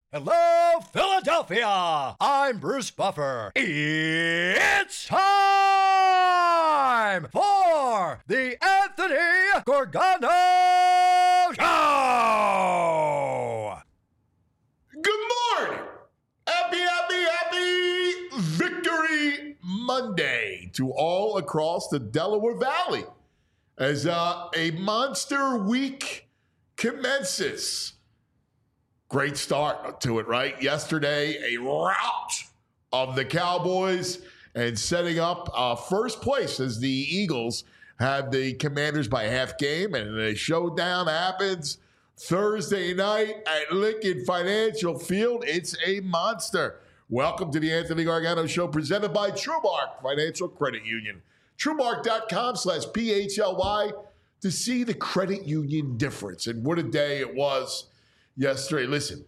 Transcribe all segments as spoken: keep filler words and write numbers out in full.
Hello, Philadelphia! I'm Bruce Buffer. It's time for the Anthony Gorgano Show! Good morning! Happy, happy, happy Victory Monday to all across the Delaware Valley as uh, a monster week commences. Great start to it, right? Yesterday, a rout of the Cowboys and setting up uh, first place as the Eagles have the Commanders by half game, and a showdown happens Thursday night at Lincoln Financial Field. It's a monster. Welcome to the Anthony Gargano Show, presented by TrueMark Financial Credit Union. TrueMark.com slash P H L Y to see the credit union difference. And what a day it was yesterday. Listen,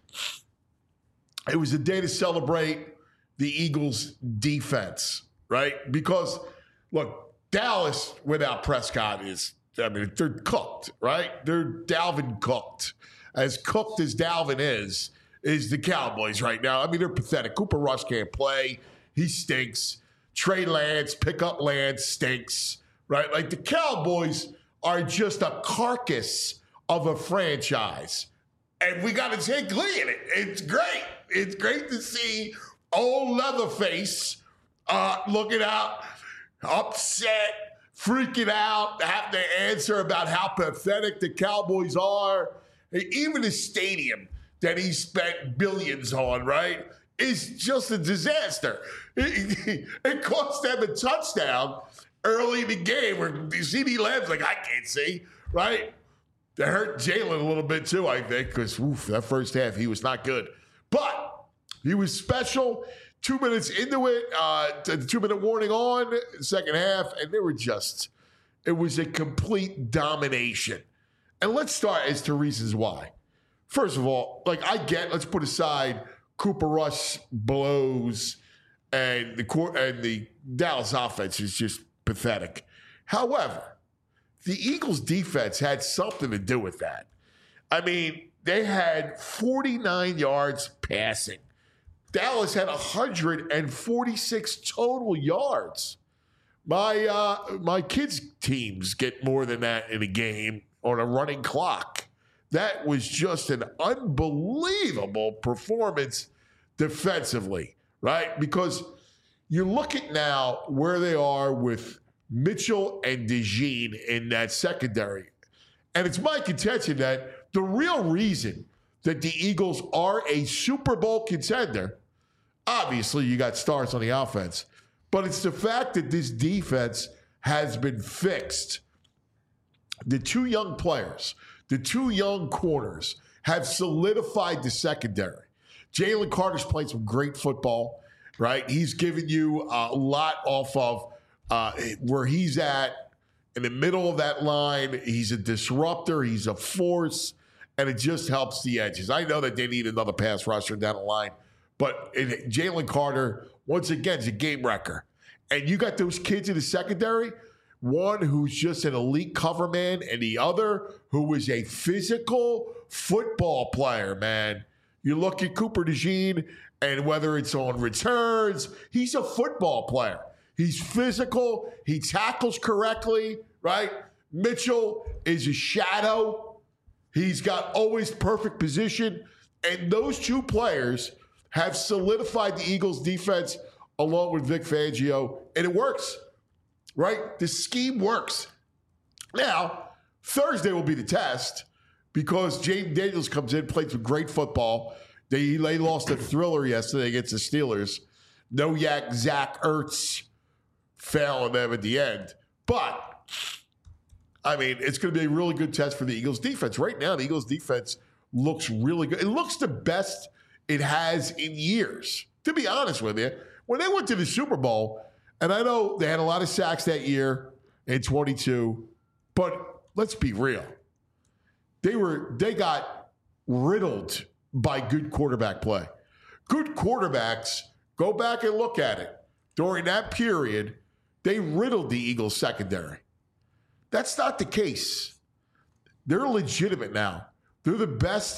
it was a day to celebrate the Eagles' defense, right? Because, look, Dallas without Prescott is, I mean, they're cooked, right? They're Dalvin cooked. As cooked as Dalvin is, is the Cowboys right now. I mean, they're pathetic. Cooper Rush can't play. He stinks. Trey Lance, pick up Lance, stinks, right? Like, the Cowboys are just a carcass of a franchise. And we got to take glee in it. It's great. It's great to see old Leatherface uh, looking out, upset, freaking out, have to answer about how pathetic the Cowboys are. Even the stadium that he spent billions on, right, is just a disaster. It, it cost them a touchdown early in the game where C D Lamb's like, I can't see, right? That hurt Jalen a little bit too, I think, because that first half, he was not good. But he was special. Two minutes into it, uh, the two-minute warning on, second half, and they were just, it was a complete domination. And let's start as to reasons why. First of all, like I get, let's put aside Cooper Rush blows and the and the Dallas offense is just pathetic. However, the Eagles' defense had something to do with that. I mean, they had forty-nine yards passing. Dallas had one hundred forty-six total yards. My uh, my kids' teams get more than that in a game on a running clock. That was just an unbelievable performance defensively, right? Because you look at now where they are with Mitchell and DeJean in that secondary. And it's my contention that the real reason that the Eagles are a Super Bowl contender, obviously you got stars on the offense, but it's the fact that this defense has been fixed. The two young players, the two young corners have solidified the secondary. Jalen Carter's played some great football, right? He's given you a lot off of Uh, where he's at in the middle of that line. He's a disruptor. He's a force, and it just helps the edges. I know that they need another pass rusher down the line, but it, Jalen Carter, once again, is a game wrecker. And you got those kids in the secondary, one who's just an elite cover man, and the other who is a physical football player, man. You look at Cooper DeJean, and whether it's on returns, he's a football player. He's physical. He tackles correctly, right? Mitchell is a shadow. He's got always perfect position. And those two players have solidified the Eagles' defense along with Vic Fangio. And it works, right? The scheme works. Now, Thursday will be the test because Jaden Daniels comes in, played some great football. They, they lost a thriller yesterday against the Steelers. No yak Zach Ertz fail on them at the end. But, I mean, it's going to be a really good test for the Eagles defense. Right now, the Eagles defense looks really good. It looks the best it has in years, to be honest with you. When they went to the Super Bowl, and I know they had a lot of sacks that year in twenty-two, but let's be real. They were they got riddled by good quarterback play. Good quarterbacks, go back and look at it. During that period, they riddled the Eagles secondary. That's not the case. They're legitimate now. They're the best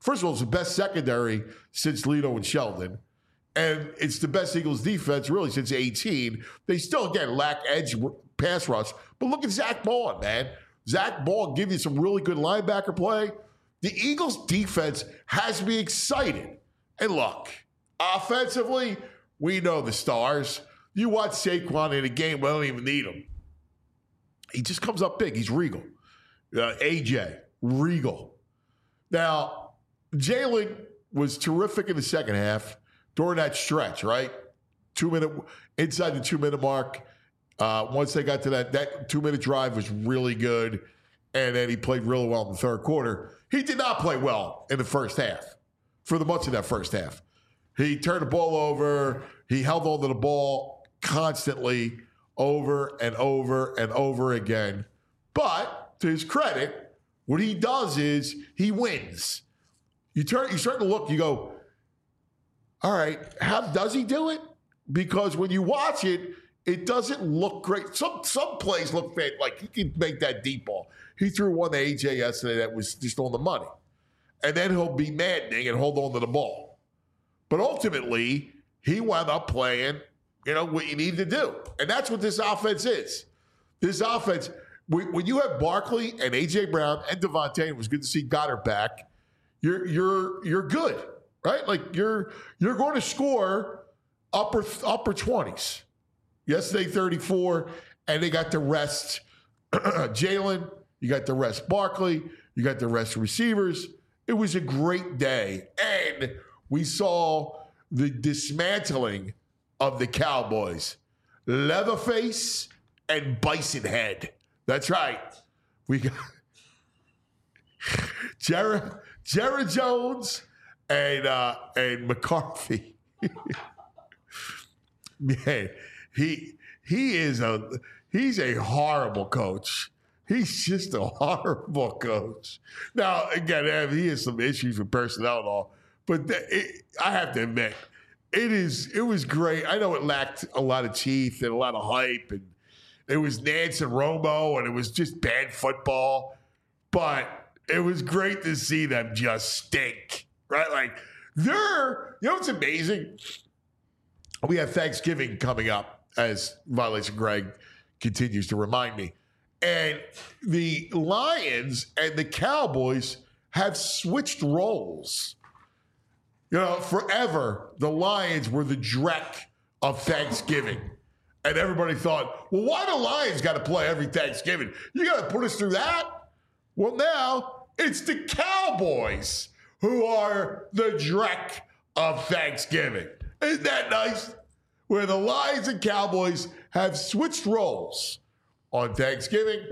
First of all, it's the best secondary since Lito and Sheldon. And it's the best Eagles defense really since eighteen. They still, again, lack edge pass rush. But look at Zach Baun, man. Zach Baun give you some really good linebacker play. The Eagles defense has me excited. And look, offensively, we know the stars. You watch Saquon in a game, we don't even need him. He just comes up big. He's regal. Uh, A J, regal. Now, Jalen was terrific in the second half during that stretch, right? Two minute, inside the two-minute mark. Uh, once they got to that, that two-minute drive was really good. And then he played really well in the third quarter. He did not play well in the first half, for the much of that first half. He turned the ball over. He held on to the ball constantly over and over and over again. But to his credit, what he does is he wins. You turn, you start to look, you go, all right, how does he do it? Because when you watch it, it doesn't look great. Some some plays look fake, like he can make that deep ball. He threw one to A J yesterday that was just on the money. And then he'll be maddening and hold on to the ball. But ultimately, he wound up playing, you know, what you need to do. And that's what this offense is. This offense, when you have Barkley and A J Brown and Devontae, it was good to see Goddard back, you're you're you're good, right? Like you're you're going to score upper upper twenties. Yesterday, thirty-four, and they got the rest Jalen, you got the rest Barkley, you got the rest receivers. It was a great day. And we saw the dismantling of the Cowboys. Leatherface and Bison Head. That's right. We got Jared, Jared Jones and uh, and McCarthy. Man, he he is a he's a horrible coach. He's just a horrible coach. Now, again, he has some issues with personnel and all, but the, it, I have to admit, it is it was great. I know it lacked a lot of teeth and a lot of hype, and it was Nance and Romo, and it was just bad football, but it was great to see them just stink, right? Like, they're, you know what's amazing? We have Thanksgiving coming up, as Violation Greg continues to remind me. And the Lions and the Cowboys have switched roles. You know, forever, the Lions were the dreck of Thanksgiving. And everybody thought, well, why the Lions got to play every Thanksgiving? You got to put us through that? Well, now it's the Cowboys who are the dreck of Thanksgiving. Isn't that nice? Where the Lions and Cowboys have switched roles on Thanksgiving.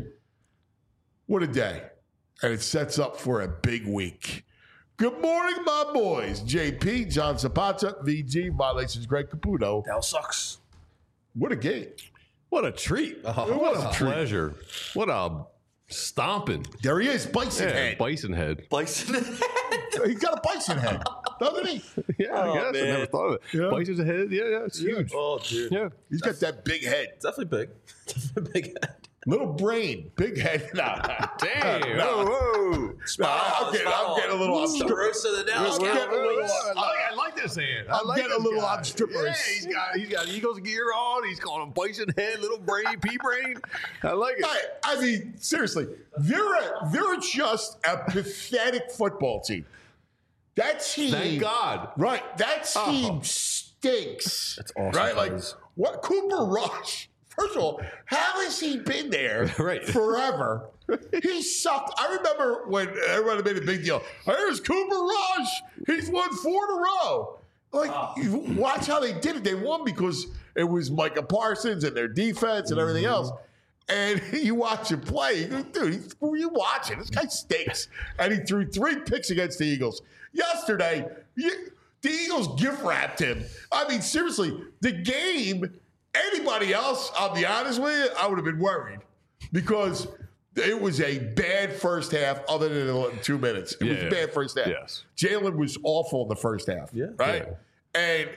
What a day. And it sets up for a big week. Good morning, my boys. J P, John Zapata, V G, Violations, Greg Caputo. That sucks. What a game. What a treat. Oh, what a pleasure. What a stomping. There he is, Bison yeah, Head. Bison Head. Bison. He's got a bison head, doesn't he? Yeah, Oh, I guess. man. I never thought of it. Yeah. Bison's head. Yeah, yeah, it's Yeah. huge. Oh, dude. Yeah. He's got that big head. It's definitely big. Definitely big head. Little brain, big head. Nah, Damn. No. Whoa, nah, I'm, getting, I'm getting a little The obstreperous. roast of the Dallas I'm getting a little, Cowboys. I like, I like this hand. I I'm like getting a this little guy. obstreperous. Yeah, he's got he's got Eagles gear on. He's calling him Bison Head, little brain, pea brain. I like it. I, I mean, seriously, they're a, they're just a pathetic football team. That team, Thank God. right? That team Oh. stinks. That's awesome, right? Like guys. what? Cooper Rush. First of all, how has he been there Right. forever? He sucked. I remember when everybody made a big deal. Here's Cooper Rush. He's won four in a row. Like, you watch how they did it. They won because it was Micah Parsons and their defense and everything else. And you watch him play, you go, dude, he's, who are you watching? This guy stinks. And he threw three picks against the Eagles. Yesterday, you, the Eagles gift wrapped him. I mean, seriously, the game, anybody else, I'll be honest with you, I would have been worried because it was a bad first half other than two minutes. It was Yeah. a bad first half. Yes. Jalen was awful in the first half. Yeah. Right? Yeah. And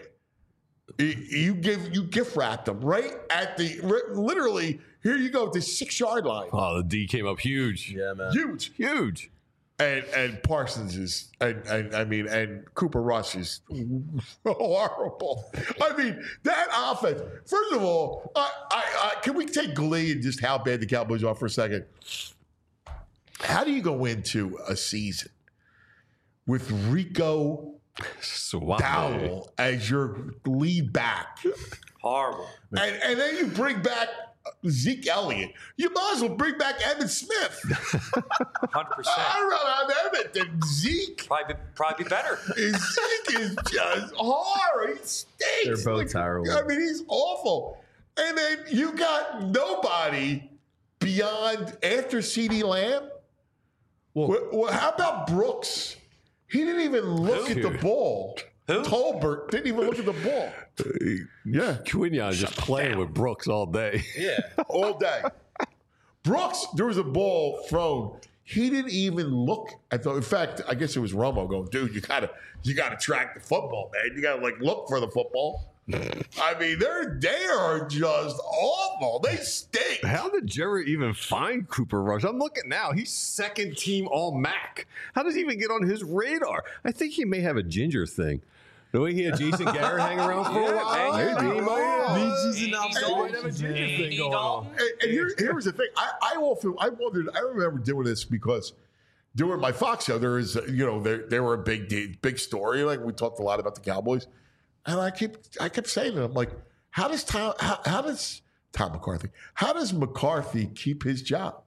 you give you gift wrapped them right at the literally here you go, the six yard line. Oh, the D came up huge. Yeah, man. Huge. Huge. And and Parsons is, and, and I mean, and Cooper Rush is horrible. I mean, that offense. First of all, I, I, I, can we take glee in just how bad the Cowboys are for a second? How do you go into a season with Rico Suave. Dowell as your lead back, Horrible. and and then you bring back Zeke Elliott? You might as well bring back Evan Smith. one hundred percent. I'd rather have Evan than Zeke. Probably, be- probably be better. Zeke is just horrible. He stinks. They're both Like, terrible. I mean, he's awful. And then you got nobody beyond after CeeDee Lamb. Well- well, well, how about Brooks? He didn't even look Who? at the ball. Who? Tolbert didn't even look at the ball. Yeah, Quinion just playing with Brooks all day. Yeah. all day. Brooks, there was a ball thrown. He didn't even look at the. In fact, I guess it was Romo going, dude, you gotta, you gotta track the football, man. You gotta like look for the football. I mean, they're they are just awful. They stink. How did Jerry even find Cooper Rush? I'm looking now. He's second team all M A C. How does he even get on his radar? I think he may have a ginger thing. The way he had Jason Garrett hang around for a while. maybe. Maybe he might have. He's an Andy observation, might have a ginger man. thing going on. And, and here, here was the thing. I, I often, I wondered. I remember doing this because doing my Fox show, there is, you know, they they were a big de- big story. Like we talked a lot about the Cowboys, and I kept I kept saying to them, like, how does Tom, how, how does Tom McCarthy, how does McCarthy keep his job?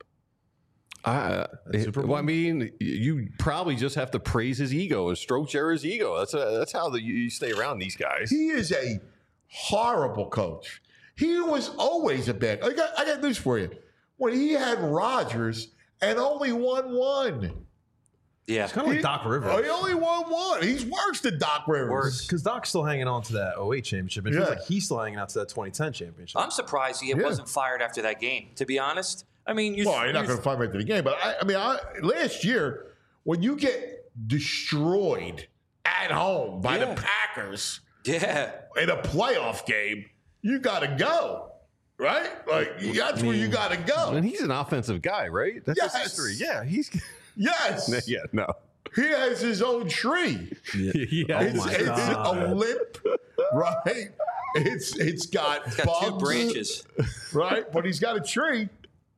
I, well, I mean, you probably just have to praise his ego and stroke Jerry's ego. That's a, that's how the, you stay around these guys. He is a horrible coach. He was always a bad. I got I got news for you. When he had Rodgers and only won one. Yeah. It's kind of like Doc Rivers. Oh, he only won one. He's worse than Doc Rivers. Worse. Because Doc's still hanging on to that oh eight championship. It feels Yeah. like he's still hanging on to that twenty ten championship. I'm surprised he Yeah. wasn't fired after that game, to be honest. I mean, you Well, you're not going to find me after the game, but I, I mean, I, last year when you get destroyed at home by Yeah. the Packers Yeah. in a playoff game, you got to go, right? Like that's where you got to go. And he's an offensive guy, right? That's Yes. his history. Yeah, he's. Yes, Yeah, no. he has his own tree. Yeah. It's, my it's God. a limp, right? It's it's got, Got bugs, two branches. right? But he's got a tree.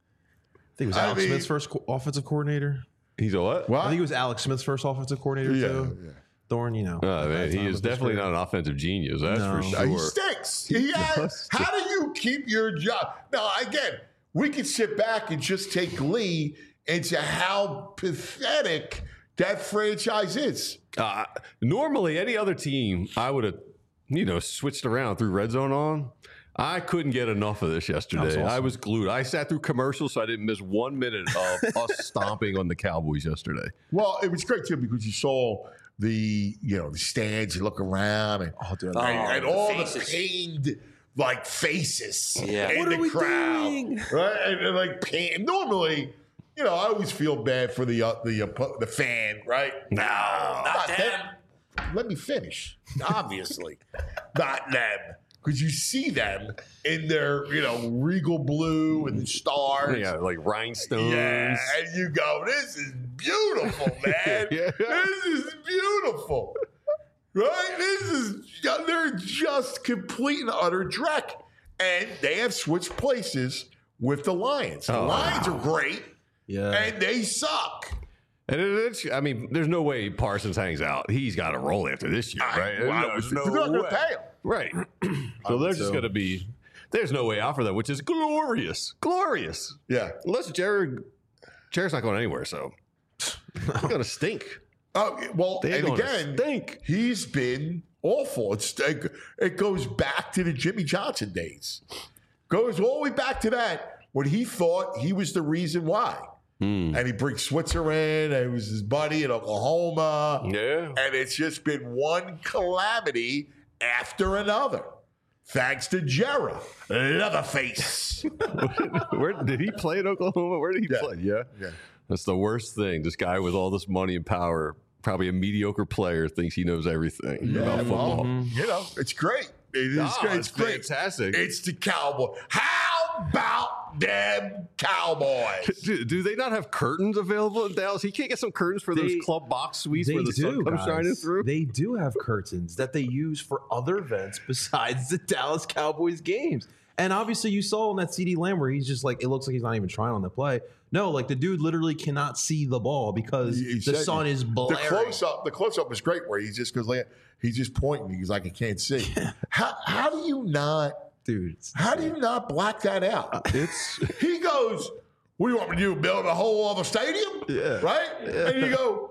I think it was I Alex mean- Smith's first co- offensive coordinator. He's a what? What? I think it was Alex Smith's first offensive coordinator, Yeah, too. yeah. Thorne, you know. Oh, at man, that he time is of his definitely career. not an offensive genius. That's No. for Uh, He sure. stinks. He has, does. how do you keep your job? Now, again, we could sit back and just take glee into how pathetic that franchise is. Uh, normally, any other team, I would have, you know, switched around through red zone on. I couldn't get enough of this yesterday. That was awesome. I was glued. I sat through commercials, so I didn't miss one minute of us stomping on the Cowboys yesterday. Well, it was great too because you saw the you know the stands. You look around and, Oh, dude. Oh, and, and the all faces. the pained like faces Yeah. in What the are we crowd, doing? right? And, and like pain. Normally, you know, I always feel bad for the uh, the uh, the fan, right? No, Not them. Let me finish. Obviously, not them. Because you see them in their, you know, regal blue and stars. Yeah, like rhinestones. Yeah, and you go, this is beautiful, man. Yeah. This is beautiful. Right? This is, they're just complete and utter dreck. And they have switched places with the Lions. The Oh, Lions are great, Yeah. and they suck. And it, it's, I mean, there's no way Parsons hangs out. He's got to roll after this year, right? Wow, There's they're no not going to way. pay him. Right. So they're just so. going to be, there's no way out for them, which is glorious. Glorious. Yeah. Unless Jared, Jared's not going anywhere, so they're going to stink. Oh, well, They're and gonna again, stink. he's been awful. It's, it goes back to the Jimmy Johnson days. Goes all the way back to that when he thought he was the reason why. Hmm. And he brings Switzer in, and it was his buddy in Oklahoma. Yeah. And it's just been one calamity after another. Thanks to Jarrah, Leatherface. Where did he play in Oklahoma? Where did he Yeah. play? Yeah. Yeah. That's the worst thing. This guy with all this money and power, probably a mediocre player, thinks he knows everything Yeah, about football. well, you know, it's great. It is Oh, great. it's It's great. fantastic. It's the Cowboy. How about goddamn Cowboys. Do, do they not have curtains available in Dallas? He can't get some curtains for They- those club box suites They where the do, sun comes guys. shining through. They do have curtains that they use for other events besides the Dallas Cowboys games. And obviously, you saw on that C D Lamb where he's just like, it looks like he's not even trying on the play. No, like the dude literally cannot see the ball because He- he the said- sun is The blaring. close up, the close up was great where he just goes like he's just pointing. He's like, I can't see. How how do you not Dude, it's how do you not black that out? It's He goes, what do you want me to do? Build a whole other stadium? Yeah. Right? And you go,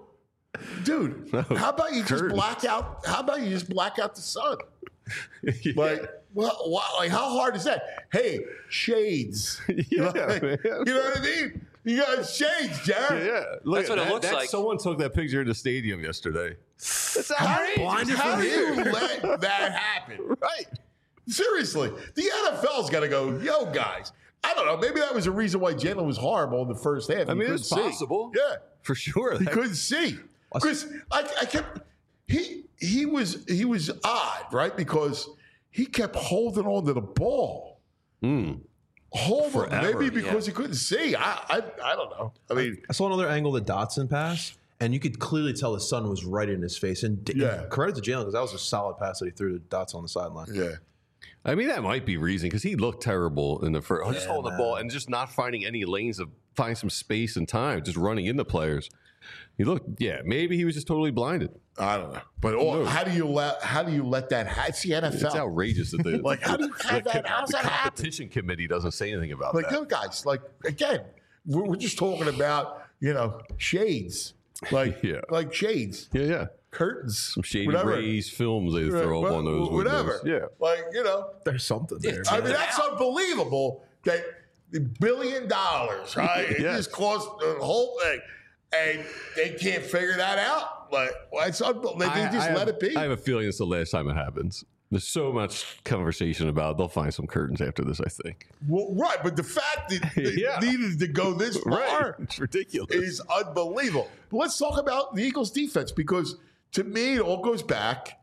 dude, No, how about you just curtains. black out? How about you just black out the sun? yeah. Like, well, why, like how hard is that? Hey, shades. Yeah, Like, man. you know what I mean? You got shades, Jared. Yeah, look That's at what it that. looks That- like. Someone took that picture in the stadium yesterday. That's How, outrageous. blinded how from do you here. let that happen? Right. Seriously, the N F L's got to go, yo, guys. I don't know. Maybe that was the reason why Jalen was horrible in the first half. I He mean, couldn't it's see. possible. Yeah, For sure. he That- couldn't see. Because I, I kept he he was he was odd, right? Because he kept holding on to the ball, Mm. hold on, Forever, maybe because yeah. he couldn't see. I, I I don't know. I mean, I saw another angle of the Dotson pass, and you could clearly tell the sun was right in his face. And, and Yeah. credit to Jalen because that was a solid pass that he threw to Dotson on the sideline. yeah. I mean, that might be reason because he looked terrible in the first. just Yeah, holding the man. ball and just not finding any lanes to find some space and time, just running into players. He looked, yeah, maybe he was just totally blinded. I don't know. But oh, how do you let how do you let that happen? It's the N F L. It's outrageous that the Like, how do you have the, that? How's the that happen? competition committee doesn't say anything about Like, that. yo, guys, like again, we're, we're just talking about you know shades, like Yeah. like shades, Yeah, yeah. curtains, Some shady whatever. rays films they throw up Right, on those whatever. windows. like you know. There's something there. I mean, that's unbelievable that the billion dollars, right? It Yes. just cost the whole thing, and they can't figure that out. Like, well, it's unbelievable. They I- just I let have, it be. I have a feeling it's the last time it happens. There's so much conversation about it. They'll find some curtains after this, I think. Well, right, but the fact that they Yeah. needed to go this far Right. It's ridiculous. is unbelievable. But let's talk about the Eagles' defense because to me, it all goes back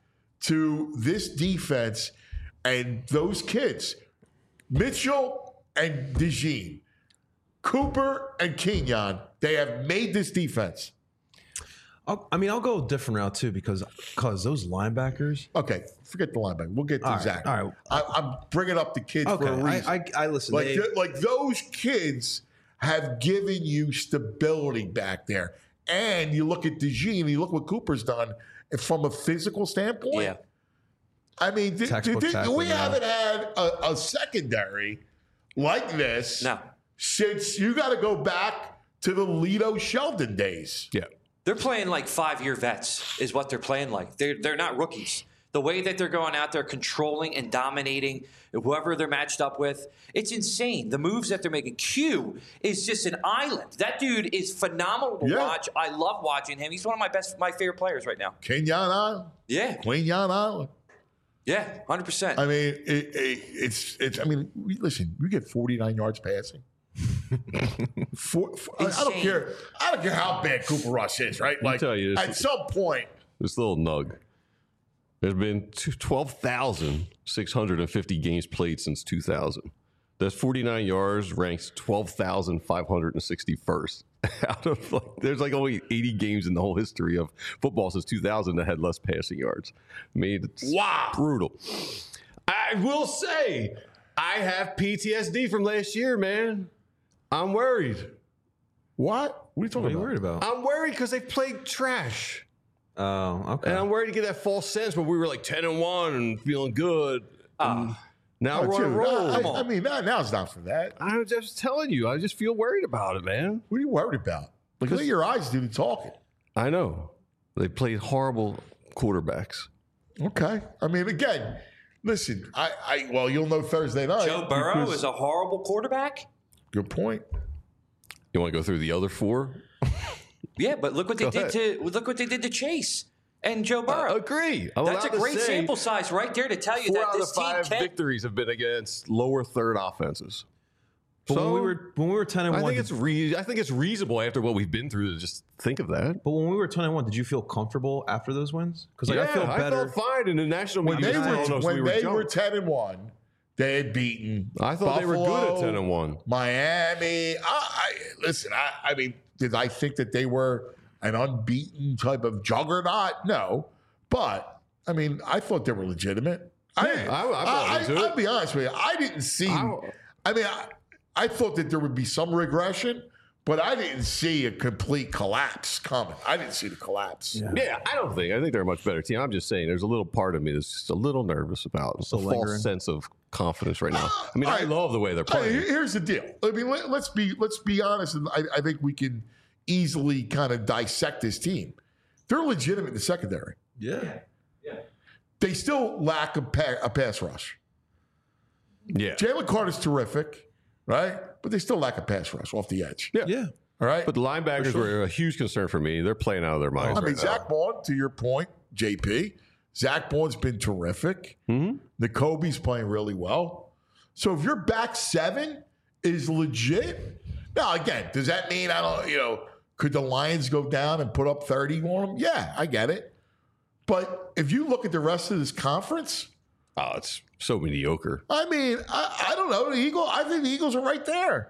to this defense and those kids, Mitchell and DeJean, Cooper and Kenyon. They have made this defense. I'll, I mean, I'll go a different route too because because those linebackers. Okay, forget the linebacker. We'll get to All right, Zach. all right. I, I'm bringing up the kids Okay, for a reason. I, I, I listen. Like, they, th- like those kids have given you stability back there. And you look at DeJean, you look what Cooper's done from a physical standpoint. Yeah. I mean, th- Textbook th- th- we tackling, yeah. haven't had a, a secondary like this No. since you got to go back to the Lito Sheldon days. Yeah. They're playing like five-year vets is what they're playing like. They're, they're not rookies. The way that they're going out there controlling and dominating whoever they're matched up with, it's insane. The moves that they're making. Q is just an island. That dude is phenomenal to Yeah. watch. I love watching him. He's one of my best, my favorite players right now. Kenyon Island, Yeah, Kenyon Island. yeah, one hundred percent. I mean, it, it, it's it's. I mean, we, listen, we get forty-nine yards passing. For, for- I, I don't Insane. care. I don't care how bad Cooper Rush is, right? Like tell you, this at is- some point, This little nug. There's been twelve thousand six hundred fifty games played since two thousand. That's forty-nine yards, ranks twelve thousand five hundred sixty-first. Out of like, there's like only eighty games in the whole history of football since two thousand that had less passing yards. I mean, it's Wow. brutal. I will say, I have P T S D from last year, man. I'm worried. what? What are you talking what are you about? worried about? I'm worried because they played trash. Oh, okay. And I'm worried to get that false sense where we were like ten and one and feeling good. And now Oh, we're on a dude, roll. I, Come I, on. I mean, now, now it's not for that. I'm just telling you, I just feel worried about it, man. What are you worried about? Like, let your eyes do the talking. I know. They played horrible quarterbacks. Okay. I mean, again, listen. I, I well, you'll know Thursday night. Joe Burrow because- is a horrible quarterback. good point. You want to go through the other four? Yeah, but look what they Go did to look what they did to Chase and Joe I Burrow. agree. I'm That's a allowed to great say sample size right there to tell you Four that out of this the team five can. victories have been against lower third offenses. but so when we were when we were ten and I one, think it's re- I think it's reasonable after what we've been through to just think of that. but when we were ten and one, did you feel comfortable after those wins? Because like, yeah, I feel better. I felt fine in the national When media. they was telling were us when we were they junk. were ten and one, They had beaten. I thought they were good Buffalo, at ten and one. Miami. I, I listen. I, I mean, did I think that they were an unbeaten type of juggernaut? No, but I mean, I thought they were legitimate. I, Yeah, I- I bought I, into I, it. I'll be honest with you. I didn't see. I- I mean, I, I thought that there would be some regression, but I didn't see a complete collapse coming. I didn't see the collapse. Yeah. Yeah, I don't think. I think they're a much better team. I'm just saying, there's a little part of me that's just a little nervous about a Still false lingering. sense of confidence right now. I mean, all I right. love the way they're All right, playing. here- here's the deal. I mean, let, let's be let's be honest, and I, I think we can easily kind of dissect this team. They're legitimate in the secondary. Yeah. They still lack a, pa- a pass rush. Yeah, Jalen Carter's terrific, right? But they still lack a pass rush off the edge. yeah, Yeah. All right. But the linebackers were a huge concern for me. They're playing out of their minds. I mean, right Zach Bond, to your point, J P, Zach Bond's been terrific. Mm-hmm. N'Kobe's playing really well. So if your back seven is legit, now again, does that mean I don't, you know, could the Lions go down and put up thirty on them? Yeah, I get it. But if you look at the rest of this conference, now. Oh, it's so mediocre. I mean, I, I don't know. The Eagle, I think the Eagles are right there.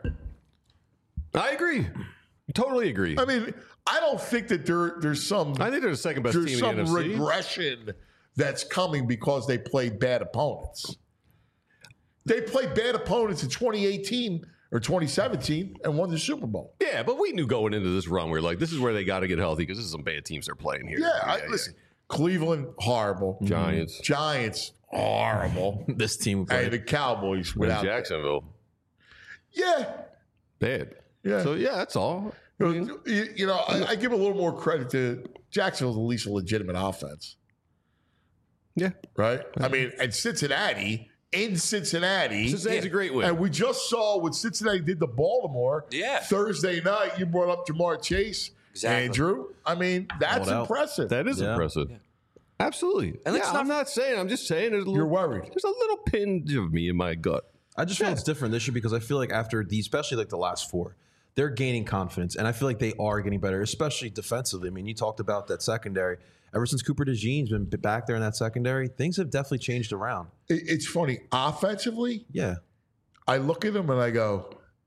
I agree. Totally agree. I mean, I don't think that there there's some I think they're the second best there's team some in the N F C. regression that's coming because they played bad opponents. They played bad opponents in twenty eighteen or twenty seventeen and won the Super Bowl. Yeah, but we knew going into this run, we are like, this is where they got to get healthy because this is some bad teams they're playing here. Yeah, I, listen, Cleveland horrible, Giants. Giants horrible, This team and played. the Cowboys In without. Jacksonville, Yeah, bad. yeah. So yeah, that's all. you, you know, I, I give a little more credit to Jacksonville's at least a legitimate offense. Yeah, Right? I mean, and Cincinnati, in Cincinnati. Cincinnati's a great win. And we just saw what Cincinnati did to Baltimore Yeah. Thursday night. You brought up Jamar Chase, Exactly. Andrew. I mean, that's No doubt. impressive. That is Yeah. impressive. Absolutely. And let's yeah, not- I'm not saying. I'm just saying. There's a little, You're worried. There's a little pinch of me in my gut. I just feel it's different this year because I feel like after the, especially like the last four, they're gaining confidence, and I feel like they are getting better, especially defensively. I mean, you talked about that secondary. Ever since Cooper DeJean's been back there in that secondary, things have definitely changed around. It- it's funny. Offensively, Yeah, I look at them and I go,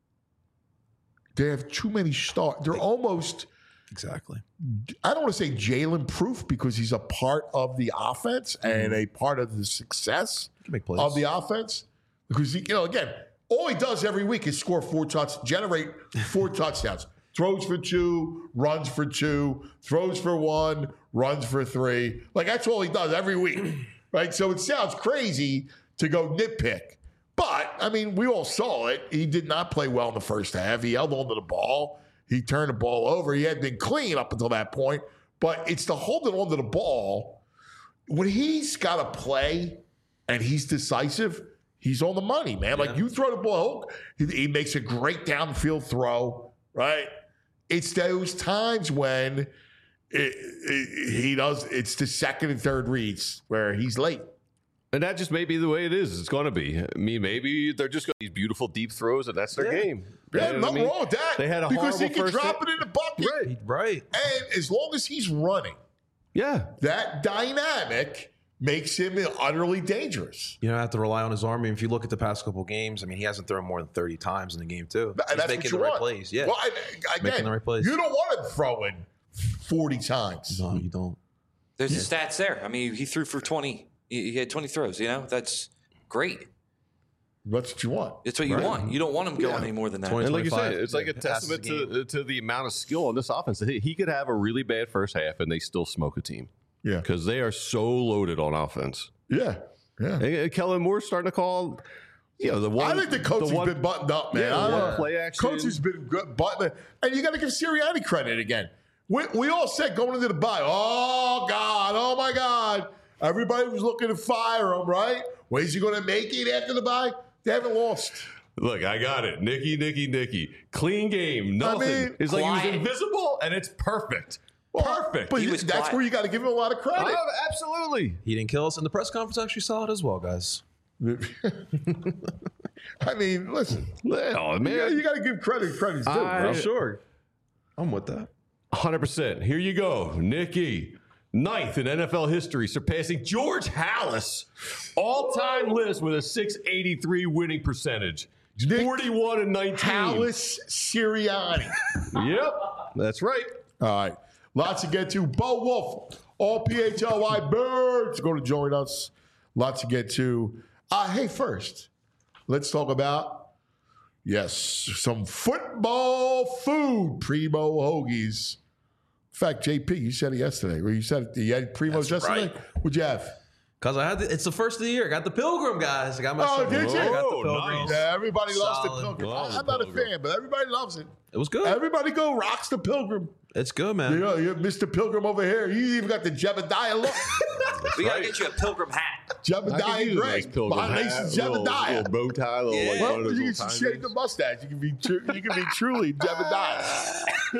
they have too many stars. They're almost, exactly. I don't want to say Jalen proof because he's a part of the offense and a part of the success Can make plays. of the offense. Because, he, you know, again, all he does every week is score four touchdowns, generate four touchdowns. Throws for two, runs for two, throws for one, runs for three. Like, that's all he does every week, right? So it sounds crazy to go nitpick. But, I mean, we all saw it. He did not play well in the first half. He held on to the ball. He turned the ball over. He had been clean up until that point. But it's the holding on to the ball. When he's got to play and he's decisive, he's on the money, man. Like, you throw the ball, he, he makes a great downfield throw, right? It's those times when it, it, he does, it's the second and third reads where he's late. And that just may be the way it is. It's going to be. I mean, maybe they're just going these beautiful deep throws, and that's their Yeah. game. Yeah, You know what nothing I mean? wrong with that. They had a because he horrible can first drop hit. it in the bucket. Right. Right. And as long as he's running, Yeah. that dynamic makes him utterly dangerous. You don't have to rely on his arm. I mean, if you look at the past couple games, I mean, he hasn't thrown more than thirty times in the game, too. And He's that's making what the you right want. plays. Yeah. Well, and, again, Making the right plays. you don't want him throwing forty times. No, you don't. There's the stats there. I mean, he threw for twenty. He he had twenty throws. You know, that's great. That's what you want. That's what you want. You don't want him going any more than that. twenty. And like you said, twenty-five it's like a passes a testament game. to, to the amount of skill on this offense. He he could have a really bad first half, and they still smoke a team Yeah. because they are so loaded on offense. Yeah. Yeah. And, and Kellen Moore's starting to call, you know, the one. I think the coach has one- been buttoned up, man. Yeah, I the don't one know. play action. Coach has been good, buttoned up. And you got to give Sirianni credit again. We, we all said going into the bye, oh, God, oh, my God. Everybody was looking to fire him, right? Where's he going to make it after the bye? They haven't lost. Look, I got it. Nicky, Nicky, Nicky. Clean game. Nothing. mean, it's like he quiet. was invisible, and it's perfect. Well, Perfect. But He was that's quiet. where you got to give him a lot of credit. Oh, absolutely. He didn't kill us. And the press conference actually saw it as well, guys. I mean, listen, Oh, man. yeah, you got to give credit credit's due, I- bro. Sure. I'm with that. one hundred percent. Here you go. Nicky. Ninth in N F L history, surpassing George Halas, all-time list with a six eighty-three winning percentage. Nick forty-one and nineteen. Halas Sirianni. Yep, that's right. All right. Lots to get to. Bo Wolf, all P H L Y Birds, going to join us. Lots to get to. Uh, hey, first, let's talk about, yes, some football food. Primo Hoagies. In fact, J P, you said it yesterday. Or you said it, you had Primo's That's yesterday? right. What'd you have? Because I had the, it's the first of the year. I got the Pilgrim, guys. I got my Oh, son. did you? I got the Oh, Pilgrim. nice. Yeah, everybody loves the Solid. Pilgrim. Love I'm the not a Pilgrim. fan, but everybody loves it. It was good. Everybody go rocks the Pilgrim. It's good, man. You know, you Mister Pilgrim over here. You even got the Jebediah look. We got to get you a pilgrim hat. I could Jebediah use a Gray. nice pilgrim Behind hat, Nation's little, Jebediah. little bow tie, little Yeah. like Well, one of those you little can time shave the rings. mustache. You can be tru- you can be truly Jebediah.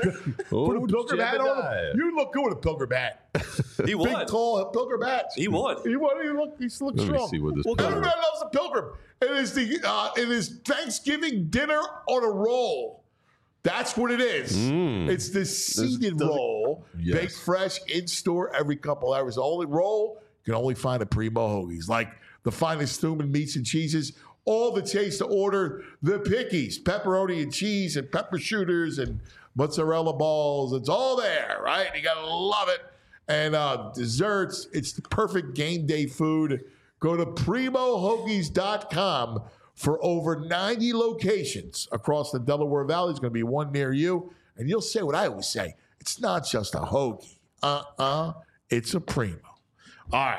Oh, Put a pilgrim hat on Jebediah. him. You look good with a pilgrim hat. He Big, would. tall pilgrim hat. He would. He would. He look. He looks Let me strong. see what this Well, pilgrim- Everybody loves a pilgrim. It is the uh, it is Thanksgiving dinner on a roll. That's what it is. It's the seeded does it- roll, Yes. baked fresh in store every couple hours. The only roll you can only find at Primo Hoagies, like the finest human meats and cheeses. All the taste to order. The pickies, pepperoni and cheese, and pepper shooters, and mozzarella balls. It's all there, right? You gotta love it. And uh, desserts. It's the perfect game day food. Go to primo hoagies dot com for over ninety locations across the Delaware Valley. There's going to be one near you. And you'll say what I always say. It's not just a hoagie. Uh-uh. It's a Primo. All right.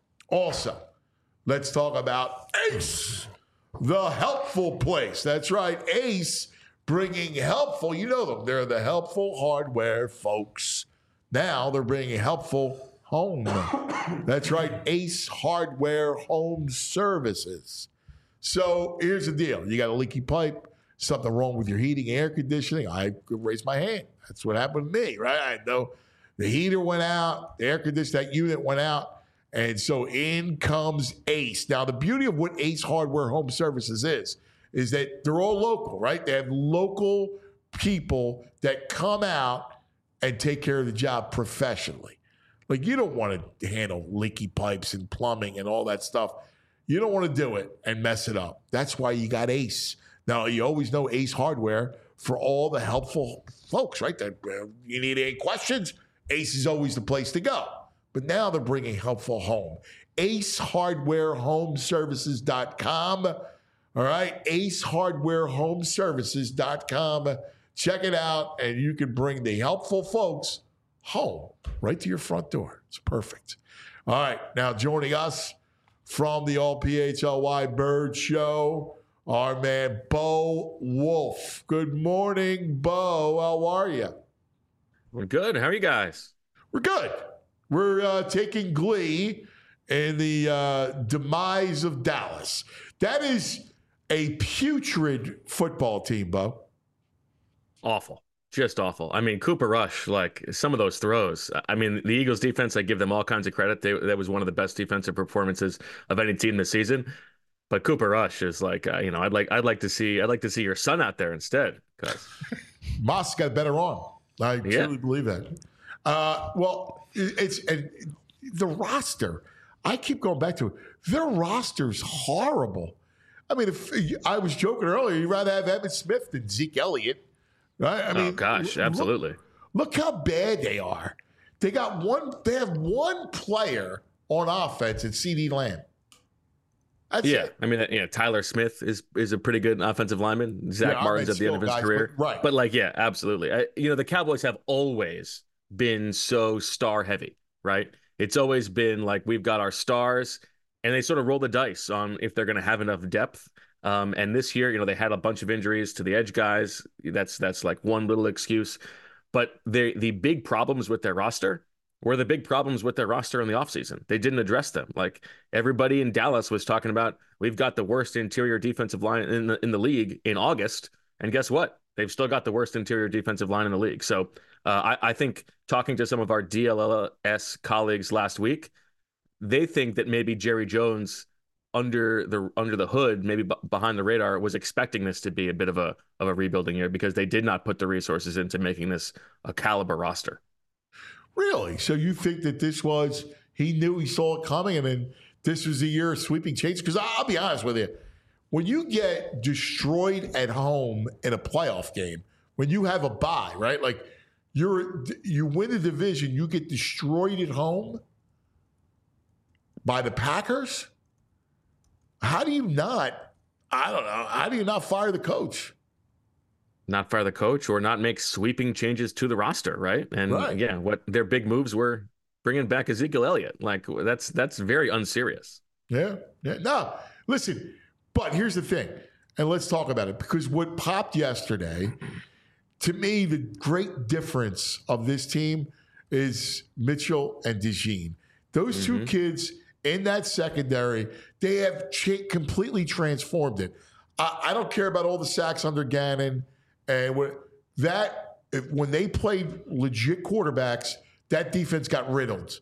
Also, let's talk about Ace, the helpful place. That's right. Ace bringing helpful. You know them. They're the helpful hardware folks. Now they're bringing helpful home. That's right. Ace Hardware Home Services. So here's the deal. You got a leaky pipe, something wrong with your heating, air conditioning. I could raise my hand. That's what happened to me, right? I know the heater went out, the air conditioning, that unit went out. And so in comes Ace. Now, the beauty of what Ace Hardware Home Services is, is that they're all local, right? They have local people that come out and take care of the job professionally. Like, you don't want to handle leaky pipes and plumbing and all that stuff. You don't want to do it and mess it up. That's why you got Ace. Now, you always know Ace Hardware for all the helpful folks, right? That uh, you need any questions, Ace is always the place to go. But now they're bringing helpful home. ace hardware home services dot com. All right, ace hardware home services dot com. Check it out, and you can bring the helpful folks home right to your front door. It's perfect. All right, now joining us from the All P H L Y Bird Show, our man Bo Wolf. Good morning, Bo. How are you? We're good. How are you guys? We're good. We're uh, taking glee in the uh, demise of Dallas. That is a putrid football team, Bo. Awful. Just awful. I mean, Cooper Rush, like some of those throws. I mean, the Eagles defense, I give them all kinds of credit. They, that was one of the best defensive performances of any team this season. But Cooper Rush is like, uh, you know, I'd like, I'd like to see, I'd like to see your son out there instead. Because Moss got a better arm. I Yeah. truly believe that. Uh, well, it- it's and the roster. I keep going back to it. Their roster's horrible. I mean, if I was joking earlier, you'd rather have Emmitt Smith than Zeke Elliott, right? I mean, oh gosh, look- absolutely. Look how bad they are. They got one. They have one player on offense at C D Lamb. That's Yeah, it. I mean, yeah, Tyler Smith is is a pretty good offensive lineman. Zach Yeah, Martin's at the end of his guys, career, but- right. But like, yeah, absolutely. I, you know, the Cowboys have always been so star heavy, right? It's always been like we've got our stars, and they sort of roll the dice on if they're going to have enough depth. Um, and this year, you know, they had a bunch of injuries to the edge guys. That's that's like one little excuse. But the the big problems with their roster were the big problems with their roster in the offseason. They didn't address them. Like everybody in Dallas was talking about, we've got the worst interior defensive line in the in the league in August. And guess what? They've still got the worst interior defensive line in the league. So uh, I, I think talking to some of our D L L S colleagues last week, they think that maybe Jerry Jones under the under the hood, maybe b- behind the radar, was expecting this to be a bit of a of a rebuilding year because they did not put the resources into making this a caliber roster. Really? So you think that this was, he knew, he saw it coming, and then this was a year of sweeping change? Because I'll be honest with you, when you get destroyed at home in a playoff game, when you have a bye, right? Like you're you win a division, you get destroyed at home by the Packers. How do you not, I don't know, how do you not fire the coach? Not fire the coach or not make sweeping changes to the roster, right? And Right. yeah, what their big moves were bringing back Ezekiel Elliott. Like that's that's very unserious. Yeah. Yeah. No, listen, but here's the thing, and let's talk about it, because what popped yesterday, to me, the great difference of this team is Mitchell and DeJean. Those Mm-hmm. two kids in that secondary, they have cha- completely transformed it. I, I don't care about all the sacks under Gannon, and what, that if, when they played legit quarterbacks, that defense got riddled.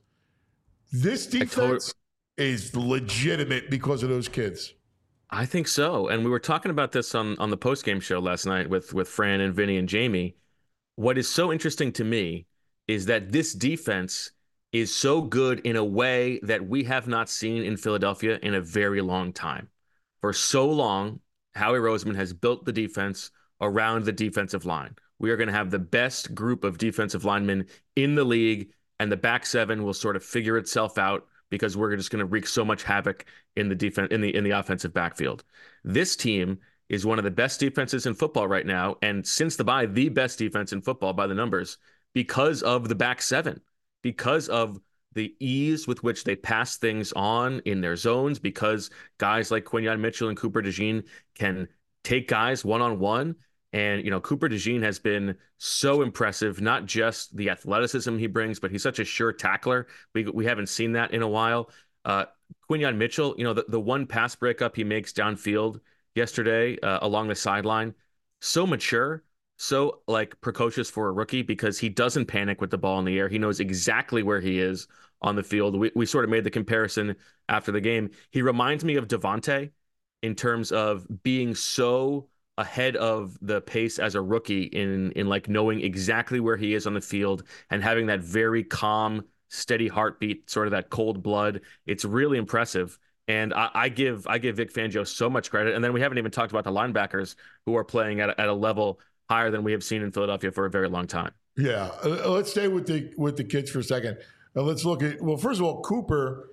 This defense is legitimate because of those kids. I think so. And we were talking about this on, on the post-game show last night with, with Fran and Vinny and Jamie. What is so interesting to me is that this defense is so good in a way that we have not seen in Philadelphia in a very long time. For so long, Howie Roseman has built the defense around the defensive line. We are going to have the best group of defensive linemen in the league, and the back seven will sort of figure itself out because we're just going to wreak so much havoc in the defense in the in the offensive backfield. This team is one of the best defenses in football right now, and since the bye, the best defense in football by the numbers because of the back seven, because of the ease with which they pass things on in their zones, because guys like Quinyon Mitchell and Cooper DeJean can take guys one-on-one. And, you know, Cooper DeJean has been so impressive, not just the athleticism he brings, but he's such a sure tackler. We we haven't seen that in a while. Uh, Quinyon Mitchell, you know, the, the one pass breakup he makes downfield yesterday uh, along the sideline, so mature, so like precocious for a rookie because he doesn't panic with the ball in the air. He knows exactly where he is on the field. We we sort of made the comparison after the game. He reminds me of Devontae in terms of being so ahead of the pace as a rookie in in like knowing exactly where he is on the field and having that very calm, steady heartbeat, sort of that cold blood. It's really impressive. And I, I give I give Vic Fangio so much credit. And then we haven't even talked about the linebackers who are playing at a, at a level higher than we have seen in Philadelphia for a very long time. Yeah, uh, let's stay with the with the kids for a second. Uh, let's look at, well, first of all, Cooper,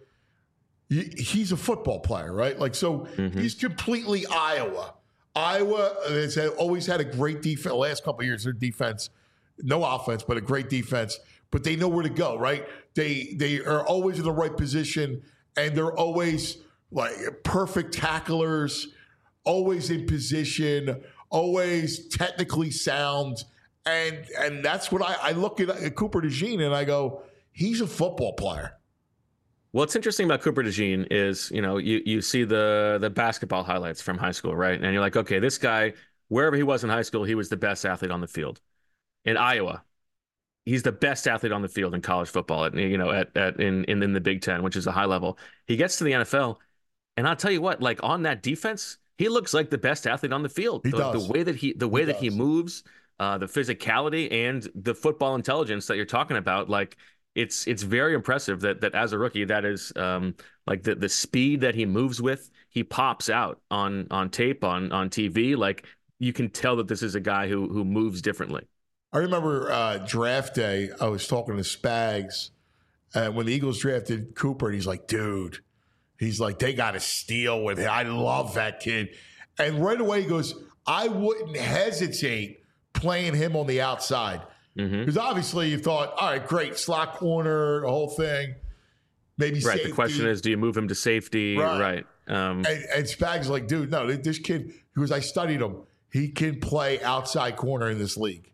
he, he's a football player, right? Like, so Mm-hmm. he's completely Iowa. Iowa has always had a great defense. The last couple of years, their defense, no offense, but a great defense. But they know where to go, right? They they are always in the right position, and they're always like perfect tacklers, always in position, always technically sound. And and that's what I, I look at, at Cooper DeJean and I go, he's a football player. What's interesting about Cooper DeJean is, you know, you, you see the the basketball highlights from high school, right? And you're like, okay, this guy, wherever he was in high school, he was the best athlete on the field. In Iowa, he's the best athlete on the field in college football, at, you know, at, at in, in in the Big Ten, which is a high level. He gets to the N F L, and I'll tell you what, like on that defense, he looks like the best athlete on the field. He the, does. the way that he the way He that he does. moves, uh, the physicality, and the football intelligence that you're talking about, like. It's it's very impressive that that as a rookie, that is um, like the the speed that he moves with, he pops out on on tape, on on T V. Like you can tell that this is a guy who who moves differently. I remember uh, draft day, I was talking to Spags uh, when the Eagles drafted Cooper, and he's like, dude, he's like, they got to steal with him. I love that kid. And right away he goes, I wouldn't hesitate playing him on the outside. Because Mm-hmm. obviously you thought, all right, great, slot corner, the whole thing. Maybe Right. safety. The question is, do you move him to safety? Right. Right. Um, And, and Spags like, dude, no, this kid, because I studied him, he can play outside corner in this league.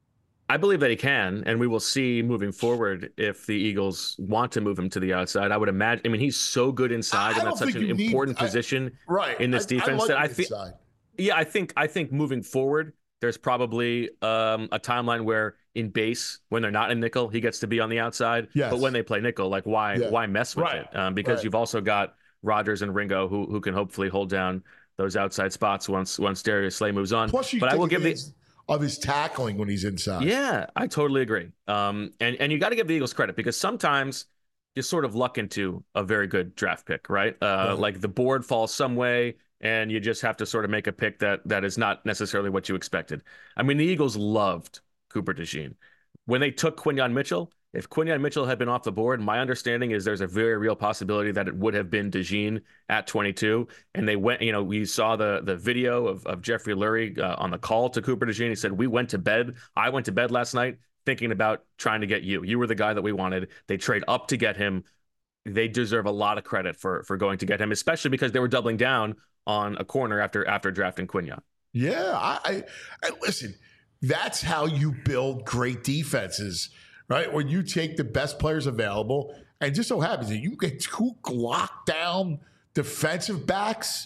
I believe that he can, and we will see moving forward if the Eagles want to move him to the outside. I would imagine. I mean, he's so good inside, I and that's don't such think an you need- important I- position Right. in this I- defense I like that I the feel. inside. Yeah, I think I think moving forward, there's probably um, a timeline where in base, when they're not in nickel, he gets to be on the outside. Yes. But when they play nickel, like why Yeah. why mess with Right. it? Um, because Right. you've also got Rodgers and Ringo who who can hopefully hold down those outside spots once once Darius Slay moves on. Plus, you but I take will give the advantage of his tackling when he's inside. Yeah, I totally agree. Um, and, and you got to give the Eagles credit because sometimes you sort of luck into a very good draft pick, right? Uh, Right. Like the board falls some way and you just have to sort of make a pick that that is not necessarily what you expected. I mean, the Eagles loved Cooper DeJean. When they took Quinyon Mitchell, if Quinyon Mitchell had been off the board, my understanding is there's a very real possibility that it would have been DeJean at twenty-two. And they went, you know, we saw the the video of, of Jeffrey Lurie uh, on the call to Cooper DeJean. He said, we went to bed. I went to bed last night thinking about trying to get you. You were the guy that we wanted. They trade up to get him. They deserve a lot of credit for for going to get him, especially because they were doubling down on a corner after after drafting Quinyon. Yeah, I, I, I listen. That's how you build great defenses, right? When you take the best players available, and just so happens that you get two lockdown defensive backs,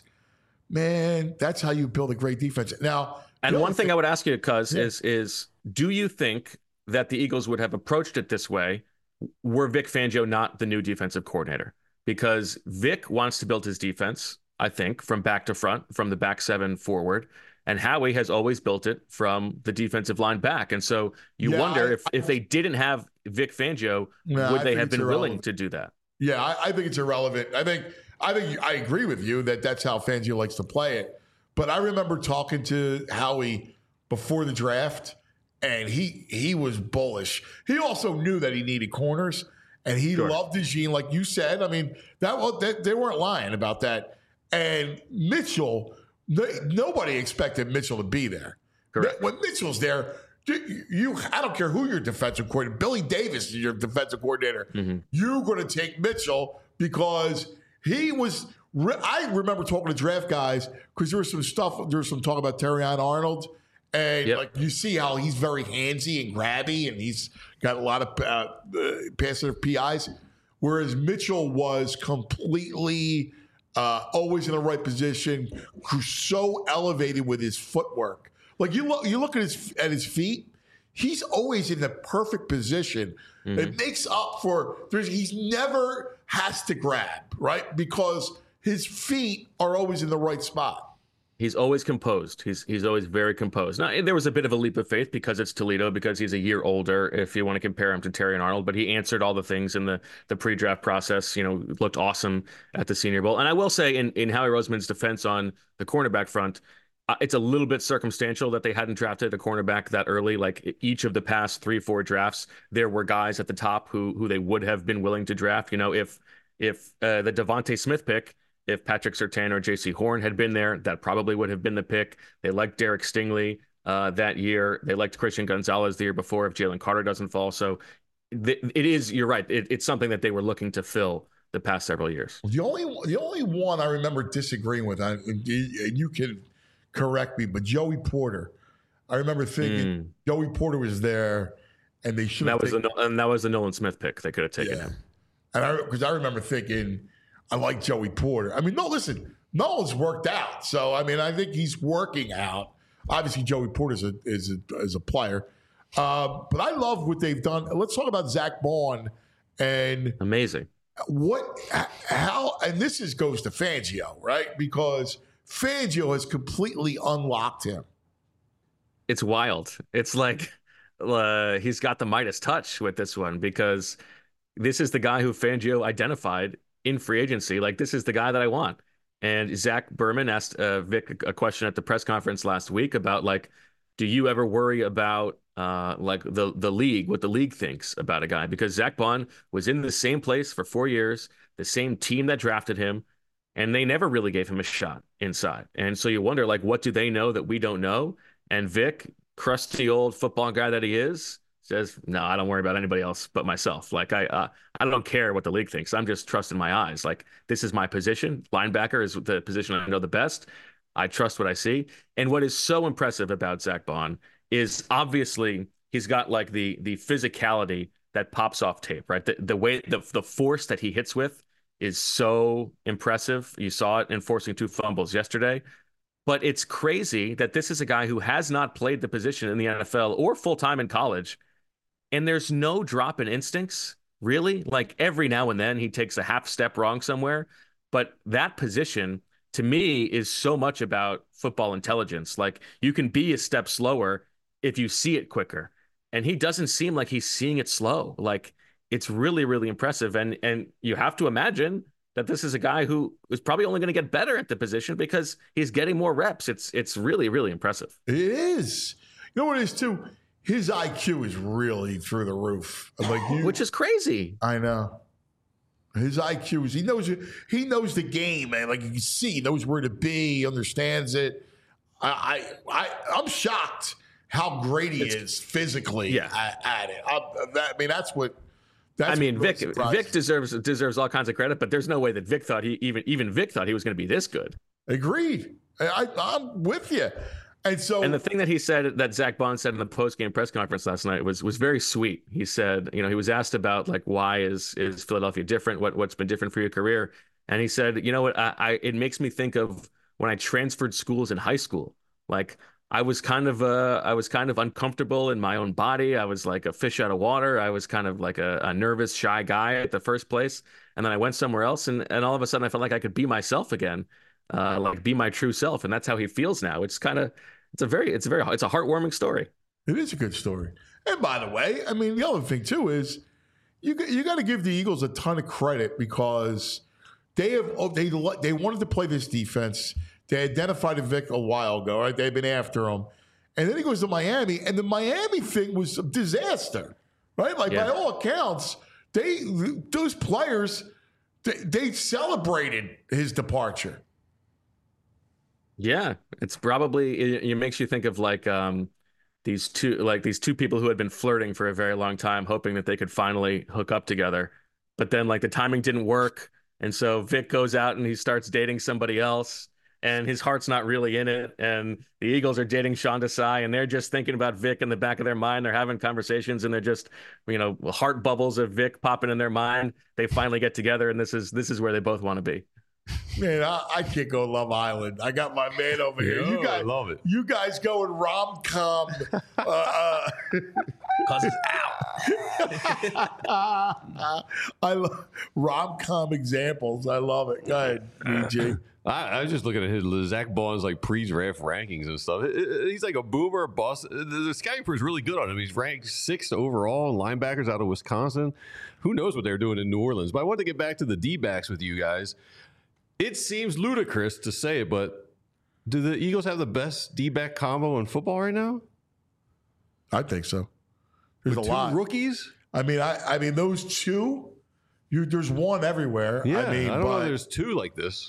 man, that's how you build a great defense. Now, and one thing I would ask you, Cuz, Yeah. is is do you think that the Eagles would have approached it this way were Vic Fangio not the new defensive coordinator? Because Vic wants to build his defense, I think, from back to front, from the back seven forward. And Howie has always built it from the defensive line back. And so you Yeah, wonder I- if, if they didn't have Vic Fangio, No, would I they think have it's been willing irrelevant. to do that? Yeah, I, I think it's irrelevant. I think I think I agree with you that that's how Fangio likes to play it. But I remember talking to Howie before the draft, and he he was bullish. He also knew that he needed corners, and he Sure. loved DeJean, like you said. I mean, that was that, they weren't lying about that. And Mitchell, they, nobody expected Mitchell to be there. Correct. When Mitchell's there, you, you I don't care who your defensive coordinator, Billy Davis is your defensive coordinator. Mm-hmm. You're going to take Mitchell because he was. re- I remember talking to draft guys because there was some stuff. There was some talk about Terrion Arnold, and Yep. like you see how he's very handsy and grabby, and he's got a lot of uh, uh, passive P Is, whereas Mitchell was completely uh, always in the right position, who's so elevated with his footwork. Like you look, you look at his at his feet. He's always in the perfect position. It makes up for there's he's never has to grab, right? Because his feet are always in the right spot. He's always composed. He's he's always very composed. Now, there was a bit of a leap of faith because it's Toledo, because he's a year older, if you want to compare him to Terry and Arnold, but he answered all the things in the, the pre-draft process, you know, looked awesome at the Senior Bowl. And I will say in, in Howie Roseman's defense on the cornerback front, uh, it's a little bit circumstantial that they hadn't drafted a cornerback that early. Like each of the past three, four drafts, there were guys at the top who who they would have been willing to draft. You know, if if uh, the Devontae Smith pick, if Patrick Surtain or J C Horn had been there, that probably would have been the pick. They liked Derek Stingley uh, that year. They liked Christian Gonzalez the year before if Jalen Carter doesn't fall. So th- it is, you're right. It, it's something that they were looking to fill the past several years. The only the only one I remember disagreeing with, I- and you you can correct me, but Joey Porter. I remember thinking Joey Porter was there, and they should And have that was taken- the and that was the Nolan Smith pick. They could have taken Yeah. him. And I because I remember thinking, I like Joey Porter. I mean, no, listen, Nolan's worked out, so I mean, I think he's working out. Obviously, Joey Porter is a is a, is a player, uh, but I love what they've done. Let's talk about Zach Bond and Amazing. what, how, and this is goes to Fangio, right? Because Fangio has completely unlocked him. It's wild. It's like uh, he's got the Midas touch with this one, because this is the guy who Fangio identified in free agency. Like, this is the guy that I want. And Zach Berman asked uh, Vic a question at the press conference last week about, like, do you ever worry about uh, like the the league, what the league thinks about a guy? Because Zach Bond was in the same place for four years, the same team that drafted him, and they never really gave him a shot inside. And so you wonder, like, what do they know that we don't know? And Vic, crusty old football guy that he is, says, no, I don't worry about anybody else but myself. Like, I uh, I don't care what the league thinks. I'm just trusting my eyes. Like, this is my position. Linebacker is the position I know the best. I trust what I see. And what is so impressive about Zach Bond is obviously he's got like the the physicality that pops off tape, right? The, the way, the, the force that he hits with is so impressive. You saw it in forcing two fumbles yesterday. But it's crazy that this is a guy who has not played the position in the N F L or full-time in college. And there's no drop in instincts, really. Like, every now and then he takes a half step wrong somewhere. But that position, to me, is so much about football intelligence. Like, you can be a step slower if you see it quicker. And he doesn't seem like he's seeing it slow. Like, it's really, really impressive. And and you have to imagine that this is a guy who is probably only going to get better at the position because he's getting more reps. It's it's really, really impressive. It is. You know what it is, too? His I Q is really through the roof. Like you, Which is crazy. I know. His I Q is, he knows it. He knows the game, man. Like you can see, he knows where to be, he understands it. I, I, I I'm shocked how great he it's, is physically yeah. at, at it. I, that, I mean, that's what. That's I mean, what Vic Vic deserves deserves all kinds of credit, but there's no way that Vic thought he even even Vic thought he was going to be this good. Agreed. I, I'm with you. And so, and the thing that he said, that Zach Bond said in the post-game press conference last night, was was very sweet. He said, you know, he was asked about like why is is Philadelphia different? What what's been different for your career? And he said, you know what, I, I it makes me think of when I transferred schools in high school. Like I was kind of uh I was kind of uncomfortable in my own body. I was like a fish out of water. I was kind of like a, a nervous, shy guy at the first place, and then I went somewhere else, and and all of a sudden I felt like I could be myself again, uh, like be my true self, and that's how he feels now. It's kind of It's a very, it's a very, it's a heartwarming story. It is a good story. And by the way, I mean, the other thing too is you you got to give the Eagles a ton of credit because they have they they wanted to play this defense. They identified Vic a while ago, right? They've been after him, and then he goes to Miami, and the Miami thing was a disaster, right? Like yeah. by all accounts, they those players they, they celebrated his departure. Yeah, it's probably it, it makes you think of like um these two like these two people who had been flirting for a very long time, hoping that they could finally hook up together, but then like the timing didn't work, and so Vic goes out and he starts dating somebody else, and his heart's not really in it, and the Eagles are dating Sean Desai, and they're just thinking about Vic in the back of their mind. They're having conversations, and they're just, you know, heart bubbles of Vic popping in their mind. They finally get together, and this is this is where they both want to be. Man, I, I can't go Love Island. I got my man over here. Yo, you guys I love it. You guys going rom com? uh, uh, Cause it's out. I love rom com examples. I love it. Go ahead, B J. I, I was just looking at his Zach Bond's like pre-draft rankings and stuff. It, it, he's like a boomer, bust. The, the scouting crew is really good on him. He's ranked sixth overall in linebackers out of Wisconsin. Who knows what they're doing in New Orleans? But I want to get back to the D-backs with you guys. It seems ludicrous to say it, but do the Eagles have the best D-back combo in football right now? I think so. There's With a two lot. rookies? I mean, I, I mean, those two. You, there's one everywhere. Yeah, I mean, I don't but, know if there's two like this.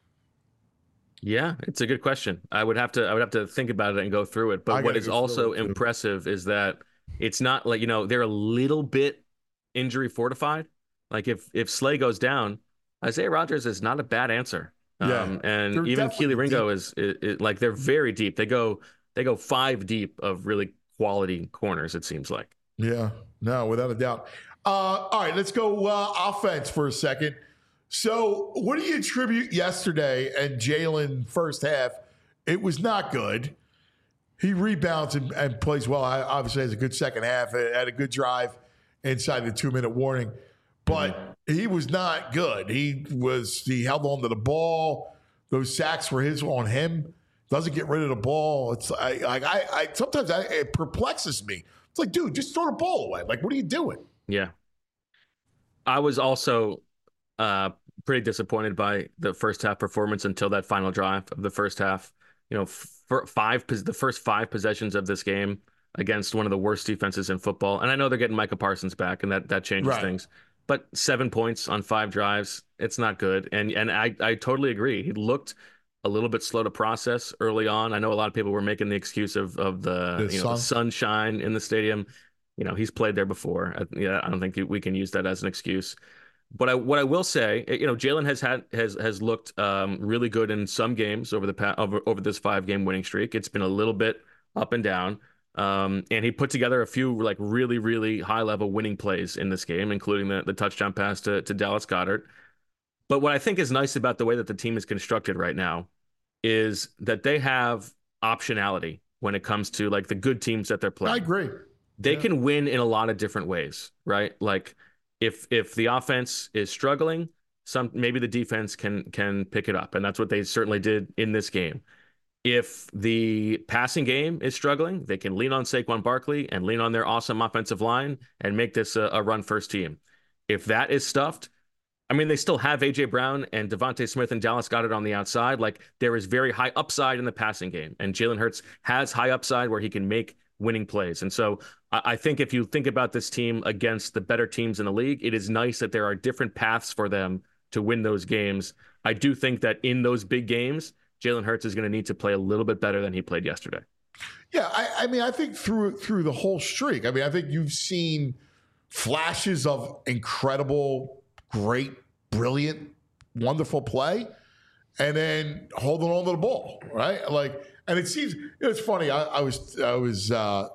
Yeah, it's a good question. I would have to I would have to think about it and go through it. I But what gotta is go through also it, too. impressive is that it's not like, you know, they're a little bit injury fortified. Like if if Slay goes down, Isaiah Rodgers is not a bad answer. Yeah, Um, and they're even definitely Keely Ringo deep. is, is, is like they're very deep. They go they go five deep of really quality corners, it seems like. Yeah, no, without a doubt. Uh, all right, let's go uh, offense for a second. So, what do you attribute yesterday and Jalen first half? It was not good. He rebounds and, and plays well. I obviously has a good second half. Had a good drive inside the two minute warning, but mm-hmm. he was not good. He was he held on to the ball. Those sacks were his on him. Doesn't get rid of the ball. It's like I, I, I sometimes I, it perplexes me. It's like, dude, just throw the ball away. Like, what are you doing? Yeah. I was also uh, pretty disappointed by the first half performance until that final drive of the first half. You know, for five the first five possessions of this game against one of the worst defenses in football. And I know they're getting Micah Parsons back, and that that changes Right. things. But seven points on five drives, it's not good. And and I I totally agree. He looked a little bit slow to process early on. I know a lot of people were making the excuse of of the, The you know, sun. the sunshine in the stadium. You know, he's played there before. I, yeah, I don't think we can use that as an excuse. But I, what I will say, you know, Jalen has had has has looked um, really good in some games over the pa- over over this five game winning streak. It's been a little bit up and down, um, and he put together a few like really really high level winning plays in this game, including the the touchdown pass to to Dallas Goedert. But what I think is nice about the way that the team is constructed right now is that they have optionality when it comes to like the good teams that they're playing. I agree. They Yeah. can win in a lot of different ways, right? Like if if the offense is struggling, some maybe the defense can can pick it up, and that's what they certainly did in this game. if the passing game is struggling, they can lean on Saquon Barkley and lean on their awesome offensive line and make this a, a run-first team. If that is stuffed, I mean, they still have A J Brown and Devontae Smith and Dallas Goedert on the outside. Like, there is very high upside in the passing game, and Jalen Hurts has high upside where he can make winning plays. And so I, I think if you think about this team against the better teams in the league, it is nice that there are different paths for them to win those games. I do think that in those big games, Jalen Hurts is going to need to play a little bit better than he played yesterday. Yeah, I, I mean, I think through through the whole streak, I mean, I think you've seen flashes of incredible, great, brilliant, wonderful play, and then holding on to the ball, right? Like, and it seems, you know, it's funny. I, I was I was uh,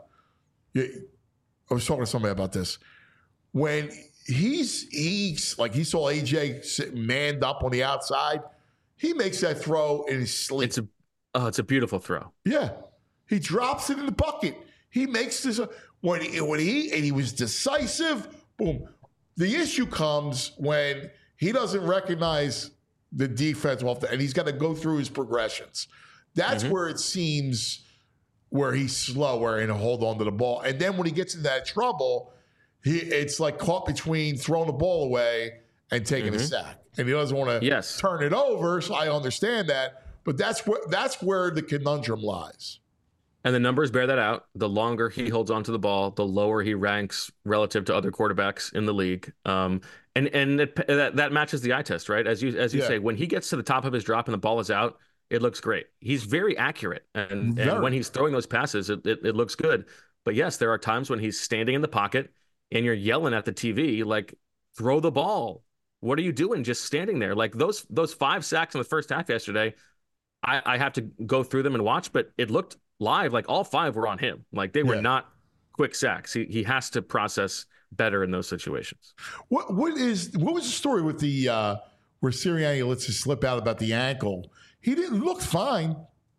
I was talking to somebody about this when he's he's like he saw A J sitting manned up on the outside. He makes that throw in his sleep. It's a, oh, it's a beautiful throw. Yeah, he drops it in the bucket. He makes this when he, when he and he was decisive. Boom. The issue comes when he doesn't recognize the defense off the, and he's got to go through his progressions. That's mm-hmm. where it seems where he's slower and hold on to the ball. And then when he gets in that trouble, he it's like caught between throwing the ball away and taking mm-hmm. a sack. And he doesn't want to yes. turn it over, so I understand that. But that's where that's where the conundrum lies. And the numbers bear that out. The longer he holds onto the ball, the lower he ranks relative to other quarterbacks in the league. Um, and and it, that that matches the eye test, right? As you as you yeah. say, when he gets to the top of his drop and the ball is out, it looks great. He's very accurate, and, very. and when he's throwing those passes, it, it it looks good. But yes, there are times when he's standing in the pocket and you're yelling at the T V like, "Throw the ball! What are you doing? Just standing there." Like those those five sacks in the first half yesterday, I, I have to go through them and watch, but it looked live like all five were on him. Like they were yeah. not quick sacks. He he has to process better in those situations. What what is what was the story with the uh, where Sirianni lets him slip out about the ankle? He didn't look fine.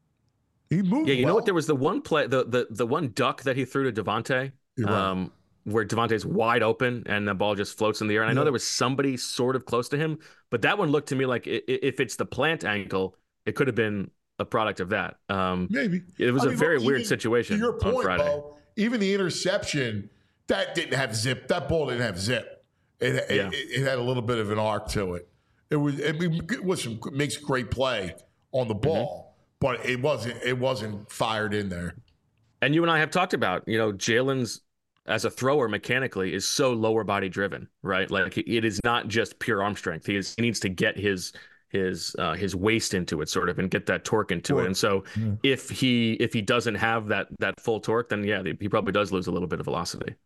He moved. Yeah, you well. know what? There was the one play, the the the one duck that he threw to Devontae. Right. Um, where Devontae's wide open and the ball just floats in the air. And I know yeah. there was somebody sort of close to him, but that one looked to me like if it's the plant ankle, it could have been a product of that. Um, Maybe. It was I a mean, very look, weird even, situation to your point, on Friday. Bo, even the interception, that didn't have zip. That ball didn't have zip. It, it, yeah. it, it had a little bit of an arc to it. It was it, it was some, it makes a great play on the ball, mm-hmm. but it wasn't it wasn't fired in there. And you and I have talked about, you know, Jalen's as a thrower mechanically is so lower body driven, right? Like it is not just pure arm strength. He is he needs to get his his uh, his waist into it sort of and get that torque into torque. it. And so yeah. if he if he doesn't have that that full torque, then yeah, he probably does lose a little bit of velocity.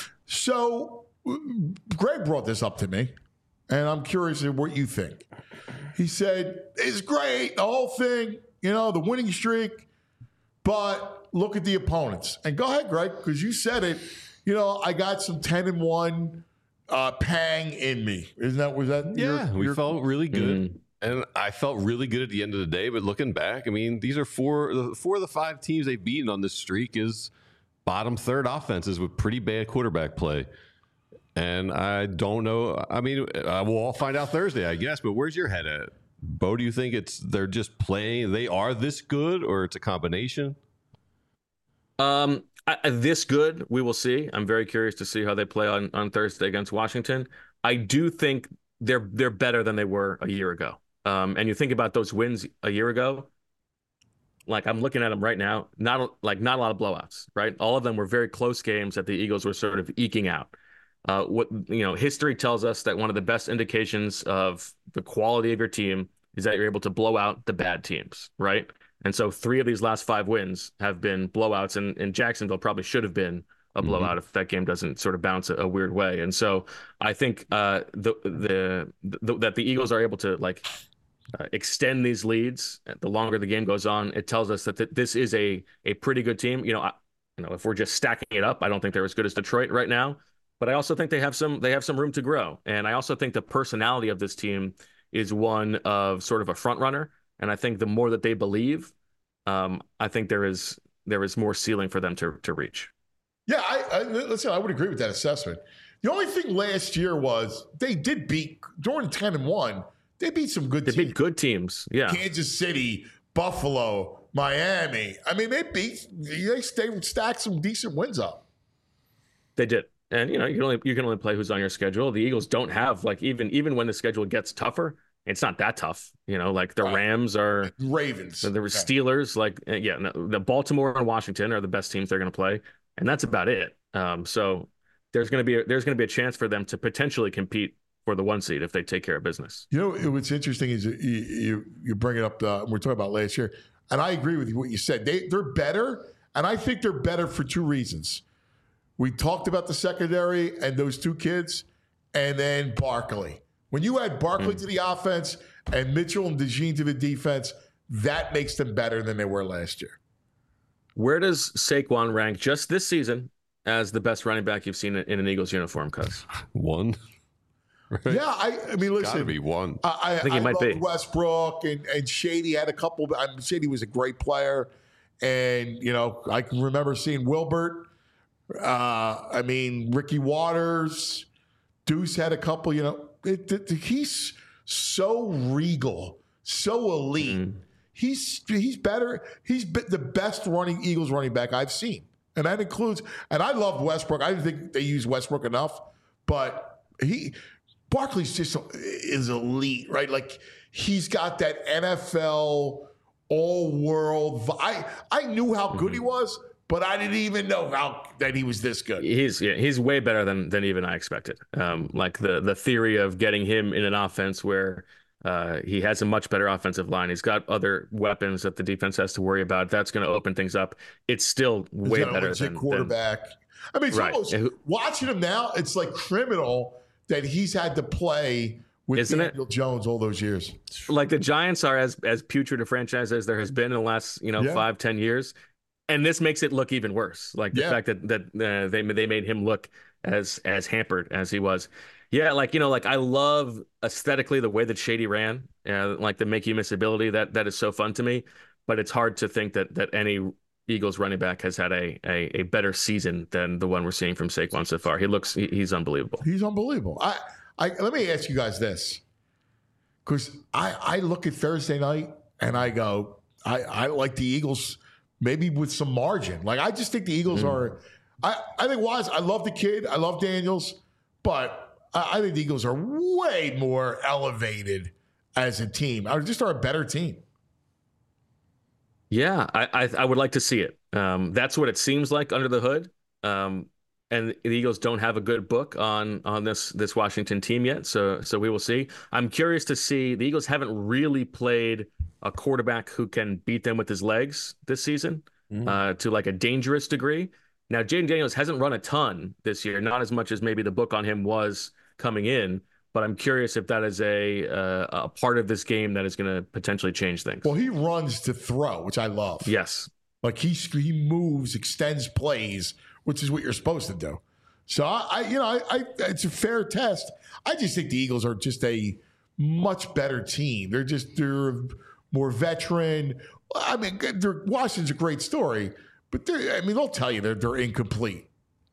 So Greg brought this up to me, and I'm curious what you think. He said, it's great, the whole thing, you know, the winning streak, but look at the opponents. And go ahead, Greg, because you said it. You know, I got some ten and one uh, pang in me. Isn't that, was that? Yeah, your, we your... felt really good. Mm. And I felt really good at the end of the day. But looking back, I mean, these are four, four of the five teams they've beaten on this streak is bottom third offenses with pretty bad quarterback play. And I don't know. I mean, uh, we'll all find out Thursday, I guess. But where's your head at? Bo, do you think it's they're just playing, they are this good, or it's a combination? Um, I, this good, we will see. I'm very curious to see how they play on, on Thursday against Washington. I do think they're they're better than they were a year ago. Um, and you think about those wins a year ago, like I'm looking at them right now, not like not a lot of blowouts, right? All of them were very close games that the Eagles were sort of eking out. Uh, what you know, history tells us that one of the best indications of the quality of your team is that you're able to blow out the bad teams, right? And so three of these last five wins have been blowouts, and, and Jacksonville probably should have been a blowout mm-hmm. if that game doesn't sort of bounce a, a weird way. And so I think uh, the, the the that the Eagles are able to like uh, extend these leads the longer the game goes on. It tells us that th- this is a a pretty good team. You know, I, you know, if we're just stacking it up, I don't think they're as good as Detroit right now. But I also think they have some they have some room to grow. And I also think the personality of this team is one of sort of a front runner. And I think the more that they believe, um, I think there is there is more ceiling for them to to reach. Yeah, I, I listen. I would agree with that assessment. The only thing last year was they did beat during ten and one. They beat some good. They teams. beat good teams. Yeah, Kansas City, Buffalo, Miami. I mean, they beat, they stay, stacked some decent wins up. They did. And, you know, you can only you can only play who's on your schedule. The Eagles don't have, like, even even when the schedule gets tougher, it's not that tough. You know, like the Right. Rams are Ravens. So there were Okay. Steelers, like uh, yeah, no, the Baltimore and Washington are the best teams they're going to play, and that's about it. Um, so there's going to be a, there's going to be a chance for them to potentially compete for the one seed if they take care of business. You know what's interesting is you you, you bring it up. Uh, we're talking about last year, and I agree with what you said. They they're better, and I think they're better for two reasons. We talked about the secondary and those two kids, and then Barkley. When you add Barkley mm. to the offense and Mitchell and DeJean to the defense, that makes them better than they were last year. Where does Saquon rank just this season as the best running back you've seen in an Eagles uniform, Cuz? One. Right? Yeah, I, I mean, listen. Gotta be one. I, I, I think he I might loved be. Westbrook and, and Shady had a couple. I mean, Shady was a great player. And, you know, I can remember seeing Wilbert. Uh, I mean, Ricky Waters. Deuce had a couple, you know. It, it, he's so regal, so elite. Mm. He's he's better. He's the best running Eagles running back I've seen. And that includes, and I love Westbrook. I didn't think they use Westbrook enough, but he, Barkley's just is elite, right? Like he's got that N F L all-world. I I knew how good he was, but I didn't even know how that he was this good. He's yeah, he's way better than than even I expected. Um, like the the theory of getting him in an offense where uh, he has a much better offensive line. He's got other weapons that the defense has to worry about. That's going to open things up. It's still way He's got a better legit than quarterback. Than, I mean, it's right. almost watching him now. It's like criminal that he's had to play with Isn't Daniel it? Jones all those years. Like the Giants are as as putrid a franchise as there has been in the last you know Yeah. five ten years. And this makes it look even worse. Like the Yeah. fact that that uh, they they made him look as as hampered as he was. Yeah, like you know, like I love aesthetically the way that Shady ran, uh, like the make you miss ability. That that is so fun to me. But it's hard to think that that any Eagles running back has had a a, a better season than the one we're seeing from Saquon so far. He looks he, he's unbelievable. He's unbelievable. I, I let me ask you guys this, because I I look at Thursday night and I go, I I like the Eagles maybe with some margin. Like I just think the Eagles Mm. are. I I think Wise. I love the kid. I love Daniels, but I, I think the Eagles are way more elevated as a team. I just are a better team. Yeah, I, I I would like to see it. Um, that's what it seems like under the hood. Um, and the Eagles don't have a good book on on this this Washington team yet, so so we will see. I'm curious to see. The Eagles haven't really played a quarterback who can beat them with his legs this season Mm. uh, to like a dangerous degree. Now, Jaden Daniels hasn't run a ton this year, not as much as maybe the book on him was coming in. But I'm curious if that is a uh, a part of this game that is going to potentially change things. Well, he runs to throw, which I love. Yes. Like he he moves, extends plays, which is what you're supposed to do. So I, I you know, I, I it's a fair test. I just think the Eagles are just a much better team. They're just they're more veteran. I mean, they're, Washington's a great story, but they're, I mean, they'll tell you they're they're incomplete.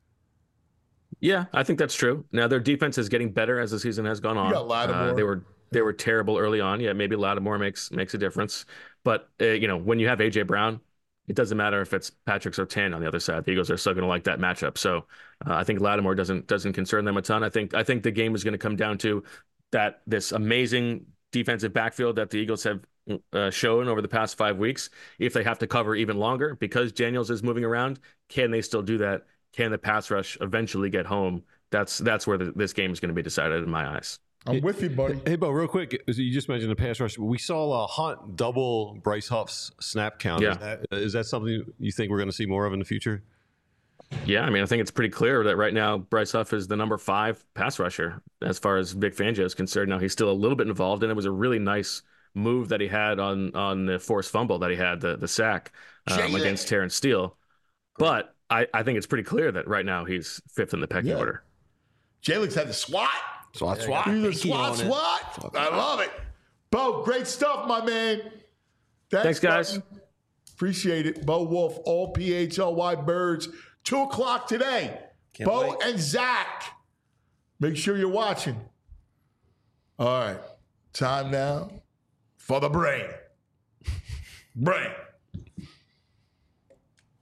Yeah, I think that's true. Now their defense is getting better as the season has gone on. You got Lattimore. Uh, they were they were terrible early on. Yeah, maybe Lattimore makes makes a difference. But uh, you know, when you have A J Brown, it doesn't matter if it's Patrick Surtain on the other side. The Eagles are still going to like that matchup. So uh, I think Lattimore doesn't doesn't concern them a ton. I think I think the game is going to come down to that this amazing defensive backfield that the Eagles have uh, shown over the past five weeks. If they have to cover even longer because Daniels is moving around, can they still do that? Can the pass rush eventually get home? That's that's where the, this game is going to be decided in my eyes. I'm with you, buddy. Hey, Bo, real quick, you just mentioned the pass rush. We saw uh, Hunt double Bryce Huff's snap count. Yeah. Is that, is that something you think we're going to see more of in the future? Yeah, I mean, I think it's pretty clear that right now Bryce Huff is the number five pass rusher as far as Vic Fangio is concerned. Now he's still a little bit involved, and it was a really nice move that he had on on the forced fumble that he had, the the sack um, against Terrence Steele. But I, I think it's pretty clear that right now he's fifth in the pecking Yeah. order. Jalen's had the SWAT. SWAT, SWAT. He's a Pinky SWAT, on it. SWAT. I love it. Bo, great stuff, my man. Thanks, guys. buddy. Appreciate it. Bo Wolf, all P H L Y Birds. Two o'clock today. Can't Bo wait. and Zach. Make sure you're watching. All right. Time now for the brain. Brain.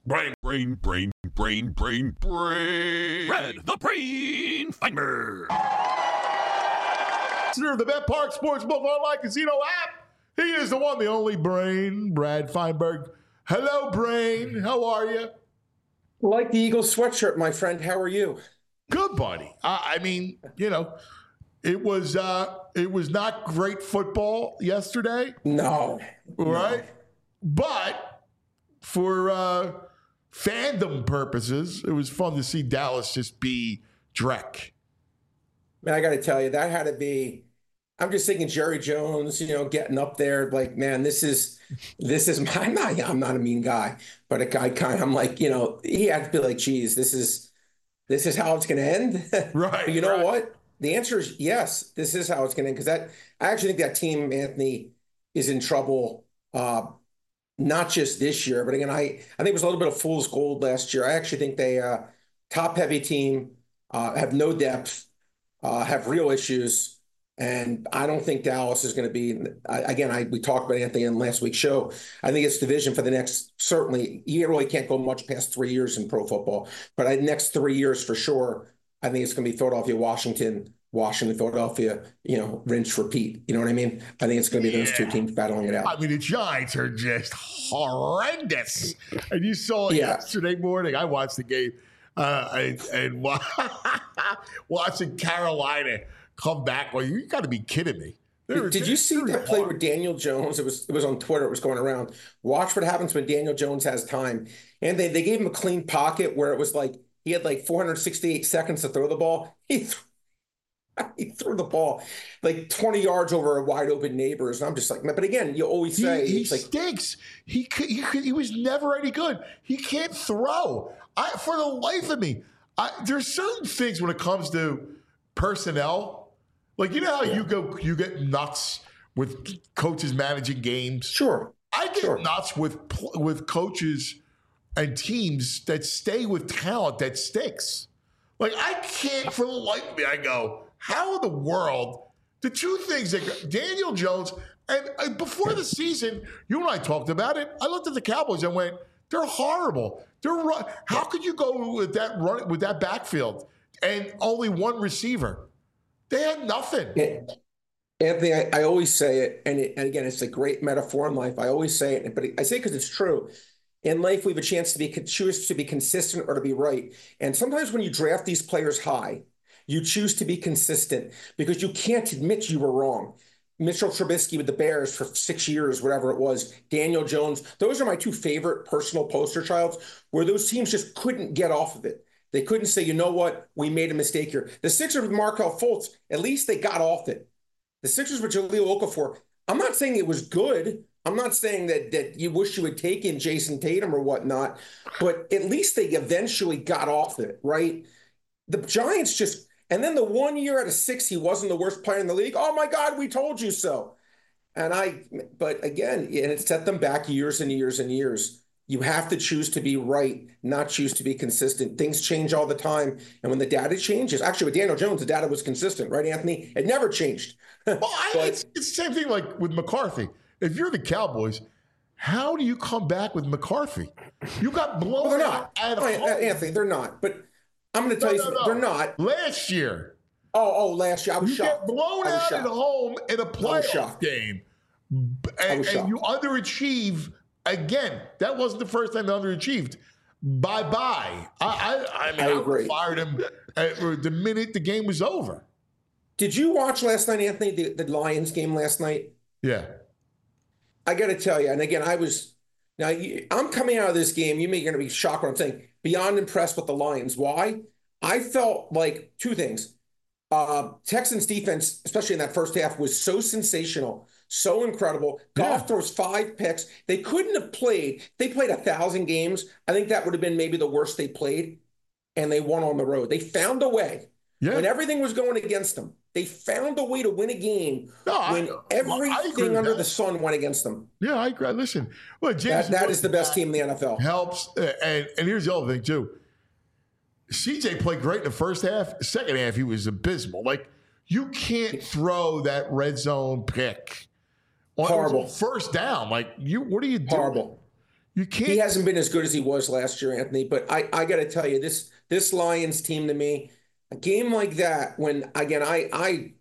Brain, brain, brain, brain, brain, brain. Red, the brain finder. Listener of the Bet Park Sportsbook Online Casino app. He is the one, the only Brain, Brad Feinberg. Hello, Brain. How are you? Like the Eagles sweatshirt, my friend. How are you? Good, buddy. Uh, I mean, you know, it was uh, it was not great football yesterday, No. right? No. But for uh, fandom purposes, it was fun to see Dallas just be Drek. Man, I got to tell you, that had to be. I'm just thinking Jerry Jones, you know, getting up there, like, man, this is, this is. My, I'm not, I'm not a mean guy, but a guy kind. I'm like, you know, he had to be like, geez, this is, this is how it's going to end. Right. But you know right. what? The answer is yes. This is how it's going to end because that. I actually think that team, Anthony, is in trouble. Uh, not just this year, but again, I, I think it was a little bit of fool's gold last year. I actually think they uh, top heavy team, uh, have no depth. Uh, have real issues, and I don't think Dallas is going to be. I, again, I we talked about Anthony in last week's show. I think it's division for the next. Certainly, you really can't go much past three years in pro football, but I, next three years for sure. I think it's going to be Philadelphia, Washington, Washington, Philadelphia. You know, rinse, repeat. You know what I mean? I think it's going to be those Yeah. two teams battling it out. I mean, the Giants are just horrendous. And you saw it Yeah. yesterday morning. I watched the game uh, and, and wa- watching Carolina come back. Well, you got to be kidding me. They're- Did you see they're that play hard. with Daniel Jones? It was it was on Twitter. It was going around. Watch what happens when Daniel Jones has time. And they, they gave him a clean pocket where it was like he had like four hundred sixty-eight seconds to throw the ball. He threw, he threw the ball like twenty yards over a wide open neighbors. And I'm just like, but again, you always say He, he it's like stinks. He, could- he could- he was never any good. He can't throw. I for the life of me, I, there's certain things when it comes to personnel. Like you know how you go, you get nuts with coaches managing games. sure. I get Sure. nuts with pl- with coaches and teams that stay with talent that stinks. Like I can't for the life of me. I go, how in the world? The two things that Daniel Jones and uh, before the season, you and I talked about it. I looked at the Cowboys and went, they're horrible. They're run- how could you go with that run with that backfield and only one receiver? They had nothing. Yeah. Anthony, I, I always say it, and, it, and again, it's a great metaphor in life. I always say it, but I say it because it's true. In life, we have a chance to be choose to be consistent or to be right. And sometimes when you draft these players high, you choose to be consistent because you can't admit you were wrong. Mitchell Trubisky with the Bears for six years, whatever it was, Daniel Jones. Those are my two favorite personal poster childs where those teams just couldn't get off of it. They couldn't say, you know what, we made a mistake here. The Sixers with Markelle Fultz, at least they got off it. The Sixers with Jahlil Okafor, I'm not saying it was good. I'm not saying that that you wish you had taken Jason Tatum or whatnot, but at least they eventually got off it, right? The Giants just, and then the one year out of six, he wasn't the worst player in the league. Oh my God, we told you so. And I, but again, and it set them back years and years and years. You have to choose to be right, not choose to be consistent. Things change all the time. And when the data changes, actually with Daniel Jones, the data was consistent, right, Anthony? It never changed. Well, I, But- it's, it's the same thing like with McCarthy. If you're the Cowboys, how do you come back with McCarthy? You got blown Well, they're out not. at Oh, home. Anthony, they're not. But I'm going to No, tell you no, something. no. They're not. Last year, Oh, oh, last year I was you shocked. get blown I was out shocked. at home in a playoff shocked. game, I and, was and shocked. you underachieve again. That wasn't the first time they underachieved. Bye bye. I I, I mean, I I, would've agree. fired him at, the minute the game was over. Did you watch last night, Anthony, the, the Lions game last night? Yeah. I got to tell you, and again, I was now you, I'm coming out of this game. You may going to be shocked what I'm saying. Beyond impressed with the Lions. Why? I felt like two things. Uh, Texans defense, especially in that first half, was so sensational, so incredible. Goff Yeah. throws five picks. They couldn't have played. They played a thousand games. I think that would have been maybe the worst they played, and they won on the road. They found a way Yeah. when everything was going against them. They found a way to win a game No, I- when I agree everything with under that. the sun went against them. Yeah, I agree. Listen, well, That, James that is the best team in the N F L. helps. uh, And and here's the other thing too. C J played great in the first half. Second half, he was abysmal. Like you can't throw that red zone pick on Horrible. first down. Like you, what are you doing? Horrible. You can't. He hasn't been as good as he was last year, Anthony. But I, I got to tell you, this this Lions team to me, a game like that, when again I I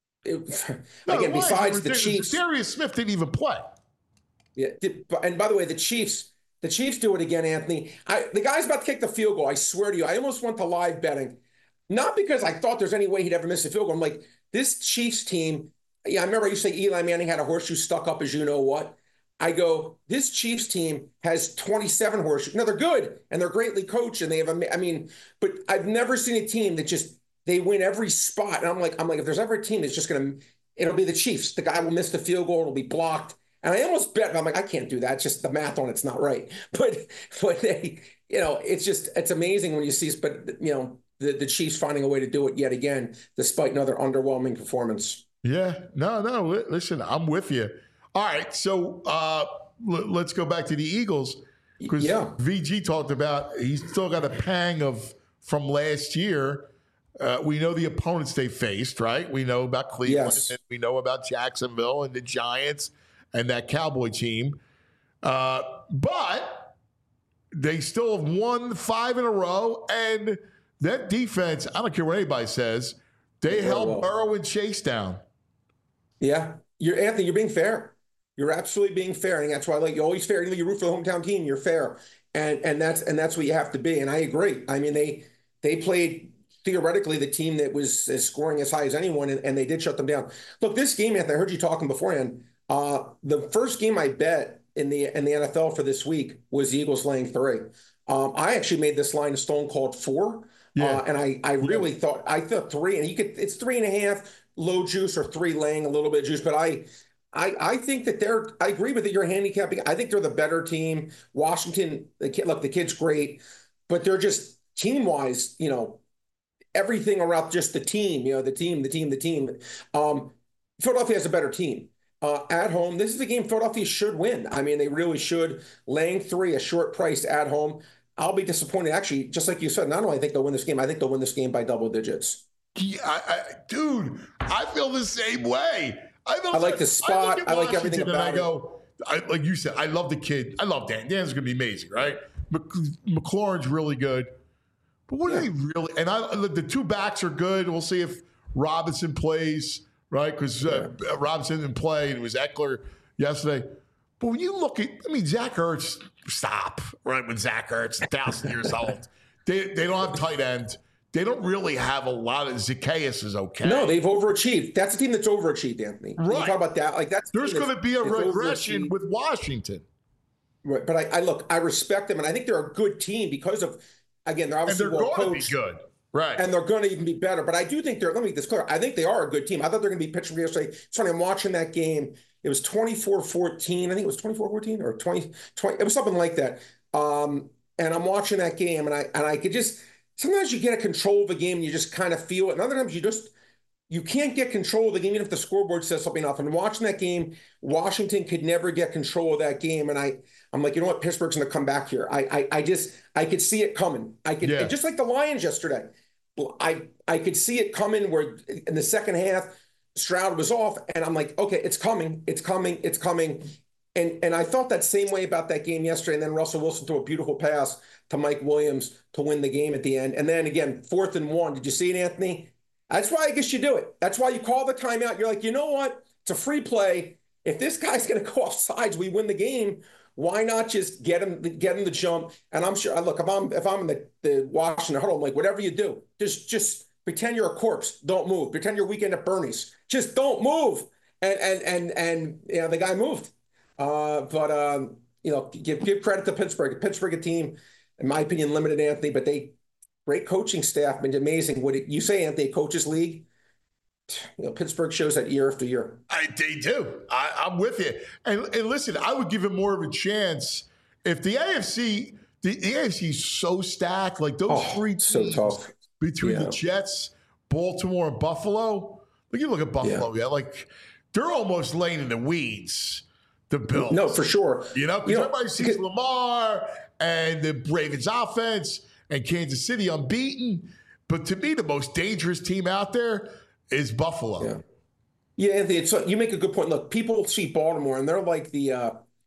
it, no, again the besides the Lions, Chiefs, Darius Smith didn't even play. Yeah, and by the way, the Chiefs, the Chiefs do it again, Anthony. I the guy's about to kick the field goal. I swear to you, I almost went to live betting, not because I thought there's any way he'd ever miss a field goal. I'm like, this Chiefs team. Yeah, I remember I used to say Eli Manning had a horseshoe stuck up as you know what. I go, this Chiefs team has twenty-seven horseshoes. No, they're good and they're greatly coached and they have. A, I mean, but I've never seen a team that just they win every spot. And I'm like, I'm like, if there's ever a team that's just gonna, it'll be the Chiefs. The guy will miss the field goal. It'll be blocked. And I almost bet, I'm like, I can't do that. It's just the math on it's not right. But but they, you know, it's just it's amazing when you see. But you know, the the Chiefs finding a way to do it yet again, despite another underwhelming performance. Yeah, no, no. Listen, I'm with you. All right, so uh, l- let's go back to the Eagles because yeah. V G talked about he's still got a pang of from last year. Uh, we know the opponents they faced, right? We know about Cleveland, Yes. and we know about Jacksonville and the Giants and that Cowboy team. Uh, but they still have won five in a row, and that defense, I don't care what anybody says, they held well. Burrow and Chase down. Yeah, you're Anthony. You're being fair. You're absolutely being fair, and that's why, like, you always fair. You root for the hometown team. You're fair, and and that's and that's what you have to be. And I agree. I mean, they they played theoretically the team that was as scoring as high as anyone, and, and they did shut them down. Look, this game, Anthony. I heard you talking beforehand. Uh, the first game I bet in the in the N F L for this week was the Eagles laying three. Um, I actually made this line a stone cold four, Yeah. uh, and I I really yeah. thought I thought three, and you could it's three and a half. Low juice or three laying a little bit of juice, but I, I, I think that they're. I agree with that. You're handicapping. I think they're the better team. Washington, the kid, look, the kid's great, but they're just team wise. You know, everything around just the team. You know, the team, the team, the team. Um, Philadelphia has a better team uh, at home. This is the game Philadelphia should win. I mean, they really should. Laying three, a short price at home. I'll be disappointed. Actually, just like you said, not only I think they'll win this game, I think they'll win this game by double digits. Yeah, I, I, dude, I feel the same way. I, feel I like the spot. I, I like everything about and I go, I, like you said, I love the kid. I love Dan. Dan's going to be amazing, right? Mc, McLaurin's really good. But what yeah. are they really? And I, the two backs are good. We'll see if Robinson plays, right? Because uh, yeah. Robinson didn't play, and it was Eckler yesterday. But when you look at, I mean, Zach Ertz, stop, right? When Zach Ertz, a thousand years old, they they don't have tight end. They don't really have a lot of Zacchaeus is okay. No, they've overachieved. That's a team that's overachieved, Anthony. Right. You talk about that. Like that's there's going to be a regression with Washington. Right. But I, I look, I respect them, and I think they're a good team because of, again, they're obviously and they're well going coached. to be good. Right. And they're going to even be better. But I do think they're, let me make this clear. I think they are a good team. I thought they're going to be pitching yesterday. It's funny, I'm watching that game. It was twenty-four fourteen. I think it was twenty-four fourteen or twenty, twenty. It was something like that. Um, and I'm watching that game, and I and I could just, sometimes you get a control of a game and you just kind of feel it. And other times you just, you can't get control of the game, even if the scoreboard says something else. And watching that game, Washington could never get control of that game. And I, I'm like, you know what? Pittsburgh's going to come back here. I, I, I just, I could see it coming. I could, yeah. just like the Lions yesterday. I, I could see it coming where in the second half, Stroud was off. And I'm like, okay, it's coming. It's coming. It's coming. And and I thought that same way about that game yesterday. And then Russell Wilson threw a beautiful pass to Mike Williams to win the game at the end. And then again, fourth and one. Did you see it, Anthony? That's why I guess you do it. That's why you call the timeout. You're like, you know what? It's a free play. If this guy's going to go off sides, we win the game. Why not just get him get him the jump? And I'm sure. Look, if I'm if I'm in the, the Washington huddle, I'm like, whatever you do, just just pretend you're a corpse. Don't move. Pretend you're Weekend at Bernie's. Just don't move. And and and and you know the guy moved. Uh, but, um, you know, give give credit to Pittsburgh. Pittsburgh, a team, in my opinion, limited, Anthony, but they great coaching staff. Been amazing. What you say, Anthony, coaches league? You know, Pittsburgh shows that year after year. I, they do. I, I'm with you. And, and listen, I would give him more of a chance if the A F C, the, the A F C is so stacked, like those oh, three teams so tough. between yeah. the Jets, Baltimore, and Buffalo. Look, you look at Buffalo, yeah, yeah like they're almost laying in the weeds. The Bills. No, for sure. You know, because everybody sees because, Lamar and the Ravens offense and Kansas City unbeaten. But to me, the most dangerous team out there is Buffalo. Yeah, yeah Anthony, it's, you make a good point. Look, people see Baltimore, and they're like the uh,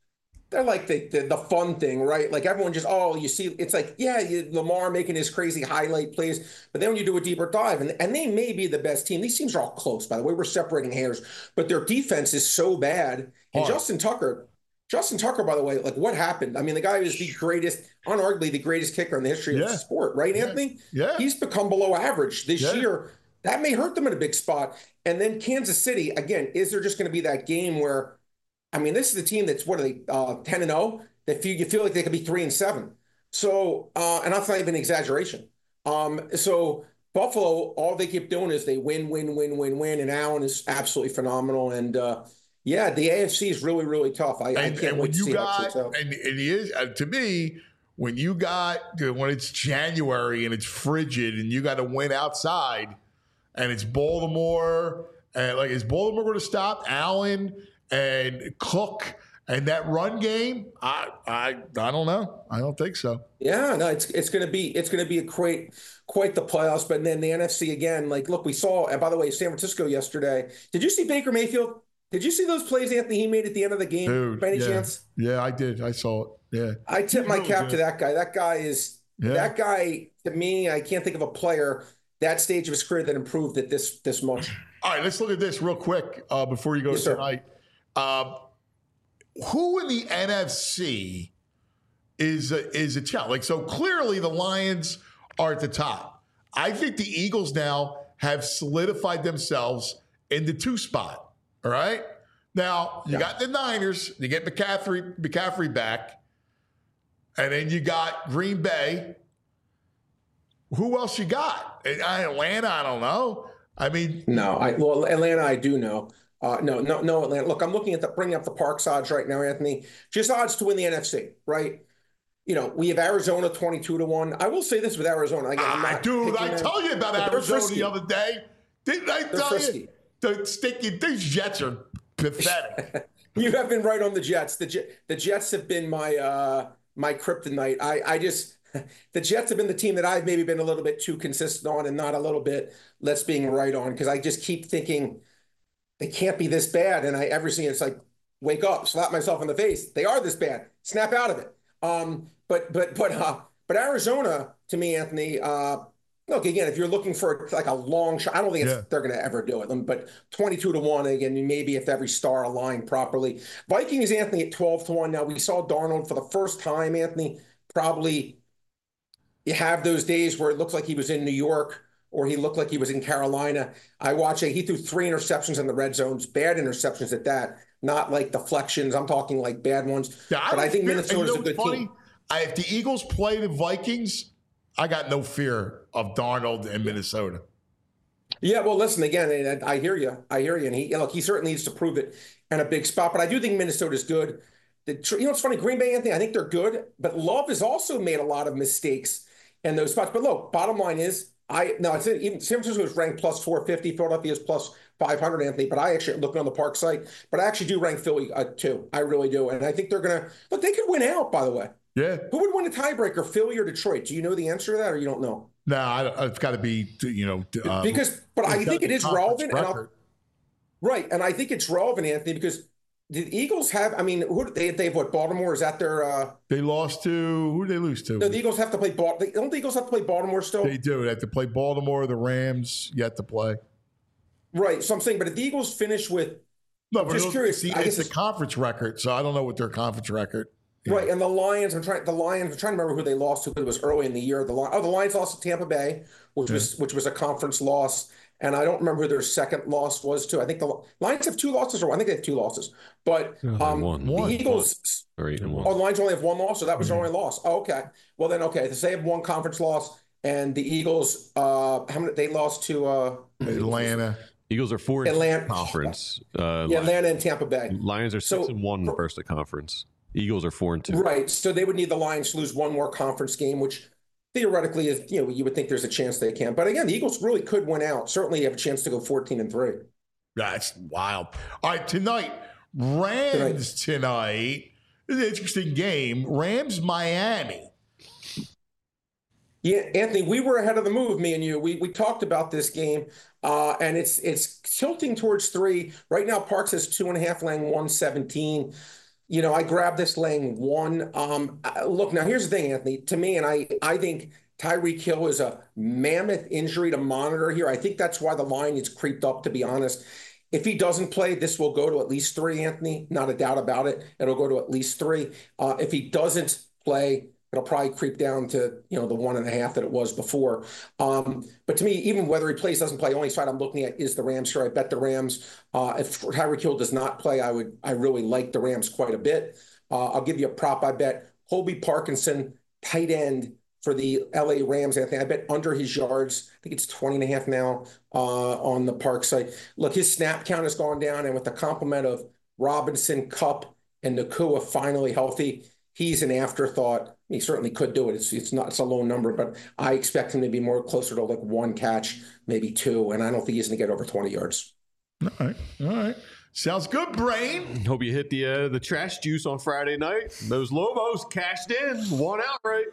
they're like the, the the fun thing, right? Like everyone just, oh, you see, it's like, yeah, you, Lamar making his crazy highlight plays, but then when you do a deeper dive, and, and they may be the best team. These teams are all close, by the way. We're separating hairs, but their defense is so bad. And Oh. Justin Tucker, Justin Tucker, by the way, like what happened? I mean, the guy is the greatest, unarguably the greatest kicker in the history Yeah. of the sport, right, Yeah. Anthony? Yeah. He's become below average this Yeah. year. That may hurt them in a big spot. And then Kansas City, again, is there just going to be that game where, I mean, this is a team that's, what are they, uh, ten and oh? That feel, you feel like they could be three and seven. So, uh, and that's not even an exaggeration. Um, so Buffalo, all they keep doing is they win, win, win, win, win. And Allen is absolutely phenomenal. And uh, yeah, the A F C is really, really tough. I, I And, can't and wait when to you see how it got, shakes out. and, and he is, uh, to me, when you got, when it's January and it's frigid and you got to win outside and it's Baltimore, and like, is Baltimore going to stop Allen and Cook and that run game? I, I, I don't know. I don't think so. Yeah, no, it's it's going to be it's going to be a quite quite the playoffs. But then the N F C again, like, look, we saw. And by the way, San Francisco yesterday. Did you see Baker Mayfield? Did you see those plays, Anthony, he made at the end of the game? Dude, by any yeah. chance? Yeah, I did. I saw it. Yeah. I tip my Really cap good. to that guy. That guy is Yeah. that guy to me. I can't think of a player that stage of his career that improved it this this much. All right, let's look at this real quick uh, before you go Yes, sir. tonight. Um, who in the N F C is a, is a challenge? Like, so clearly the Lions are at the top. I think the Eagles now have solidified themselves in the two spot. All right. Now you Yeah. got the Niners. You get McCaffrey McCaffrey back, and then you got Green Bay. Who else you got? Atlanta. I don't know. I mean, No, I well Atlanta, I do know. Uh, no, no, no, Atlanta. Look, I'm looking at the bringing up the Parks odds right now, Anthony. Just odds to win the N F C, right? You know, we have Arizona twenty-two to one. I will say this with Arizona. Again, I'm Ah, not dude, picking I them, told you about but they're Arizona frisky. the other day. Didn't I They're tell frisky. you? The sticky, these Jets are pathetic. You have been right on the Jets. The Jet, the Jets have been my uh, my kryptonite. I I just the Jets have been the team that I've maybe been a little bit too consistent on, and not a little bit less being right on, because I just keep thinking they can't be this bad, and I every single it's like wake up, slap myself in the face. They are this bad. Snap out of it. Um, but but but uh, but Arizona to me, Anthony. Uh, Look, again, if you're looking for like a long shot, I don't think it's, Yeah. they're going to ever do it. But twenty-two to one, again, maybe if every star aligned properly. Vikings, Anthony, at twelve to one. Now, we saw Darnold for the first time, Anthony, probably you have those days where it looks like he was in New York or he looked like he was in Carolina. I watched it. He threw three interceptions in the red zones, bad interceptions at that, not like deflections. I'm talking like bad ones. Yeah, but I don't think fear- Minnesota's and you know a good what's funny? team. I, if the Eagles play the Vikings, I got no fear of Darnold and Minnesota. Yeah, well, listen, again, and I hear you. I hear you. And he, look, he certainly needs to prove it in a big spot. But I do think Minnesota's good. The, you know, it's funny, Green Bay, Anthony, I think they're good. But Love has also made a lot of mistakes in those spots. But look, bottom line is, I no, it's even San Francisco is ranked plus four fifty. Philadelphia is plus five hundred, Anthony. But I actually looking on the Park site. But I actually do rank Philly uh, too. I really do. And I think they're going to look. They could win out, by the way. Yeah. Who would win a tiebreaker, Philly or Detroit? Do you know the answer to that, or you don't know? No, I, it's got to be, you know. Uh, Because, but I it's think got it the is conference relevant. And I'll, record. right, and I think it's relevant, Anthony, because the Eagles have. I mean, who they they've what Baltimore is that their? Uh, They lost to, who did they lose to? no, the Eagles have to play. Bal- Don't the Eagles have to play Baltimore still? They do. They have to play Baltimore, the Rams, yet to play. Right. So I'm saying, but if the Eagles finish with No, but just it's, curious, the, I it's guess the it's- conference record, so I don't know what their conference record. is. right, and the Lions, I'm trying. The Lions, I'm trying to remember who they lost to because it was early in the year. The Lions, oh, the Lions lost to Tampa Bay, which was which was a conference loss, and I don't remember who their second loss was to. I think the Lions have two losses, or I think they have two losses. But No, they um, won. the One. Eagles. Or eight and Oh, one. the Lions only have one loss, so that was their only loss. Oh, okay. Well, then, okay. So they have one conference loss, and the Eagles, uh, how many? They lost to uh, Atlanta. Eagles are four in Atlanta- conference. Uh, yeah, Atlanta and Tampa Bay. Lions are six So- and one versus the conference. Eagles are four and two. Right. So they would need the Lions to lose one more conference game, which theoretically is, you know, you would think there's a chance they can. But again, the Eagles really could win out. Certainly have a chance to go fourteen and three. That's wild. All right, tonight, Rams tonight. This is an interesting game. Rams, Miami. Yeah, Anthony, we were ahead of the move, me and you. We we talked about this game, uh, and it's it's tilting towards three. Right now, Parks has two and a half, laying one seventeen. You know, I grabbed this laying one. Um, uh, look, now here's the thing, Anthony. To me, and I, I think Tyreek Hill is a mammoth injury to monitor here. I think that's why the line is creeped up, to be honest. If he doesn't play, this will go to at least three, Anthony. Not a doubt about it. It'll go to at least three. Uh, if he doesn't play, it'll probably creep down to, you know, the one and a half that it was before. Um, but to me, even whether he plays, doesn't play, only side I'm looking at is the Rams here. I bet the Rams. Uh, if Tyreek Hill does not play, I would, I really like the Rams quite a bit. Uh, I'll give you a prop. I bet Colby Parkinson, tight end for the L A Rams, Anthony. I bet under his yards. I think it's twenty and a half now uh, on the Park site. Look, his snap count has gone down, and with the complement of Robinson, Kupp, and Nacua finally healthy, he's an afterthought. He certainly could do it. It's it's not it's a low number, but I expect him to be more closer to like one catch, maybe two, and I don't think he's going to get over twenty yards. All right, all right. Sounds good, Brain. Hope you hit the uh, the trash juice on Friday night. Those Lobos cashed in, one outright.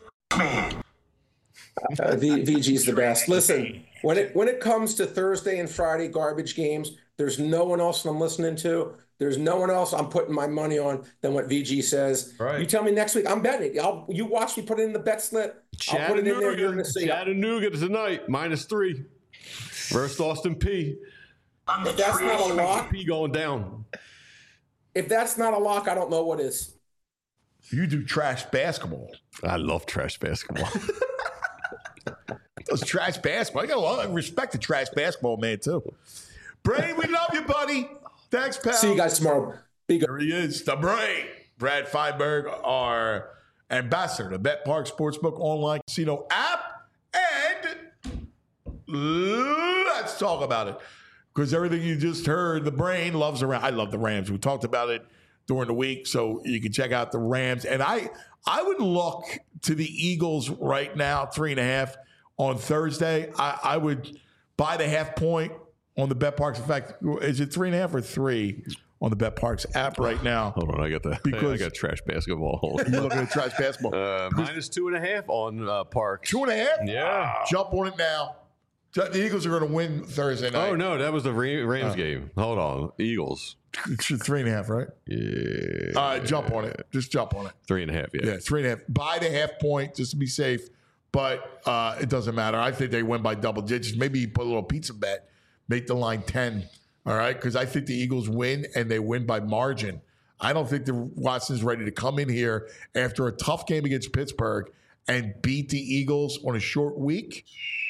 Uh, v, VG's the best. Listen, when it when it comes to Thursday and Friday garbage games, there's no one else I'm listening to. There's no one else I'm putting my money on than what V G says. Right. You tell me next week, I'm betting. I'll you watch me put it in the bet slip. I'll put it in there. You're going to see Chattanooga tonight, minus three versus Austin P. If that's not a lock, P going down. If that's not a lock, I don't know what is. You do trash basketball. I love trash basketball. Those trash basketball. I got a lot of respect to trash basketball, man, too. Brain, we love you, buddy. Thanks, pal. See you guys tomorrow. Be good. There he is, the Brain. Brad Feinberg, our ambassador to Bet Park Sportsbook online casino app. And let's talk about it. Because everything you just heard, the Brain loves the Rams. I love the Rams. We talked about it during the week, so you can check out the Rams. And I I would look to the Eagles right now, three and a half on Thursday. I, I would buy the half point on the Bet Parks. In fact, is it three and a half or three on the Bet Parks app right now? Hold on, I got the because I got trash basketball. You're looking at trash basketball. Uh, minus two and a half on uh, Parks. Two and a half? Yeah. Jump on it now. The Eagles are going to win Thursday night. Oh, no, that was the Rams uh, game. Hold on. Eagles. Three and a half, right? Yeah. All right, jump on it. Just jump on it. Three and a half, yeah. Yeah, three and a half. Buy the half point just to be safe, but uh, it doesn't matter. I think they win by double digits. Maybe you put a little pizza bet, make the line ten, all right? Because I think the Eagles win, and they win by margin. I don't think the Watson's ready to come in here after a tough game against Pittsburgh and beat the Eagles on a short week.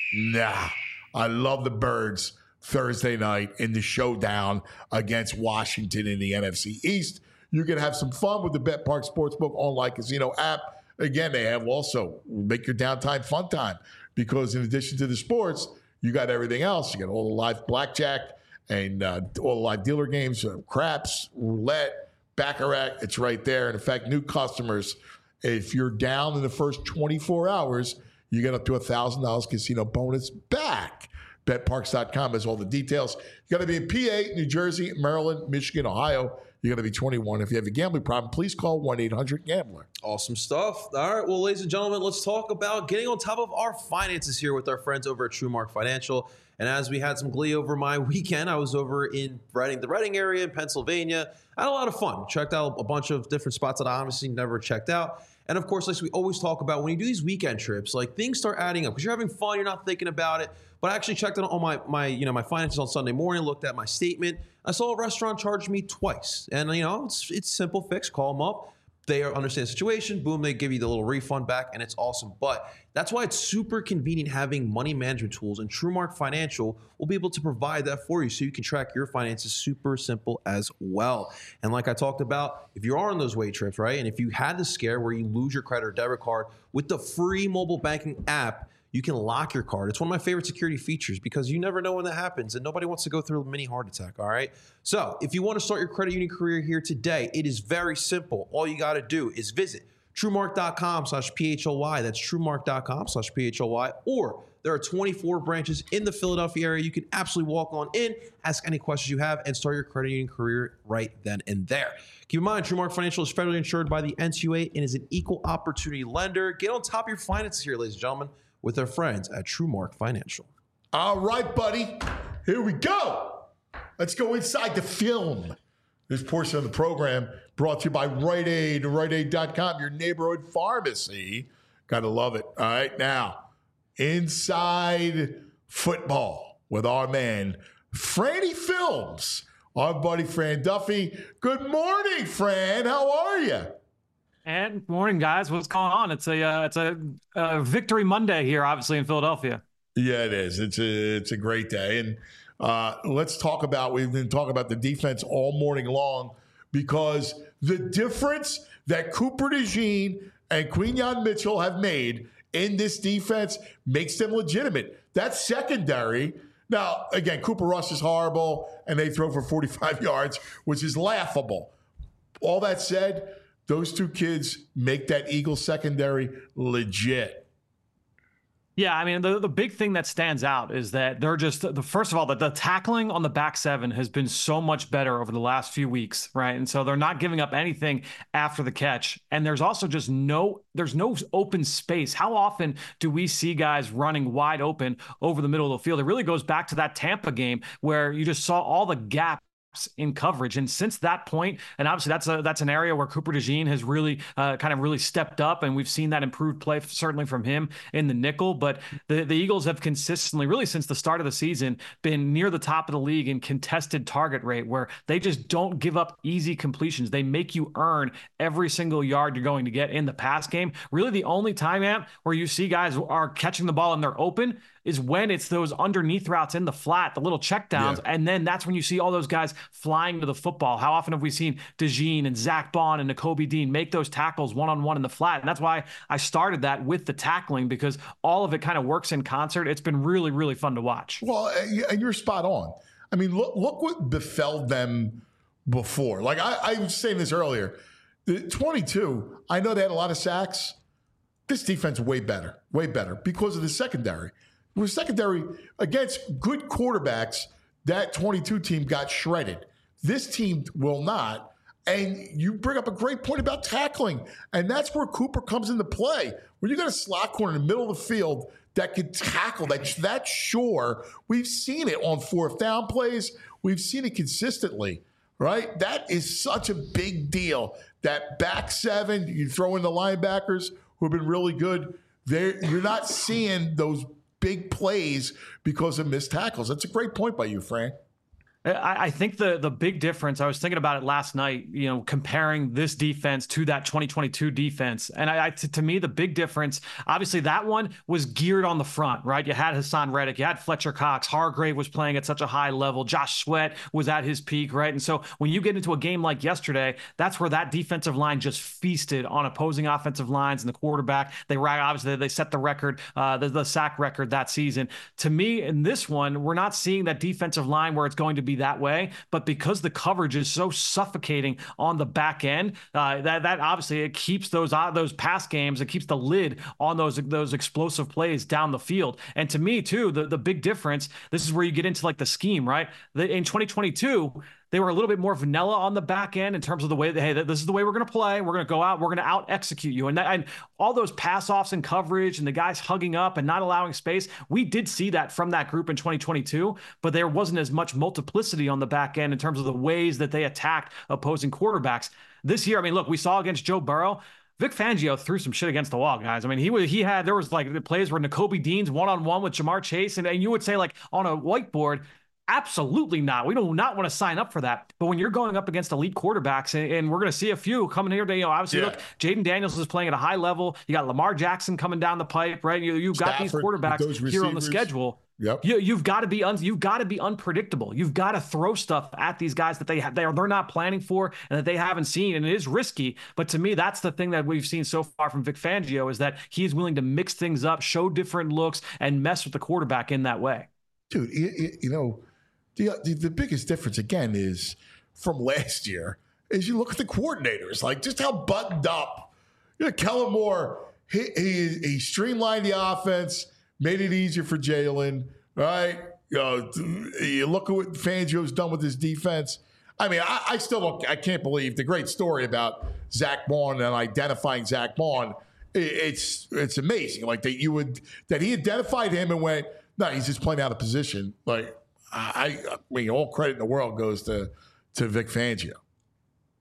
Nah. I love the Birds Thursday night in the showdown against Washington in the N F C East. You can have some fun with the Bet Park Sportsbook online casino app. Again, they have also make your downtime fun time because in addition to the sports, you got everything else. You got all the live blackjack and uh, all the live dealer games, uh, craps, roulette, baccarat. It's right there. And in fact, new customers, if you're down in the first twenty-four hours, you get up to one thousand dollars casino bonus back. Bet Parks dot com has all the details. You got to be in P A, New Jersey, Maryland, Michigan, Ohio. You got to be twenty-one. If you have a gambling problem, please call one eight hundred gambler. Awesome stuff. All right, well, ladies and gentlemen, let's talk about getting on top of our finances here with our friends over at TrueMark Financial. And as we had some glee over my weekend, I was over in Reading, the Reading area in Pennsylvania. I had a lot of fun. Checked out a bunch of different spots that I honestly never checked out. And of course, like we always talk about, when you do these weekend trips, like things start adding up because you're having fun, you're not thinking about it. But I actually checked out on my my you know my finances on Sunday morning, looked at my statement. I saw a restaurant charge me twice, and you know it's it's simple fix. Call them up. They understand the situation. Boom, they give you the little refund back, and it's awesome. But that's why it's super convenient having money management tools, and TrueMark Financial will be able to provide that for you so you can track your finances super simple as well. And like I talked about, if you are on those weight trips, right, and if you had the scare where you lose your credit or debit card, with the free mobile banking app, you can lock your card. It's one of my favorite security features because you never know when that happens and nobody wants to go through a mini heart attack, all right? So if you want to start your credit union career here today, it is very simple. All you got to do is visit TrueMark.com slash P-H-O-Y. That's TrueMark.com slash P-H-O-Y. Or there are twenty-four branches in the Philadelphia area. You can absolutely walk on in, ask any questions you have, and start your credit union career right then and there. Keep in mind, TrueMark Financial is federally insured by the N C U A and is an equal opportunity lender. Get on top of your finances here, ladies and gentlemen, with our friends at TrueMark Financial. All right, buddy. Here we go. Let's go inside the film. This portion of the program brought to you by Rite Aid, Rite Aid dot com, your neighborhood pharmacy. Gotta love it. All right, now, inside football with our man, Franny Films, our buddy Fran Duffy. Good morning, Fran. How are you? And morning, guys. What's going on? It's a uh, it's a, a victory Monday here, obviously in Philadelphia. Yeah, it is. It's a it's a great day, and uh, let's talk about. We've been talking about the defense all morning long because the difference that Cooper DeJean and Quinyon Mitchell have made in this defense makes them legitimate. That secondary. Now, again, Cooper Rush is horrible, and they throw for forty-five yards, which is laughable. All that said, those two kids make that Eagles secondary legit. Yeah, I mean, the, the big thing that stands out is that they're just, the first of all, that the tackling on the back seven has been so much better over the last few weeks, right? And so they're not giving up anything after the catch. And there's also just no, there's no open space. How often do we see guys running wide open over the middle of the field? It really goes back to that Tampa game where you just saw all the gaps in coverage. And since that point, and obviously that's a that's an area where Cooper DeJean has really uh, kind of really stepped up, and we've seen that improved play certainly from him in the nickel. But the, the Eagles have consistently, really since the start of the season, been near the top of the league in contested target rate, where they just don't give up easy completions. They make you earn every single yard you're going to get in the pass game. Really the only time, Ant, where you see guys are catching the ball and they're open is when it's those underneath routes in the flat, the little checkdowns, yeah. And then that's when you see all those guys flying to the football. How often have we seen DeJean and Zach Bond and Nakobe Dean make those tackles one-on-one in the flat? And that's why I started that with the tackling, because all of it kind of works in concert. It's been really, really fun to watch. Well, and you're spot on. I mean, look, look what befell them before. Like I, I was saying this earlier, the twenty-two, I know they had a lot of sacks. This defense way better, way better because of the secondary. With secondary against good quarterbacks, that twenty-two team got shredded. This team will not. And you bring up a great point about tackling. And that's where Cooper comes into play. When you got a slot corner in the middle of the field that can tackle, that, that's sure. We've seen it on fourth down plays. We've seen it consistently, right? That is such a big deal. That back seven, you throw in the linebackers who have been really good. They're, you're not seeing those big plays because of missed tackles. That's a great point by you, Frank. I, I think the the big difference, I was thinking about it last night, you know, comparing this defense to that twenty twenty-two defense. And I, I to, to me, the big difference, obviously that one was geared on the front, right? You had Hassan Reddick, you had Fletcher Cox, Hargrave was playing at such a high level, Josh Sweat was at his peak, right? And so when you get into a game like yesterday, that's where that defensive line just feasted on opposing offensive lines and the quarterback. They obviously they set the record, uh, the, the sack record that season. To me, in this one, we're not seeing that defensive line where it's going to be that way, but because the coverage is so suffocating on the back end, uh, that that obviously it keeps those uh, those pass games, it keeps the lid on those those explosive plays down the field. And to me too, the the big difference, this is where you get into like the scheme, right? The, in twenty twenty-two, they were a little bit more vanilla on the back end in terms of the way that, hey, this is the way we're going to play. We're going to go out. We're going to out execute you. And, that, and all those pass offs and coverage and the guys hugging up and not allowing space. We did see that from that group in twenty twenty-two, but there wasn't as much multiplicity on the back end in terms of the ways that they attacked opposing quarterbacks. This year, I mean, look, we saw against Joe Burrow, Vic Fangio threw some shit against the wall, guys. I mean, he was, he had, there was like the plays where Nakobe Dean's one-on-one with Jamar Chase. And, and you would say like on a whiteboard, absolutely not. We do not want to sign up for that. But when you're going up against elite quarterbacks, and, and we're going to see a few coming here, you know, obviously, yeah. Look, Jaden Daniels is playing at a high level. You got Lamar Jackson coming down the pipe, right? You, you've got Stafford, these quarterbacks here on the schedule. Yep. You, you've got to be un, you've got to be unpredictable. You've got to throw stuff at these guys that they have, they're, they're not planning for and that they haven't seen. And it is risky. But to me, that's the thing that we've seen so far from Vic Fangio is that he is willing to mix things up, show different looks, and mess with the quarterback in that way. Dude, you, you know, The, the biggest difference, again, is from last year, is you look at the coordinators, like just how buttoned up. You know, Kellen Moore, he, he, he streamlined the offense, made it easier for Jalen, right? You know, you look at what Fangio's done with his defense. I mean, I, I still don't, I can't believe the great story about Zach Bond and identifying Zach Bond. It, it's it's amazing. Like that you would, that he identified him and went, no, he's just playing out of position. Like, I, I mean, all credit in the world goes to, to Vic Fangio.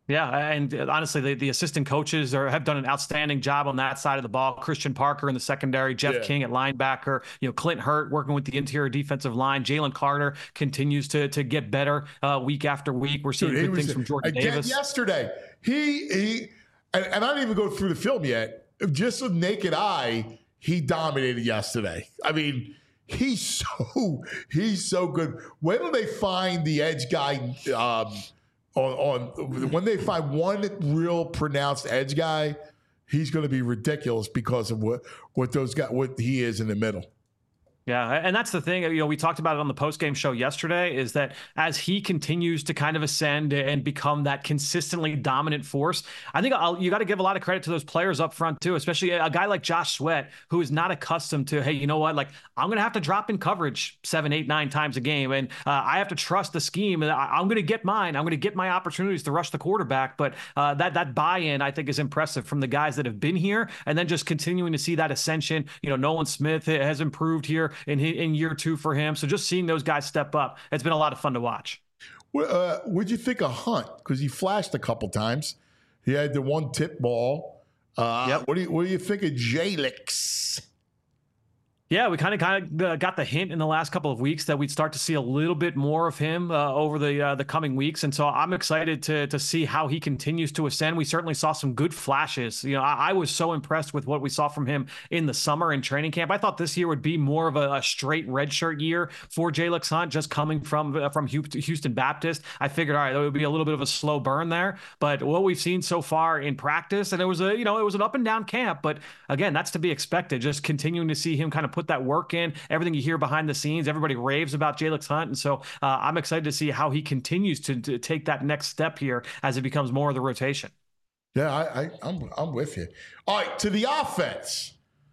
Yeah, and honestly, the, the assistant coaches are, have done an outstanding job on that side of the ball. Christian Parker in the secondary, Jeff Yeah. King at linebacker, you know, Clint Hurt working with the interior defensive line. Jalen Carter continues to to get better uh, week after week. We're seeing Dude, he good was- things from Jordan again Davis. yesterday. He he, and, and I didn't even go through the film yet. Just with naked eye, he dominated yesterday. I mean, he's so he's so good. When do they find the edge guy? Um, on, on when they find one real pronounced edge guy, he's going to be ridiculous because of what what those guys what he is in the middle. Yeah, and that's the thing, you know, we talked about it on the post-game show yesterday, is that as he continues to kind of ascend and become that consistently dominant force, I think I'll, you got to give a lot of credit to those players up front too, especially a guy like Josh Sweat, who is not accustomed to, hey, you know what, like I'm going to have to drop in coverage seven, eight, nine times a game, and uh, I have to trust the scheme, and I, I'm going to get mine. I'm going to get my opportunities to rush the quarterback, but uh, that that buy-in, I think, is impressive from the guys that have been here, and then just continuing to see that ascension. You know, Nolan Smith has improved here in in year two for him. So just seeing those guys step up, it's been a lot of fun to watch. Uh, what'd you think of Hunt? Because he flashed a couple times. He had the one tip ball. Uh, Yep. What do you What do you think of Jalix? Yeah, we kind of kind of got the hint in the last couple of weeks that we'd start to see a little bit more of him uh, over the uh, the coming weeks, and so I'm excited to to see how he continues to ascend. We certainly saw some good flashes. You know, I, I was so impressed with what we saw from him in the summer in training camp. I thought this year would be more of a, a straight redshirt year for Jalix Hunt, just coming from uh, from Houston Baptist. I figured, all right, there would be a little bit of a slow burn there, but what we've seen so far in practice, and it was a you know it was an up and down camp, but again, that's to be expected. Just continuing to see him kind of put that work in, everything you hear behind the scenes, everybody raves about Jalix Hunt. And so uh, I'm excited to see how he continues to, to take that next step here as it becomes more of the rotation. Yeah, I, I, I'm I'm with you. All right, to the offense.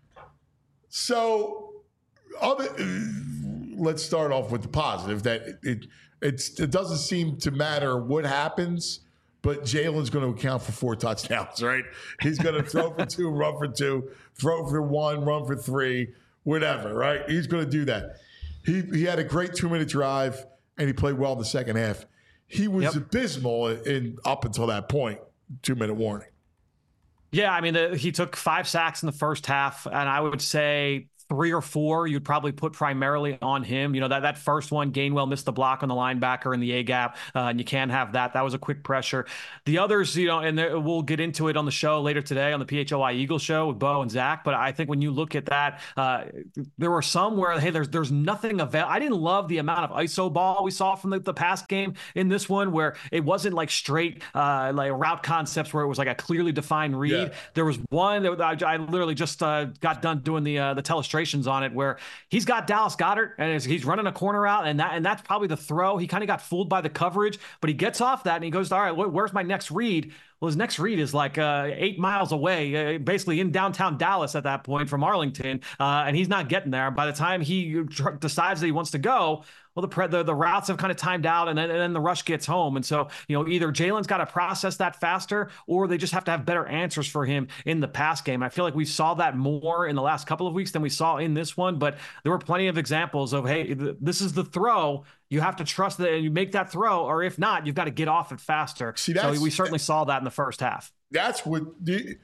So, other, let's start off with the positive. That it, it it's it doesn't seem to matter what happens, but Jalen's going to account for four touchdowns, right? He's going to throw for two, run for two, throw for one, run for three. Whatever, right? He's going to do that. He he had a great two minute drive, and he played well in the second half. He was Yep. abysmal in up until that point. Two minute warning. Yeah, I mean, the, he took five sacks in the first half, and I would say three or four you'd probably put primarily on him. You know, that, that first one, Gainwell missed the block on the linebacker in the A-gap, uh, and you can't have that. That was a quick pressure. The others, you know, and there, we'll get into it on the show later today on the P H O I Eagle show with Bo and Zach, but I think when you look at that, uh, there were some where, hey, there's there's nothing available. I didn't love the amount of I S O ball we saw from the, the past game in this one, where it wasn't like straight uh, like route concepts where it was like a clearly defined read. Yeah. There was one that I, I literally just uh, got done doing the uh, the telestration on it where he's got Dallas Goedert and he's running a corner out, and that and that's probably the throw. He kind of got fooled by the coverage, but he gets off that and he goes, all right, where's my next read? Well, his next read is like uh, eight miles away, uh, basically in downtown Dallas at that point from Arlington, uh, and he's not getting there. By the time he tr- decides that he wants to go, well, the, pre- the the routes have kind of timed out, and then, and then the rush gets home. And so, you know, either Jalen's got to process that faster, or they just have to have better answers for him in the pass game. I feel like we saw that more in the last couple of weeks than we saw in this one, but there were plenty of examples of, hey, th- this is the throw. You have to trust that you make that throw, or if not, you've got to get off it faster. See, so that's- we certainly saw that in the first half. That's what the,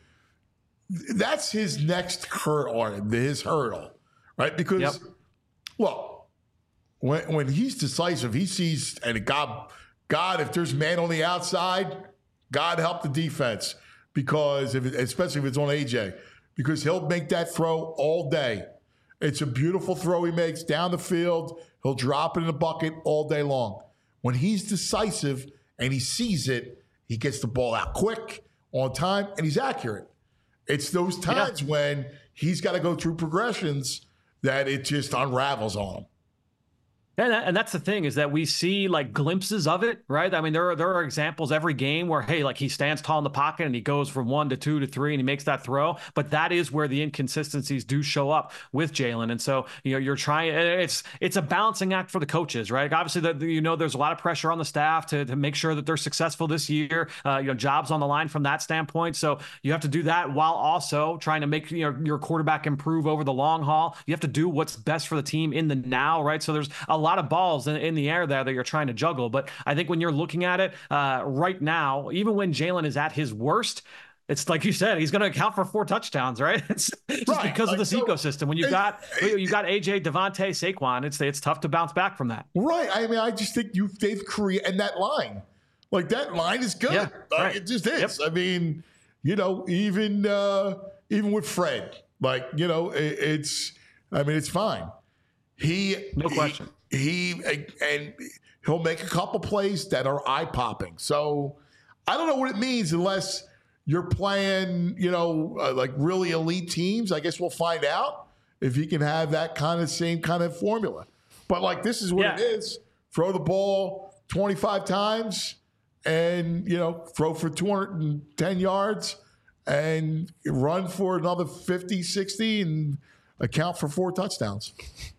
that's his next hurdle, his hurdle, right? Because, Yep. well, when when he's decisive, he sees, and God, God, if there's man on the outside, God help the defense, because if it, especially if it's on A J, because he'll make that throw all day. It's a beautiful throw he makes down the field. He'll drop it in the bucket all day long. When he's decisive and he sees it, he gets the ball out quick, on time, and he's accurate. It's those times yeah. when he's got to go through progressions that it just unravels on him. And, and that's the thing, is that we see like glimpses of it, right? I mean, there are there are examples every game where, hey, like he stands tall in the pocket and he goes from one to two to three and he makes that throw. But that is where the inconsistencies do show up with Jalen. And so, you know, you're trying, it's it's a balancing act for the coaches, right? Obviously, that you know, there's a lot of pressure on the staff to, to make sure that they're successful this year. Uh, you know, jobs on the line from that standpoint. So you have to do that while also trying to make, you know, your quarterback improve over the long haul. You have to do what's best for the team in the now, right? So there's a lot of balls in, in the air there that you're trying to juggle. But I think when you're looking at it uh, right now, even when Jalen is at his worst, it's like you said, he's going to account for four touchdowns, right? It's just right. because like, of this so, ecosystem. When you've got you got A J, Devontae, Saquon, it's it's tough to bounce back from that. Right. I mean, I just think you they've created and that line, like that line is good. Yeah, like, right. It just is. Yep. I mean, you know, even uh, even with Fred, like you know, it, it's. I mean, it's fine. He no question. He, he and he'll make a couple plays that are eye popping. So I don't know what it means unless you're playing, you know, uh, like really elite teams. I guess we'll find out if he can have that kind of same kind of formula. But like, this is what yeah. it is. Throw the ball twenty-five times and, you know, throw for two hundred ten yards and run for another fifty, sixty and account for four touchdowns.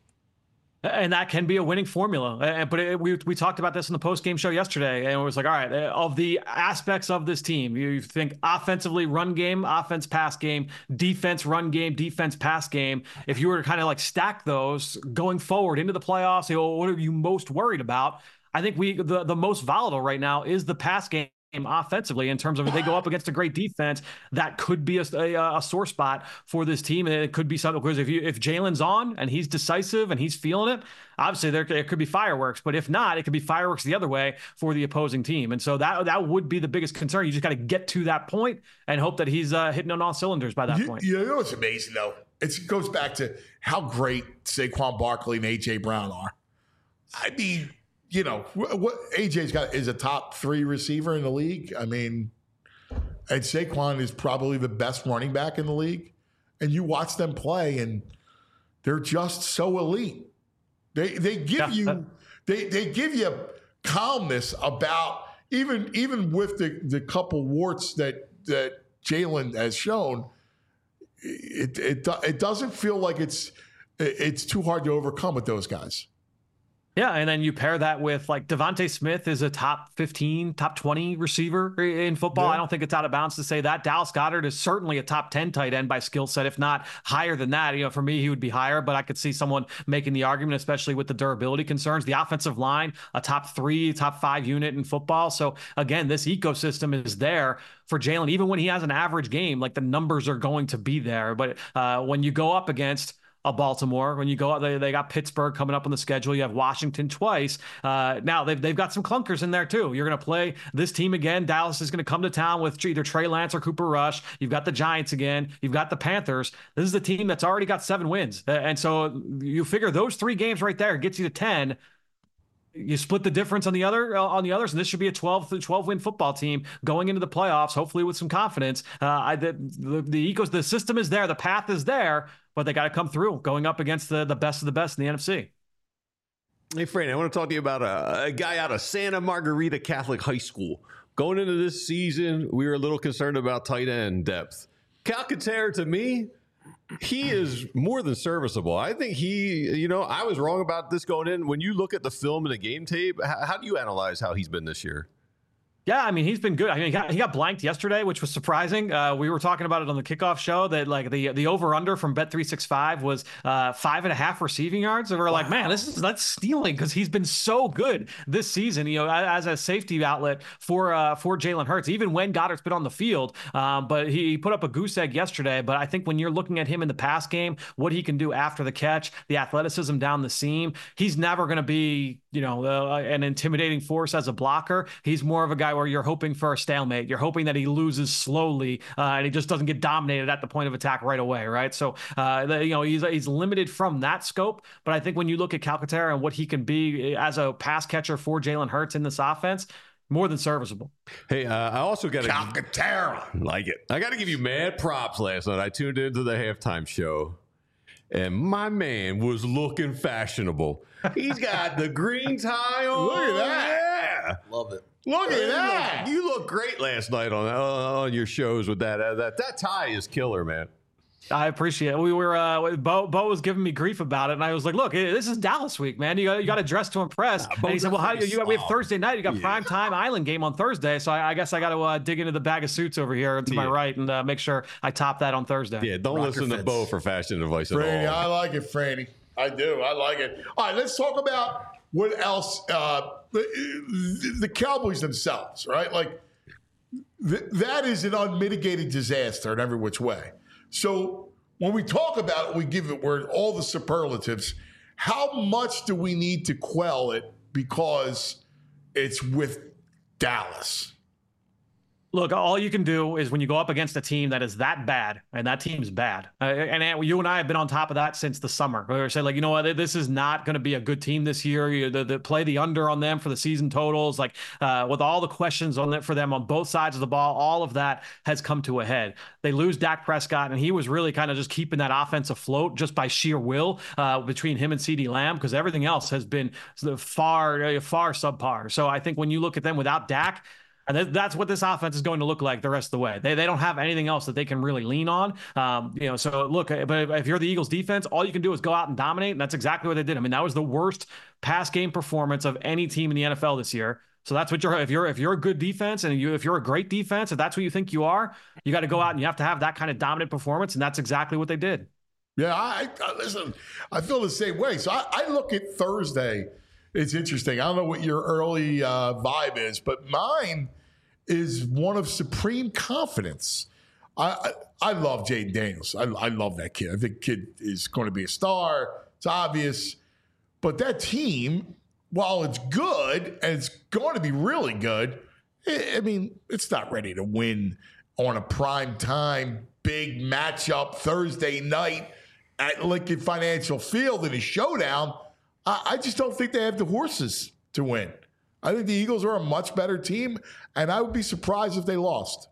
And that can be a winning formula. But it, we we talked about this in the post-game show yesterday, and it was like, all right, of the aspects of this team, you think offensively, run game, offense, pass game, defense, run game, defense, pass game. If you were to kind of like stack those going forward into the playoffs, say, well, what are you most worried about? I think we the, the most volatile right now is the pass game offensively, in terms of if they go up against a great defense, that could be a, a, a sore spot for this team. And it could be something, because if you if Jalen's on and he's decisive and he's feeling it, obviously there, there could be fireworks. But if not, it could be fireworks the other way for the opposing team. And so that that would be the biggest concern. You just got to get to that point and hope that he's uh, hitting on all cylinders by that you, point. You know what's amazing, though? It's, it goes back to how great Saquon Barkley and A J Brown are. I mean, you know, what A J's got is a top three receiver in the league. I mean, and Saquon is probably the best running back in the league. And you watch them play, and they're just so elite. They they give yeah. you they they give you calmness about even even with the, the couple warts that that Jalen has shown. It it it doesn't feel like it's it's too hard to overcome with those guys. Yeah, and then you pair that with, like, Devontae Smith is a top fifteen, top twenty receiver in football. Yeah. I don't think it's out of bounds to say that. Dallas Goedert is certainly a top ten tight end by skill set, if not higher than that. You know, for me, he would be higher, but I could see someone making the argument, especially with the durability concerns. The offensive line, a top three, top five unit in football. So, again, this ecosystem is there for Jalen. Even when he has an average game, like, the numbers are going to be there. But uh, when you go up against a Baltimore, when you go out, they, they got Pittsburgh coming up on the schedule. You have Washington twice. Uh, now they've, they've got some clunkers in there too. You're going to play this team again. Dallas is going to come to town with either Trey Lance or Cooper Rush. You've got the Giants again. You've got the Panthers. This is the team that's already got seven wins. And so you figure those three games right there gets you to ten. You split the difference on the other on the others, and this should be a twelve, twelve win football team going into the playoffs, hopefully with some confidence. Uh, I, the the the, ecos, the system is there, the path is there, but they got to come through going up against the, the best of the best in the N F C. Hey, Franny, I want to talk to you about a, a guy out of Santa Margarita Catholic High School. Going into this season, we were a little concerned about tight end depth. Calcaterra, to me, he is more than serviceable. I think he, you know, I was wrong about this going in. When you look at the film and the game tape, how, how do you analyze how he's been this year? Yeah, I mean, he's been good. I mean, he got, he got blanked yesterday, which was surprising. Uh, we were talking about it on the kickoff show that, like, the the over-under from Bet three sixty-five was uh, five and a half receiving yards. And we we're wow. like, man, this is that's stealing, because he's been so good this season, you know, as a safety outlet for uh, for Jalen Hurts, even when Goddard's been on the field. Um, but he put up a goose egg yesterday. But I think when you're looking at him in the pass game, what he can do after the catch, the athleticism down the seam, he's never going to be, you know, uh, an intimidating force as a blocker. He's more of a guy where you're hoping for a stalemate. You're hoping that he loses slowly uh, and he just doesn't get dominated at the point of attack right away, right? So, uh, the, you know, he's he's limited from that scope. But I think when you look at Calcaterra and what he can be as a pass catcher for Jalen Hurts in this offense, more than serviceable. Hey, uh, I also got to Calcaterra. Like it. I got to give you mad props last night. I tuned into the halftime show, and my man was looking fashionable. He's got the green tie on. Look at that. Yeah. Love it. Look at that. You look great last night on uh, on your shows with that. Uh, that that tie is killer, man. I appreciate it. We were, uh, Bo, Bo was giving me grief about it. And I was like, look, this is Dallas week, man. You got, you got to dress to impress. Nah, and he said, well, how do you, you got, we have Thursday night. You got yeah. prime time Island game on Thursday. So I, I guess I got to uh, dig into the bag of suits over here to yeah. my right and uh, make sure I top that on Thursday. Yeah, don't Rocker listen fits. to Bo for fashion advice at Franny, all. I like it, Franny. I do. I like it. All right, let's talk about what else? Uh, the, the Cowboys themselves, right? Like th- that is an unmitigated disaster in every which way. So when we talk about it, we give it word all the superlatives. How much do we need to quell it because it's with Dallas? Look, all you can do is when you go up against a team that is that bad, and that team's bad. Uh, and, and you and I have been on top of that since the summer. We say, like, you know what, this is not going to be a good team this year. You the, the play the under on them for the season totals, like uh, with all the questions on it for them on both sides of the ball, all of that has come to a head. They lose Dak Prescott, and he was really kind of just keeping that offense afloat just by sheer will uh, between him and CeeDee Lamb, because everything else has been far, far subpar. So I think when you look at them without Dak, and that's what this offense is going to look like the rest of the way. They they don't have anything else that they can really lean on. Um, you know, so look, but if you're the Eagles defense, all you can do is go out and dominate. And that's exactly what they did. I mean, that was the worst pass game performance of any team in the N F L this year. So that's what you're, if you're, if you're a good defense and you, if you're a great defense, if that's what you think you are, you got to go out and you have to have that kind of dominant performance. And that's exactly what they did. Yeah. I, I listen, I feel the same way. So I, I look at Thursday. It's interesting. I don't know what your early uh, vibe is, but mine is one of supreme confidence. I I, I love Jaden Daniels. I, I love that kid. I think the kid is going to be a star. It's obvious. But that team, while it's good and it's going to be really good, I, I mean, it's not ready to win on a prime time, big matchup Thursday night at Lincoln Financial Field in a showdown. I, I just don't think they have the horses to win. I think the Eagles are a much better team, and I would be surprised if they lost.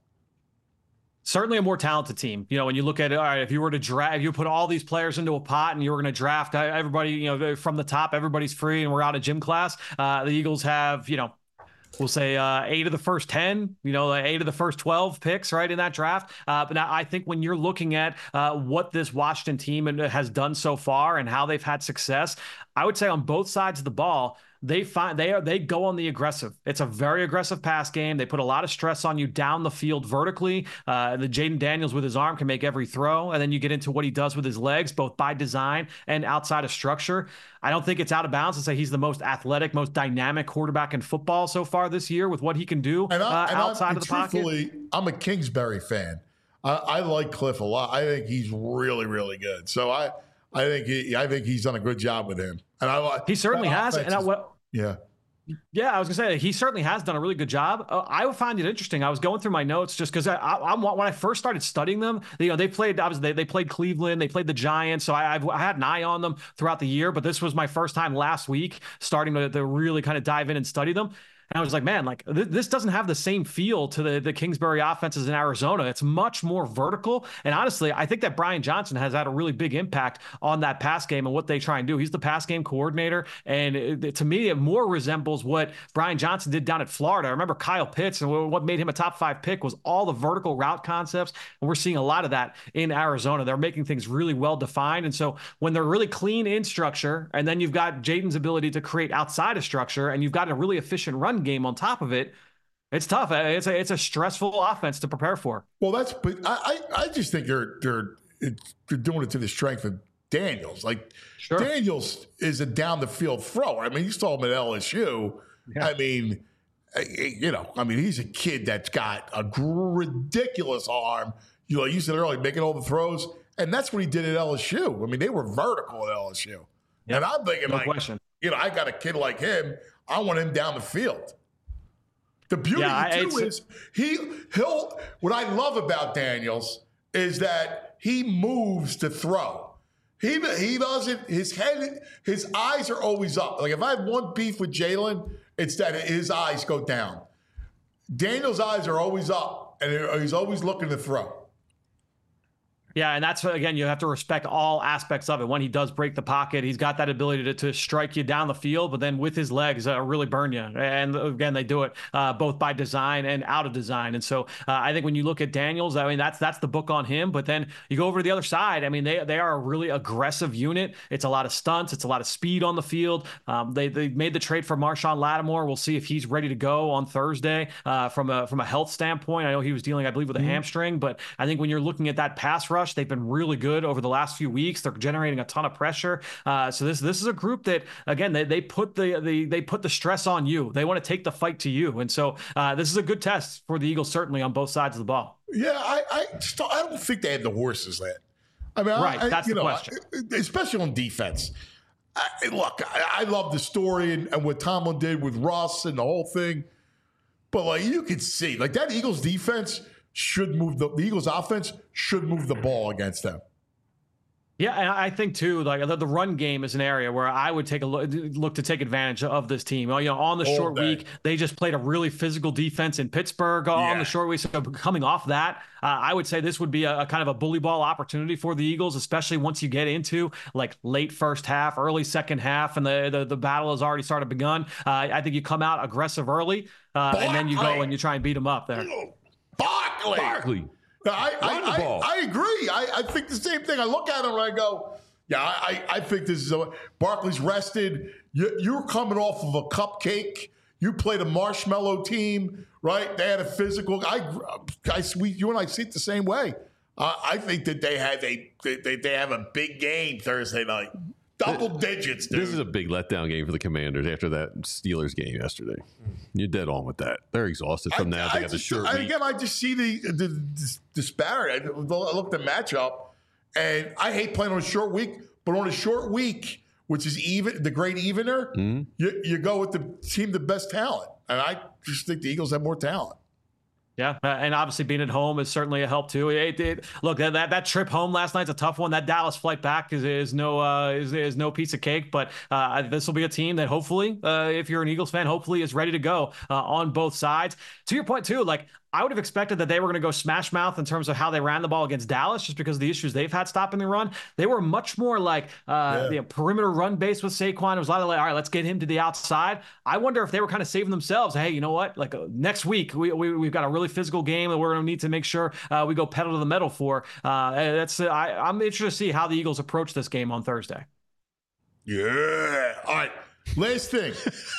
Certainly a more talented team. You know, when you look at it, all right, if you were to draft, if you put all these players into a pot and you were going to draft everybody, you know, from the top, everybody's free and we're out of gym class. Uh, the Eagles have, you know, we'll say uh, eight of the first ten, you know, eight of the first twelve picks, right, in that draft. Uh, but now I think when you're looking at uh, what this Washington team has done so far and how they've had success, I would say on both sides of the ball, They find they are they go on the aggressive. It's a very aggressive pass game. They put a lot of stress on you down the field vertically. Uh, the Jaden Daniels with his arm can make every throw, and then you get into what he does with his legs, both by design and outside of structure. I don't think it's out of bounds to say he's the most athletic, most dynamic quarterback in football so far this year with what he can do and I, uh, and outside I'm, of the pocket. I'm a Kingsbury fan. I, I like Cliff a lot. I think he's really, really good. So I, I think he, I think he's done a good job with him. And I he certainly has. And I, what, yeah. Yeah, I was gonna say he certainly has done a really good job. Uh, I find it interesting. I was going through my notes just because I, I, I'm when I first started studying them. You know, they played. I was they, they played Cleveland. They played the Giants. So I, I've, I had an eye on them throughout the year. But this was my first time last week starting to, to really kind of dive in and study them. And I was like, man, like th- this doesn't have the same feel to the, the Kingsbury offenses in Arizona. It's much more vertical. And honestly, I think that Brian Johnson has had a really big impact on that pass game and what they try and do. He's the pass game coordinator. And it, it, to me, it more resembles what Brian Johnson did down at Florida. I remember Kyle Pitts, and what made him a top five pick was all the vertical route concepts. And we're seeing a lot of that in Arizona. They're making things really well defined. And so when they're really clean in structure, and then you've got Jaden's ability to create outside of structure, and you've got a really efficient run game on top of it, it's tough. It's a it's a stressful offense to prepare for. Well, that's but I I, I just think they're they're they're doing it to the strength of Daniels. Like sure. Daniels is a down the field thrower. I mean, you saw him at L S U. Yeah. I mean, you know, I mean, he's a kid that's got a ridiculous arm. You know, you said earlier, making all the throws, and that's what he did at L S U. I mean, they were vertical at L S U, yep. And I'm thinking, no like, question. You know, I got a kid like him. I want him down the field. The beauty yeah, too is he he'll what I love about Daniels is that he moves to throw. He he doesn't his head his eyes are always up. Like if I have one beef with Jalen, it's that his eyes go down. Daniels' eyes are always up, and he's always looking to throw. Yeah, and that's, again, you have to respect all aspects of it. When he does break the pocket, he's got that ability to, to strike you down the field, but then with his legs, uh, really burn you. And again, they do it uh, both by design and out of design. And so uh, I think when you look at Daniels, I mean, that's that's the book on him. But then you go over to the other side. I mean, they they are a really aggressive unit. It's a lot of stunts. It's a lot of speed on the field. Um, they they made the trade for Marshawn Lattimore. We'll see if he's ready to go on Thursday uh, from a from a health standpoint. I know he was dealing, I believe, with a mm-hmm. hamstring. But I think when you're looking at that pass rush, rush. They've been really good over the last few weeks. They're generating a ton of pressure. Uh, so this this is a group that, again, they, they put the, the they put the stress on you. They want to take the fight to you. And so uh, this is a good test for the Eagles, certainly on both sides of the ball. Yeah, I I, just don't, I don't think they have the horses yet. I mean, right, I, that's you the know, question. Especially on defense. I, look, I, I love the story and, and what Tomlin did with Russ and the whole thing. But like you could see, like that Eagles defense should move the, the Eagles offense should move the ball against them. Yeah, and I think too, like the, the run game is an area where I would take a look, look to take advantage of this team. You know, on the All short day. week, they just played a really physical defense in Pittsburgh on Yeah. the short week. So coming off that, uh, I would say this would be a, a kind of a bully ball opportunity for the Eagles, especially once you get into like late first half, early second half, and the the, the battle has already started begun. Uh, I think you come out aggressive early, uh, and then you go and you try and beat them up there. Barkley. Barkley. I, Run the I, ball. I, I agree. I, I think the same thing. I look at him and I go, yeah, I, I think this is a, Barkley's rested. You, you're coming off of a cupcake. You played a marshmallow team, right? They had a physical. I, I we, you and I see it the same way. Uh, I think that they have a they, they have a big game Thursday night. Double digits, dude. This is a big letdown game for the Commanders after that Steelers game yesterday. You're dead on with that. They're exhausted from I, that. I They got the just- short I, week. Again, I just see the, the, the disparity. I looked at the matchup, and I hate playing on a short week, but on a short week, which is even the great evener, Mm-hmm. you, you go with the team the best talent. And I just think the Eagles have more talent. Yeah, uh, and obviously being at home is certainly a help too. It, it, look, that, that that trip home last night's a tough one. That Dallas flight back is is no uh, is, is no piece of cake. But uh, this will be a team that hopefully, uh, if you're an Eagles fan, hopefully is ready to go uh, on both sides. To your point too, like I would have expected that they were going to go smash mouth in terms of how they ran the ball against Dallas, just because of the issues they've had stopping the run. They were much more like uh, Yeah. the perimeter run base with Saquon. It was a lot of like, all right, let's get him to the outside. I wonder if they were kind of saving themselves. Hey, you know what? Like uh, next week, we, we we've got a really physical game that we're going to need to make sure uh, we go pedal to the metal for. Uh, that's uh, I, I'm interested to see how the Eagles approach this game on Thursday. Yeah. All right. Last thing.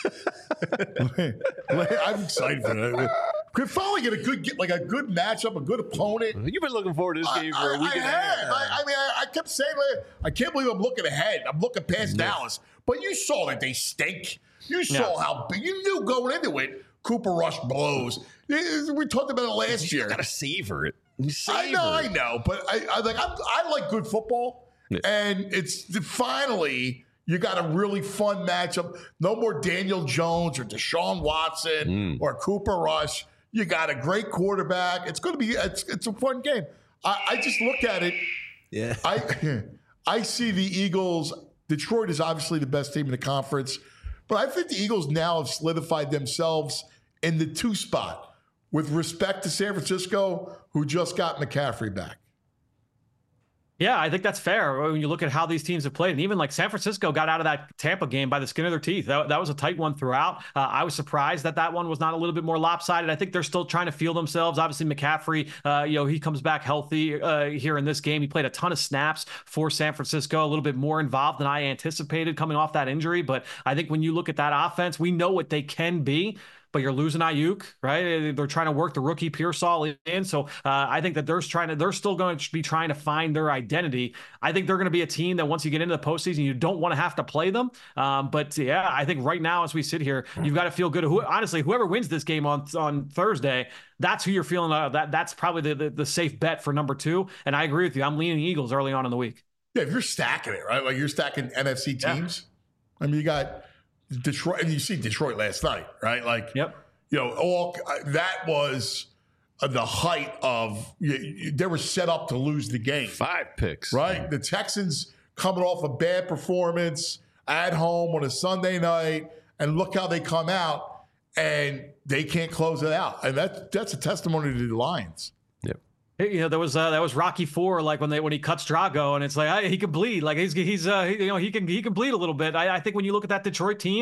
I'm excited for that. Could finally get a good, get like a good matchup, a good opponent. You've been looking forward to this game for I, a week I and a half. have. I, I mean, I, I kept saying, like, I can't believe I'm looking ahead. I'm looking past Dallas. But you saw that they stink. You saw Yeah. how big. You knew going into it, Cooper Rush blows. We talked about it last year. You got to savor it. You savor I know, I it. know, but I, I like I'm, I like good football, Yeah. and it's finally you got a really fun matchup. No more Daniel Jones or Deshaun Watson Mm. or Cooper Rush. You got a great quarterback. It's going to be it's, it's a fun game. I, I just look at it. Yeah. I I see the Eagles. Detroit is obviously the best team in the conference, but I think the Eagles now have solidified themselves in the two spot with respect to San Francisco, who just got McCaffrey back. Yeah, I think that's fair when you look at how these teams have played. And even like San Francisco got out of that Tampa game by the skin of their teeth. That, that was a tight one throughout. Uh, I was surprised that that one was not a little bit more lopsided. I think they're still trying to feel themselves. Obviously, McCaffrey, uh, you know, he comes back healthy uh, here in this game. He played a ton of snaps for San Francisco, a little bit more involved than I anticipated coming off that injury. But I think when you look at that offense, we know what they can be. But you're losing Ayuk, right? They're trying to work the rookie Pearsall in. So uh, I think that they're trying to, they're still going to be trying to find their identity. I think they're going to be a team that once you get into the postseason, you don't want to have to play them. Um, but yeah, I think right now as we sit here, you've got to feel good. Who, honestly, whoever wins this game on on Thursday, that's who you're feeling. Uh, that that's probably the, the the safe bet for number two. And I agree with you. I'm leaning Eagles early on in the week. Yeah, if you're stacking it, right? Like you're stacking N F C teams. Yeah. I mean, you got Detroit, and you see Detroit last night, right? Like, yep. You know, all that was uh, the height of you, you, they were set up to lose the game. Five picks, right? The Texans coming off a bad performance at home on a Sunday night, and look how they come out, and they can't close it out, and that's that's a testimony to the Lions. You know, there was uh, that was Rocky Four, like when they when he cuts Drago, and it's like hey, he can bleed, like he's he's uh, he, you know he can he can bleed a little bit. I, I think when you look at that Detroit team,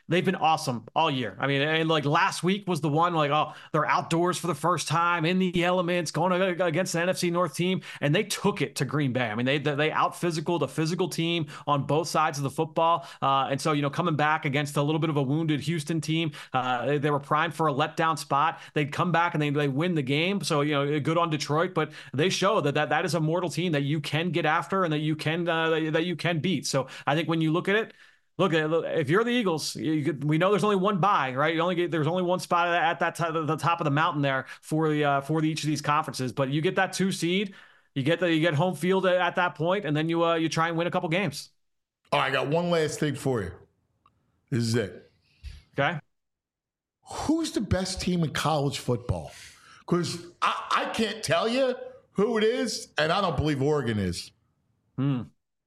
they've been awesome all year. I mean, and like last week was the one like, oh, they're outdoors for the first time in the elements, going against an N F C North team, and they took it to Green Bay. I mean, they they out physical the physical team on both sides of the football, uh, and so you know, coming back against a little bit of a wounded Houston team, uh, they, they were primed for a letdown spot. They'd come back and they they win the game. So you know, good on Detroit, but they show that that, that is a mortal team that you can get after and that you can uh, that you can beat. So I think when you look at it. Look, if you're the Eagles, you could, we know there's only one bye, right? You only get there's only one spot at that t- the top of the mountain there for the uh, for the, each of these conferences. But you get that two seed, you get the you get home field at that point, and then you uh, you try and win a couple games. All right, I got one last thing for you. This is it. Okay. Who's the best team in college football? Because I, I can't tell you who it is, and I don't believe Oregon is. Hmm.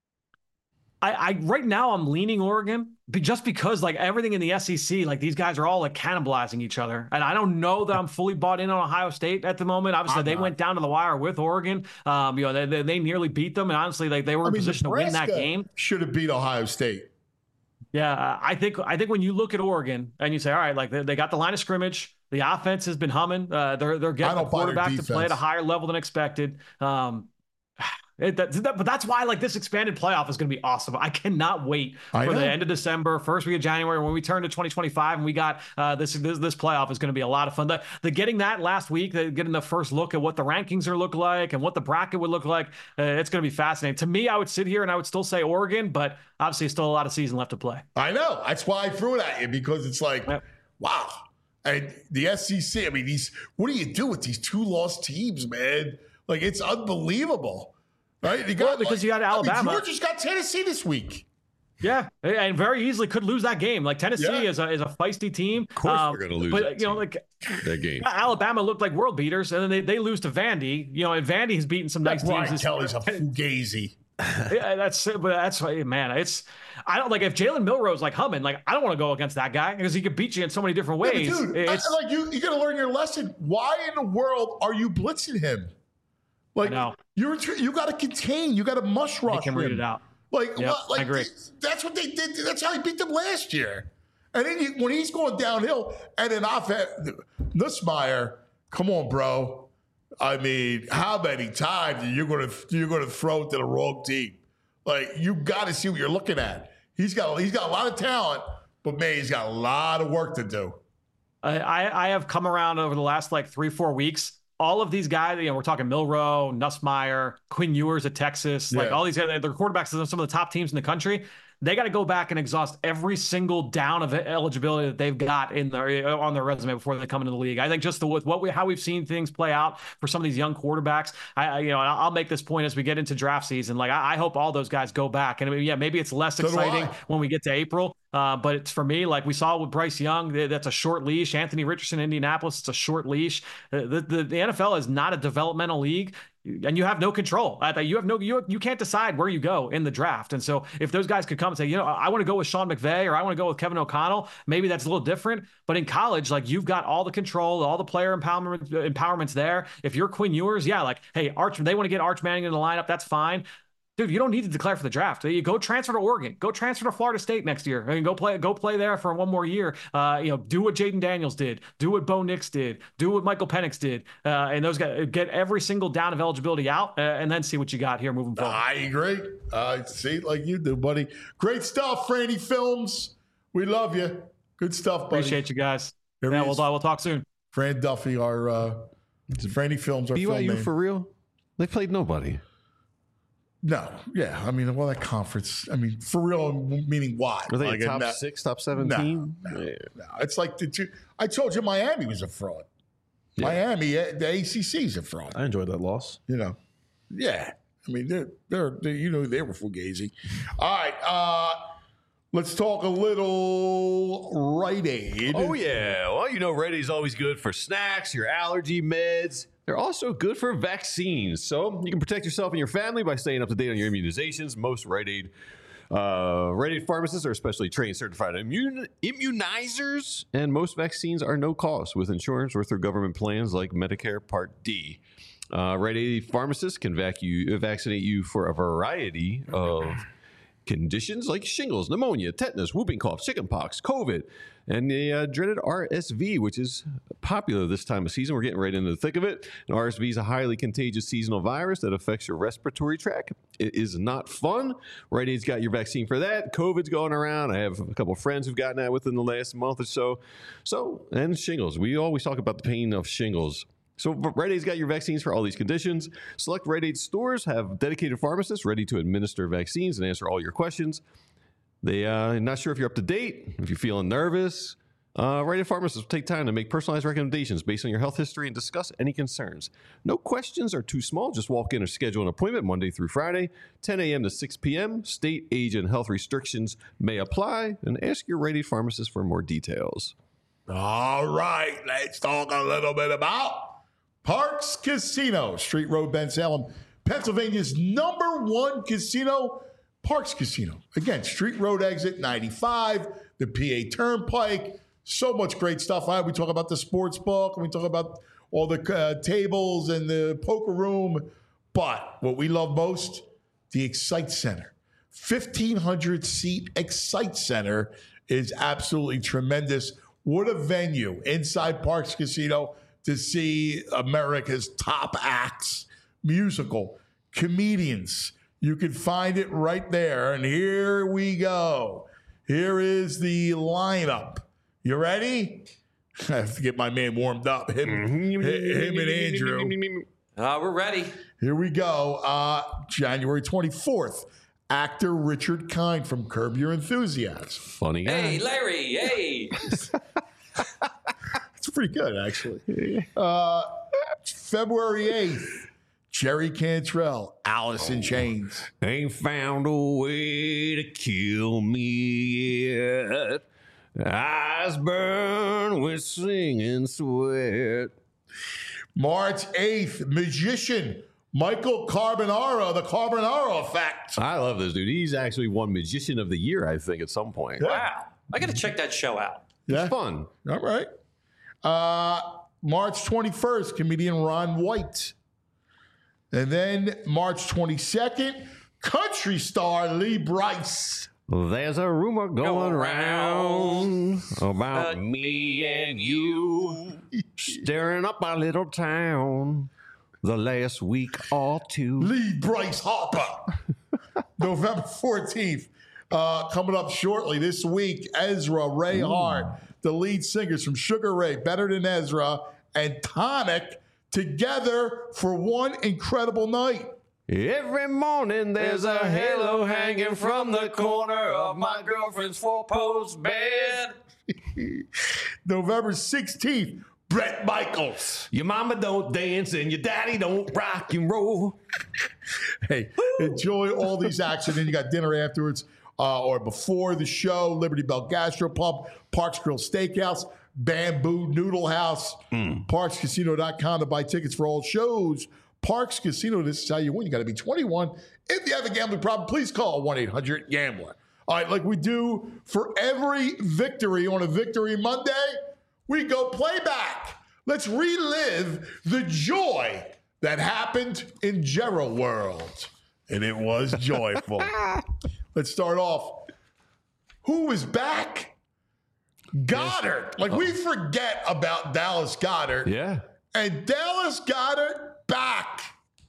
I, I right now I'm leaning Oregon just because like everything in the S E C, like these guys are all like cannibalizing each other. And I don't know that I'm fully bought in on Ohio State at the moment. Obviously, I'm they not. went down to the wire with Oregon. Um, you know, they, they, they nearly beat them. And honestly, like they were I in mean, position Nebraska to win that game. Should have beat Ohio State. Yeah, I think I think when you look at Oregon and you say, all right, like they, they got the line of scrimmage, the offense has been humming. Uh, they're they're getting the quarterback to play at a higher level than expected. Um, It, that, that, but that's why like this expanded playoff is going to be awesome. I cannot wait I for know. the end of December, first week of January, when we turn to twenty twenty-five and we got uh, this, this this playoff is going to be a lot of fun. The, the getting that last week, the, getting the first look at what the rankings are look like and what the bracket would look like, uh, it's going to be fascinating. To me, I would sit here and I would still say Oregon, but obviously still a lot of season left to play. I know. That's why I threw it at you, because it's like, Yep. wow. And the S E C, I mean, these. What do you do with these two lost teams, man? Like, it's unbelievable. Right? You got, Well, because like, you got Alabama. I mean, Georgia's got Tennessee this week. Yeah, and very easily could lose that game. Like Tennessee Yeah. is a is a feisty team. Of course, Um, we're gonna lose. But that you know, team, like that game. Alabama looked like world beaters, and then they, they lose to Vandy. You know, and Vandy has beaten some nice Brian teams. This Kelly's a year. fugazi. Yeah, that's but that's man. It's I don't like if Jalen Milroe's like humming. Like I don't want to go against that guy because he could beat you in so many different Yeah, ways. but dude, it's, I, like you, you got to learn your lesson. Why in the world are you blitzing him? Like know. you're you got to contain. You got to mush rush I can him. read it out. Like, Yep, what, like I agree. that's what they did. That's how he beat them last year. And then you, when he's going downhill, and then offense, Nussmeier, come on, bro. I mean, how many times are you gonna you're gonna throw it to the wrong team? Like, you got to see what you're looking at. He's got he's got a lot of talent, but man, he's got a lot of work to do. I, I I have come around over the last like three four weeks. All of these guys, you know, we're talking Milroe, Nussmeier, Quinn Ewers at Texas, like Yeah. all these guys, they're quarterbacks of some of the top teams in the country. They got to go back and exhaust every single down of eligibility that they've got in their on their resume before they come into the league. I think just the, with what we how we've seen things play out for some of these young quarterbacks. I, I you know I'll make this point as we get into draft season. Like I, I hope all those guys go back, and I mean, yeah, maybe it's less So do exciting I. when we get to April. Uh, but it's for me, like we saw with Bryce Young, that's a short leash. Anthony Richardson, Indianapolis, it's a short leash. Uh, the, the the N F L is not a developmental league. And you have no control. You have no, you you can't decide where you go in the draft. And so, if those guys could come and say, you know, I want to go with Sean McVay or I want to go with Kevin O'Connell, maybe that's a little different. But in college, like you've got all the control, all the player empowerment empowerments there. If you're Quinn Ewers, yeah, like hey, Arch, they want to get Arch Manning in the lineup, that's fine. Dude, you don't need to declare for the draft. You go transfer to Oregon. Go transfer to Florida State next year. I mean, go play. Go play there for one more year. Uh, you know, do what Jaden Daniels did. Do what Bo Nix did. Do what Michael Penix did. Uh, and those guys get every single down of eligibility out, uh, and then see what you got here moving forward. I agree. I see it like you do, buddy. Great stuff, Franny Films. We love you. Good stuff, buddy. Appreciate you guys. There he Yeah, we'll, is. we'll talk soon. Fran Duffy, our uh, Franny Films, our B Y U film name. for real? They played nobody. No, yeah. I mean, well, that conference. I mean, for real, meaning what? Are they Like, a top no, six, top seven no, team? no, Yeah. no. It's like the two. I told you Miami was a fraud. Yeah. Miami, eh, the A C C is a fraud. I enjoyed that loss. You know, yeah. I mean, they're they're, they're you know they were fugazi. All right, uh, let's talk a little Rite Aid. Oh, yeah. Well, you know, Rite Aid's always good for snacks, your allergy meds. They're also good for vaccines. So you can protect yourself and your family by staying up to date on your immunizations. Most Rite Aid, uh, Rite Aid pharmacists are especially trained, certified immun- immunizers, and most vaccines are no cost with insurance or through government plans like Medicare Part D. Uh, Rite Aid pharmacists can vac- you, vaccinate you for a variety of conditions like shingles, pneumonia, tetanus, whooping cough, chickenpox, COVID, and the uh, dreaded R S V, which is popular this time of season. We're getting right into the thick of it. And R S V is a highly contagious seasonal virus that affects your respiratory tract. It is not fun. Rite Aid's got your vaccine for that. COVID's going around. I have a couple of friends who've gotten that within the last month or so. So, and shingles. We always talk about the pain of shingles. So Rite Aid's got your vaccines for all these conditions. Select Rite Aid stores have dedicated pharmacists ready to administer vaccines and answer all your questions. They uh, not sure if you're up to date, if you're feeling nervous. Uh, Rite Aid pharmacists will take time to make personalized recommendations based on your health history and discuss any concerns. No questions are too small. Just walk in or schedule an appointment Monday through Friday, ten a.m. to six p.m. State, age, and health restrictions may apply. And ask your Rite Aid pharmacist for more details. All right, let's talk a little bit about Parx Casino, Street Road, Bensalem, Pennsylvania's number one casino, Parx Casino. Again, Street Road exit ninety-five, the P A Turnpike. So much great stuff. All right, we talk about the sports book, and we talk about all the uh, tables and the poker room. But what we love most, the Excite Center. fifteen hundred seat Excite Center is absolutely tremendous. What a venue inside Parx Casino to see America's top acts, musical, comedians. You can find it right there. And here we go. Here is the lineup. You ready? I have to get my man warmed up. Him, him and Andrew. Uh, we're ready. Here we go. Uh, January twenty-fourth. Actor Richard Kind from Curb Your Enthusiasm. Funny guy. Hey, Larry. Hey. It's pretty good, actually. Uh, February eighth, Jerry Cantrell, Alice in Chains. Ain't found a way to kill me yet. Eyes burn with singing sweat. March eighth, Magician, Michael Carbonaro, the Carbonaro Effect. I love this dude. He's actually won Magician of the Year, I think, at some point. Wow. I got to check that show out. Yeah. It's fun. All right. Uh, March twenty-first, comedian Ron White. And then March twenty-second, country star Lee Brice. There's a rumor going Going around about Uh, me and you staring up our little town the last week or two. Lee Bryce Harper. November fourteenth. Uh, coming up shortly this week, Ezra, Ray Hart, the lead singers from Sugar Ray, Better Than Ezra, and Tonic together for one incredible night. Every morning there's a halo hanging from the corner of my girlfriend's four-post bed. November sixteenth, Bret Michaels. Your mama don't dance and your daddy don't rock and roll. Hey, enjoy all these acts, and then you got dinner afterwards uh, or before the show. Liberty Bell Gastropub, Parks Grill Steakhouse, Bamboo Noodle House, mm. Parks Casino dot com to buy tickets for all shows. Parks Casino, this is how you win. You got to be twenty-one. If you have a gambling problem, please call one eight hundred gambler. All right, like we do for every victory on a Victory Monday, we go playback. Let's relive the joy that happened in Jero World. And it was joyful. Let's start off. Who was back? Goddard. Like, we forget about Dallas Goddard. Yeah. And Dallas Goddard back.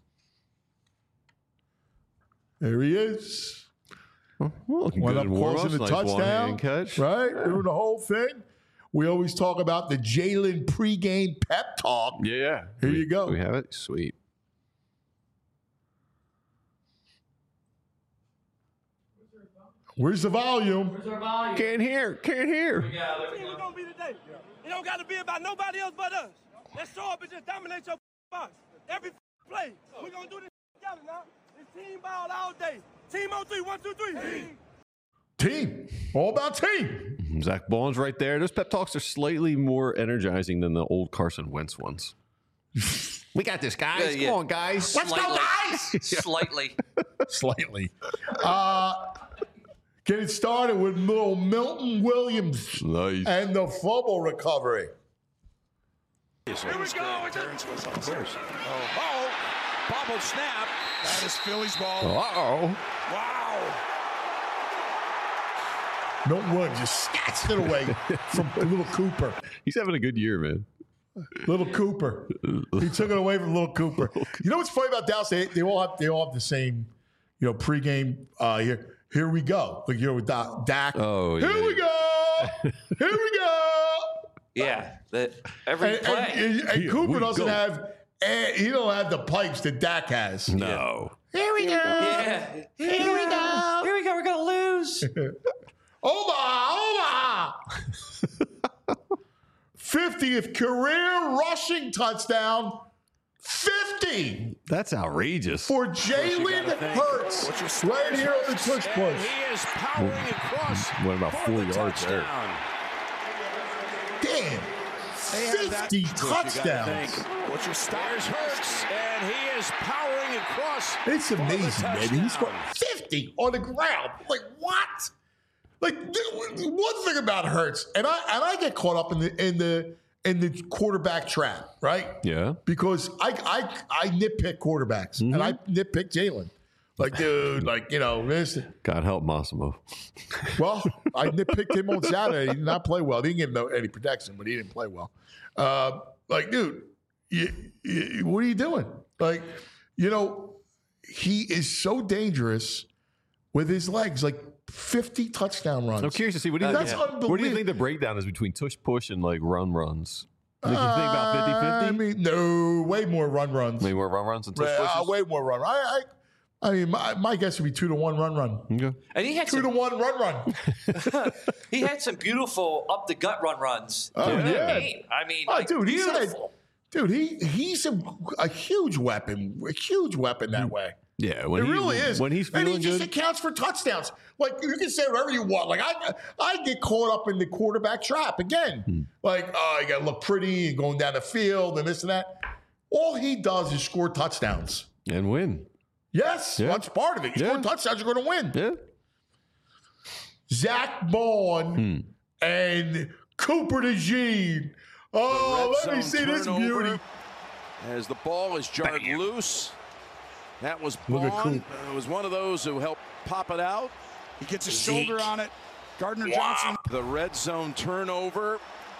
There he is. Well, Went up close in the nice touchdown. Catch. Right? Doing the whole thing. We always talk about the Jalen pregame pep talk. Yeah. Here we, you go. We have it. Sweet. Where's the volume? Where's our volume? Can't hear. Can't hear. Yeah, there we We're go. gonna be today. It don't gotta be about nobody else but us. Let's show up and just dominate your box. Every play. We're gonna do this together now. It's team ball all day. Team on three. One, two, three. Team. Team. All about team. Zach Ball's right there. Those pep talks are slightly more energizing than the old Carson Wentz ones. We got this, guys. Yeah, yeah. Come on, guys. Let's go, guys. Slightly. Slightly. Uh, get it started with little Milton Williams Nice. and the fumble recovery. Here we go. Oh, bobble snap. That is Philly's ball. Uh-oh. Wow. Milton Williams just snatched it away from little Cooper. He's having a good year, man. Little Cooper. He took it away from little Cooper. You know what's funny about Dallas? They, they all have they all have the same, you know, pregame. Uh, here, here we go. Like here with Dak. Dak. Oh, here yeah. we go. Here we go. Yeah, that every And, play. and, and, and Here Cooper we doesn't go. have. And he don't have the pipes that Dak has. No. Here we go. yeah. Here we go. Here we go. We're gonna lose. Omaha, Omaha. fiftieth career rushing touchdown. fifty That's outrageous. for Jalen Hurts. Right here on the push push. He is powering across. Went about for four the yards there. touchdown. Damn. They have that fifty push, you gotta touchdowns. think. What's your stars Hurts, and he is powering across. It's for the amazing, man. He scored touchdown. fifty on the ground. Like what? Like th- one thing about Hurts, and I and I get caught up in the in the in the quarterback trap, right? Yeah. Because I I I nitpick quarterbacks, Mm-hmm. and I nitpick Jalen. Like, dude, like you know this. God help Massimo. Well, I nitpicked him on Saturday. He did not play well. He didn't give him no, any protection, but he didn't play well. Uh, like, dude, you, you, what are you doing? Like, you know, he is so dangerous with his legs. Like fifty touchdown runs. I'm curious to see what do you That's think? unbelievable. What do you think the breakdown is between tush push and like run runs? Think you think about Uh, I fifty fifty? mean, no, way more run runs. Maybe more run runs than tush Uh, pushes? way more run. I, I, I mean, my, my guess would be two to one run run. Okay. And he had Two to some, one run run. he had some beautiful up the gut run runs. Oh, in that yeah. game. I mean, Oh, like, dude, he said, beautiful. dude, he he's a, a huge weapon, a huge weapon that way. Yeah, when It he, really is. When he's and he feeling just good. accounts for touchdowns. Like you can say whatever you want. Like I, I get caught up in the quarterback trap again. Hmm. Like, oh, you got to look pretty and going down the field and this and that. All he does is score touchdowns. And win. Yes, Yeah. that's part of it. You Yeah. score touchdowns, you're going to win. Yeah. Zach Bond Hmm. and Cooper DeJean. Oh, Red let me zone see this turnover beauty. As the ball is jarred loose. That was Look at Bond. Coop. It was one of those who helped pop it out. He gets his shoulder on it. Gardner Johnson. The red zone turnover.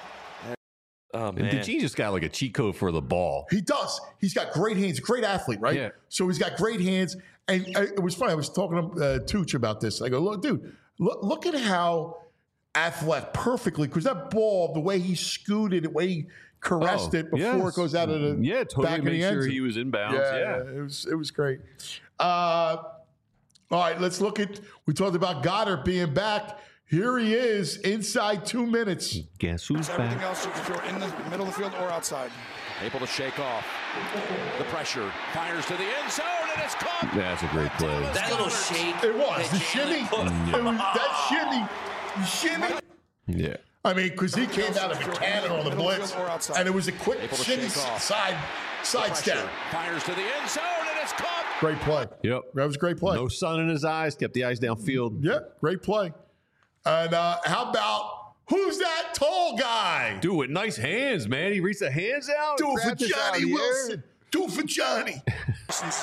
Oh, And man. DeGene just got like a cheat code for the ball. He does. He's got great hands. Great athlete, right? Yeah. So he's got great hands. And uh, it was funny. I was talking to uh, Tooch about this. I go, look, dude, look, look at how athletic, perfectly, because that ball, the way he scooted, the way he caressed Oh, it before yes. it goes out of the Yeah, totally back of make the end sure zone. he was in bounds. Yeah, Yeah. yeah, it was it was great. Uh, all right, let's look at. We talked about Goddard being back. Here he is inside two minutes. Guess who's Everything back? else you can throw in the middle of the field or outside. Able to shake off the pressure. Fires to the end zone, and it's caught. That's a great play. That little shake. It was that the Jalen shimmy. put- It was that shimmy, shimmy. Yeah. I mean, because he came out of a cannon on the Middle of the blitz, field or outside. and it was a quick Able to shimmy shake off. side side Pressure. step. Fires to the end zone, and it's caught. Great play. Yep. That was a great play. No sun in his eyes. Kept the eyes downfield. Yeah, great play. And uh, how about who's that tall guy? Dude, with nice hands, man. He reached the hands out. Do it for grabbed this out of Johnny the air. Wilson. Do it for Johnny. Wilson's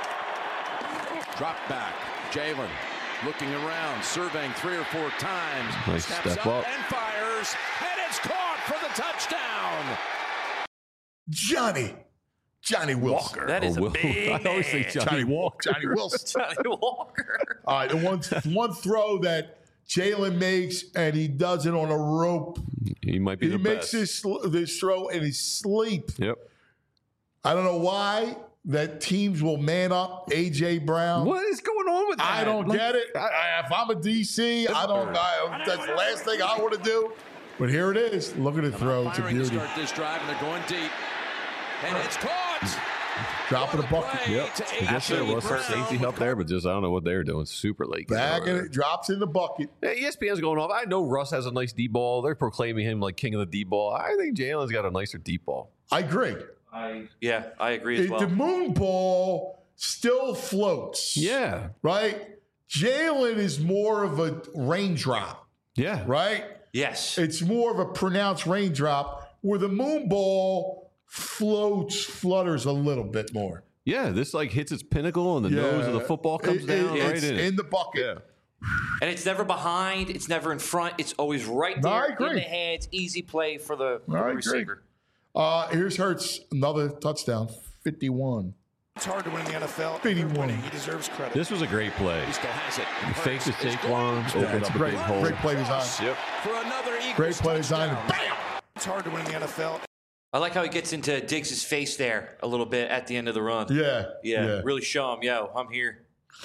back. Drop back. Jalen looking around, surveying three or four times. Nice Steps step up up. and fires, and it's caught for the touchdown. Johnny. Johnny Wilson. That is Oh, a Will. big I always say man. Johnny Walker. Johnny Wilson. Johnny Walker. All right, the one, one throw that Jalen makes, and he does it on a rope. He might be He the makes best. this, sl- this throw in his sleep. Yep. I don't know why that teams will man up A J Brown. What is going on with that? I don't Like, get it. I, I- if I'm a D C, I don't. I, that's the last thing I want to do. But here it is. Look at it throw. It's a Firing to beauty. start this drive, and they're going deep. And it's caught. Dropping a What bucket. play Yep. to I guess there A J was some Brown. safety help there, but just I don't know what they were doing. Super late. Bagging it. Drops in the bucket. Yeah, E S P N's going off. I know Russ has a nice deep ball. They're proclaiming him like king of the deep ball. I think Jalen's got a nicer deep ball. I agree. I, yeah, I agree as It- well. The moon ball still floats. Yeah. Right? Jalen is more of a raindrop. Yeah. Right? yes. It's more of a pronounced raindrop where the moon ball floats, flutters a little bit more. Yeah. This like hits its pinnacle and the nose of the football comes It- down it- right it's in. it. in the bucket. Yeah. And it's never behind. It's never in front. It's always right No, I there agree. in the hands. Easy play for the, for I the agree. receiver. Uh, here's Hurts, another touchdown, fifty-one. It's hard to win in the N F L. fifty-one. Winning, he deserves credit. This was a great play. He still has it. He faked the Hurts is Saquon, going opened It's up a great, big hole. great play design. Yep. For another Eagles Great play design. touchdown. Bam! It's hard to win in the N F L. I like how he gets into Diggs' face there a little bit at the end of the run. Yeah. Yeah, really show him, yo, I'm here.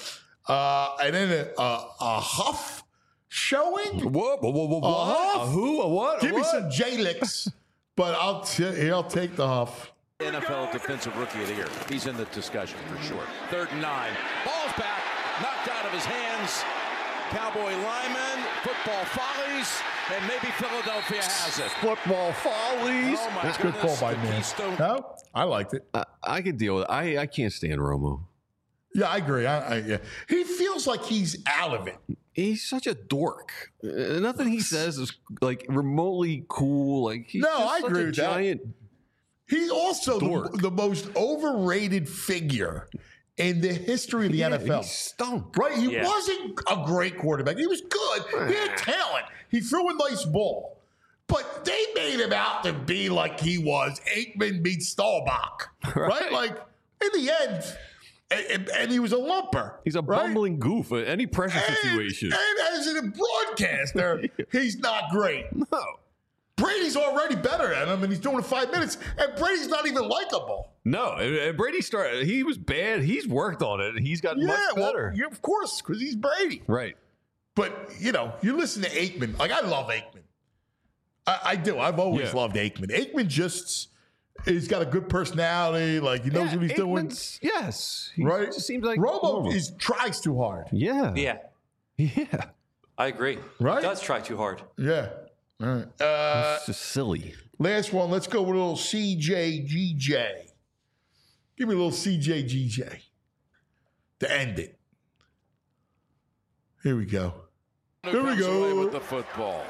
Uh, and then a, a, a huff showing. What? What? What? What? A huff? A who? A what? A Give me what? some J-Licks, but I'll t- I'll take the huff. N F L Defensive Rookie of the Year. He's in the discussion for sure. Third and nine. Ball's back. Knocked out of his hands. Cowboy lineman. Football follies. And maybe Philadelphia has it. Football follies. Oh, my That's a good goodness. call by man. Keystone- No, I liked it. I, I can deal with it. I, I can't stand Romo. Yeah, I agree. I, I, yeah. He feels like he's out of it. He's such a dork. Uh, nothing he says is like remotely cool. Like he's No, just I such agree a with that. giant. He's also Dork. the, the most overrated figure in the history of the Yeah, N F L. he stunk. Right? He Yeah. wasn't a great quarterback. He was good. He had talent. He threw a nice ball. But they made him out to be like he was Aikman meets Staubach. Right? Right. Like, in the end, and, and- and he was a lumper. He's a right? bumbling goof at any pressure And, situation. and as a broadcaster, he's not great. No. Brady's already better at him, and he's doing it five minutes, and Brady's not even likable. No, and- and Brady started. He was bad. He's worked on it. He's gotten Yeah, much better. well, yeah, of course, because he's Brady. Right. But, you know, you listen to Aikman. Like, I love Aikman. I, I do. I've always Yeah. loved Aikman. Aikman just, he's got a good personality. Like, he knows Yeah, what he's doing. Aikman's- Yes. He Right? just seems like Romo normal. is, tries too hard. Yeah. Yeah, Yeah. I agree. Right? He does try too hard. Yeah. All right. Uh, It's just silly. last one. Let's go with a little C J G J. Give me a little C J G J to end it. Here we go. Here we Comes away go. with the football.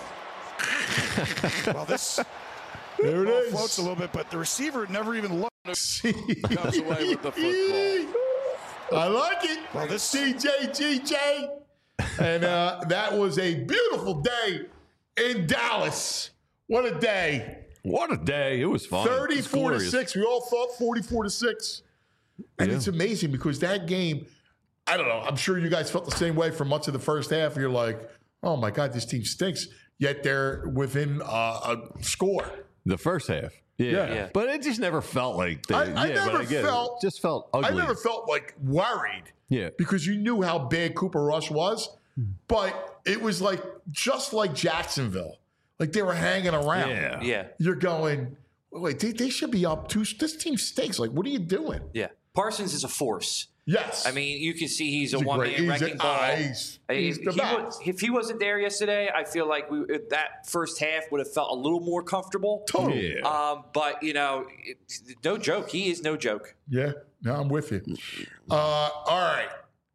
Well, this There it ball is. floats a little bit, but the receiver never even looked. Comes away with the football. I like it. Well, this- C J G J. And uh, that was a beautiful day in Dallas. What a day. What a day. It was fun. thirty-four It's to glorious. six. We all thought forty-four to six. And Yeah. it's amazing because that game, I don't know, I'm sure you guys felt the same way for much of the first half. You're like, oh my God, this team stinks. Yet they're within uh, a score. The first half. Yeah. Yeah. Yeah. But it just never felt like they, I- I yeah, but never get it. felt- It just felt ugly. I never felt like worried. Yeah. Because you knew how bad Cooper Rush was. But it was like, just like Jacksonville. Like they were hanging around. Yeah. Yeah, You're going, wait, they, they should be up two. This team stinks. Like, what are you doing? yeah. Parsons is a force. Yes. I mean, you can see he's a He's a one great- man he's a- wrecking ball. ah, he's- I mean, he's the he best. was- if he wasn't there yesterday, I feel like we that first half would have felt a little more comfortable. Totally. Yeah. Um, but you know, it, no joke. He is no joke. Yeah, no, I'm with you. Uh, all right.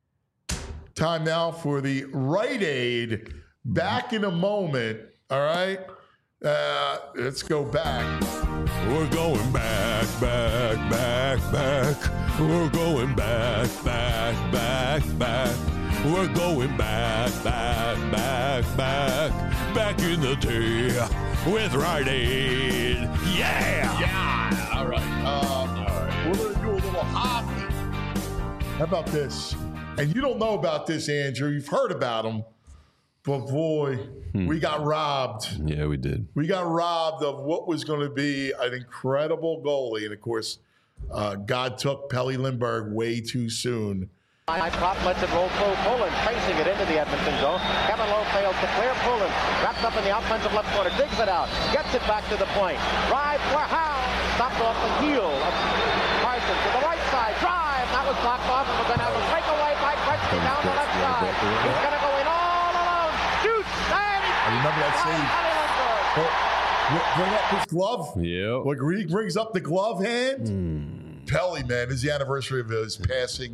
Time now for the Rite Aid. Back in a moment. All right. Uh, let's go back. We're going back, back, back, back. We're going back, back, back, back. We're going back, back, back, back. Back in the day with Rite Aid. Yeah! Yeah. All right. Uh, all right. We're going to do a little hockey. How about this? And you don't know about this, Andrew. You've heard about them. But boy, we got robbed. Yeah, we did. We got robbed of what was going to be an incredible goalie. And of course, uh, God took Pelle Lindbergh way too soon. High pop lets it roll through. Poland tracing it into the Edmonton zone. Kevin Lowe fails to clear. Poland wrapped up in the offensive left corner. Digs it out. Gets it back to the point. Drive for Howe. Stopped off the heel of Parsons to the right side. Drive. That was blocked off. And we're going to have a breakaway by Gretzky down the left side. He's going to go in all alone. Shoots. And I remember that save. Oh, bring up his glove. Yeah. Like he brings up the glove hand. Pelle, man, is the anniversary of his passing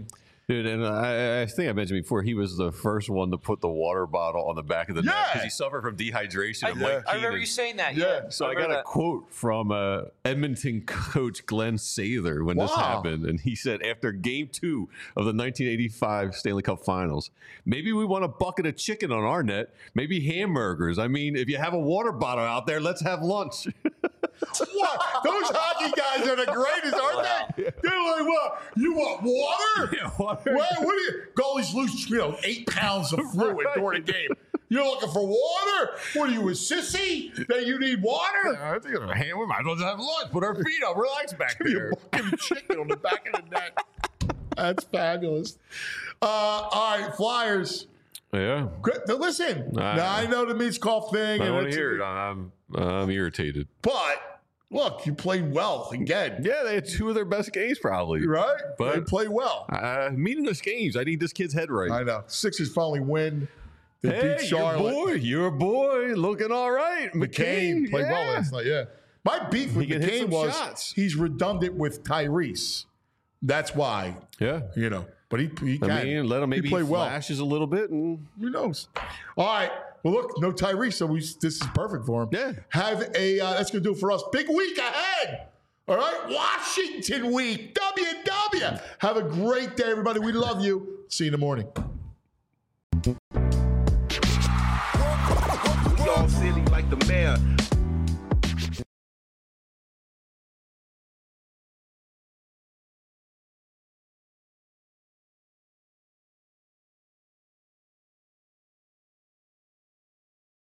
Dude, and I, I think I mentioned before, he was the first one to put the water bottle on the back of the net Yeah. because he suffered from dehydration. I, of yeah. Mike I remember Keenan. you saying that. Yeah. Yeah. So I, I got remember a that. quote from uh, Edmonton coach Glenn Sather when this Wow. happened. And he said, after game two of the nineteen eighty-five Stanley Cup Finals, maybe we want a bucket of chicken on our net, maybe hamburgers. I mean, if you have a water bottle out there, let's have lunch. What? Those hockey guys are the greatest, aren't Wow. they? They're like, what? You want water? Yeah, water. What, what do you? Goalies lose, you know, eight pounds of fluid during the game. You're looking for water? What are you, a sissy that you need water? I think I'm a ham. We might as well just have lunch. Put our feet up. Relax back Give me a there. bucket of chicken on the back of the net. That's fabulous. Uh, all right, Flyers. Yeah. Good. Now listen, Nah. now I know the Meats Cough thing. I and want to it's- hear it. I'm, I'm irritated. But look, you played well again. Yeah, they had two of their best games probably. Right? But they played well. Uh, meaningless games. I need this kid's head right. I know. Sixers finally win. They Hey, beat your Charlotte. boy, your boy, looking all right. McCain McCain played yeah. well last night. Yeah. My beef with He can hit McCain some was shots. he's redundant with Tyrese. That's why, Yeah. you know. But he, he can. I mean, let him maybe he he played well. flashes a little bit, and Who knows? All right. Well, look, no Tyrese, so we this is perfect for him. Yeah. Have a uh, that's gonna do it for us. Big week ahead. All right, Washington week. W W. Have a great day, everybody. We love you. See you in the morning. We all silly like the mayor.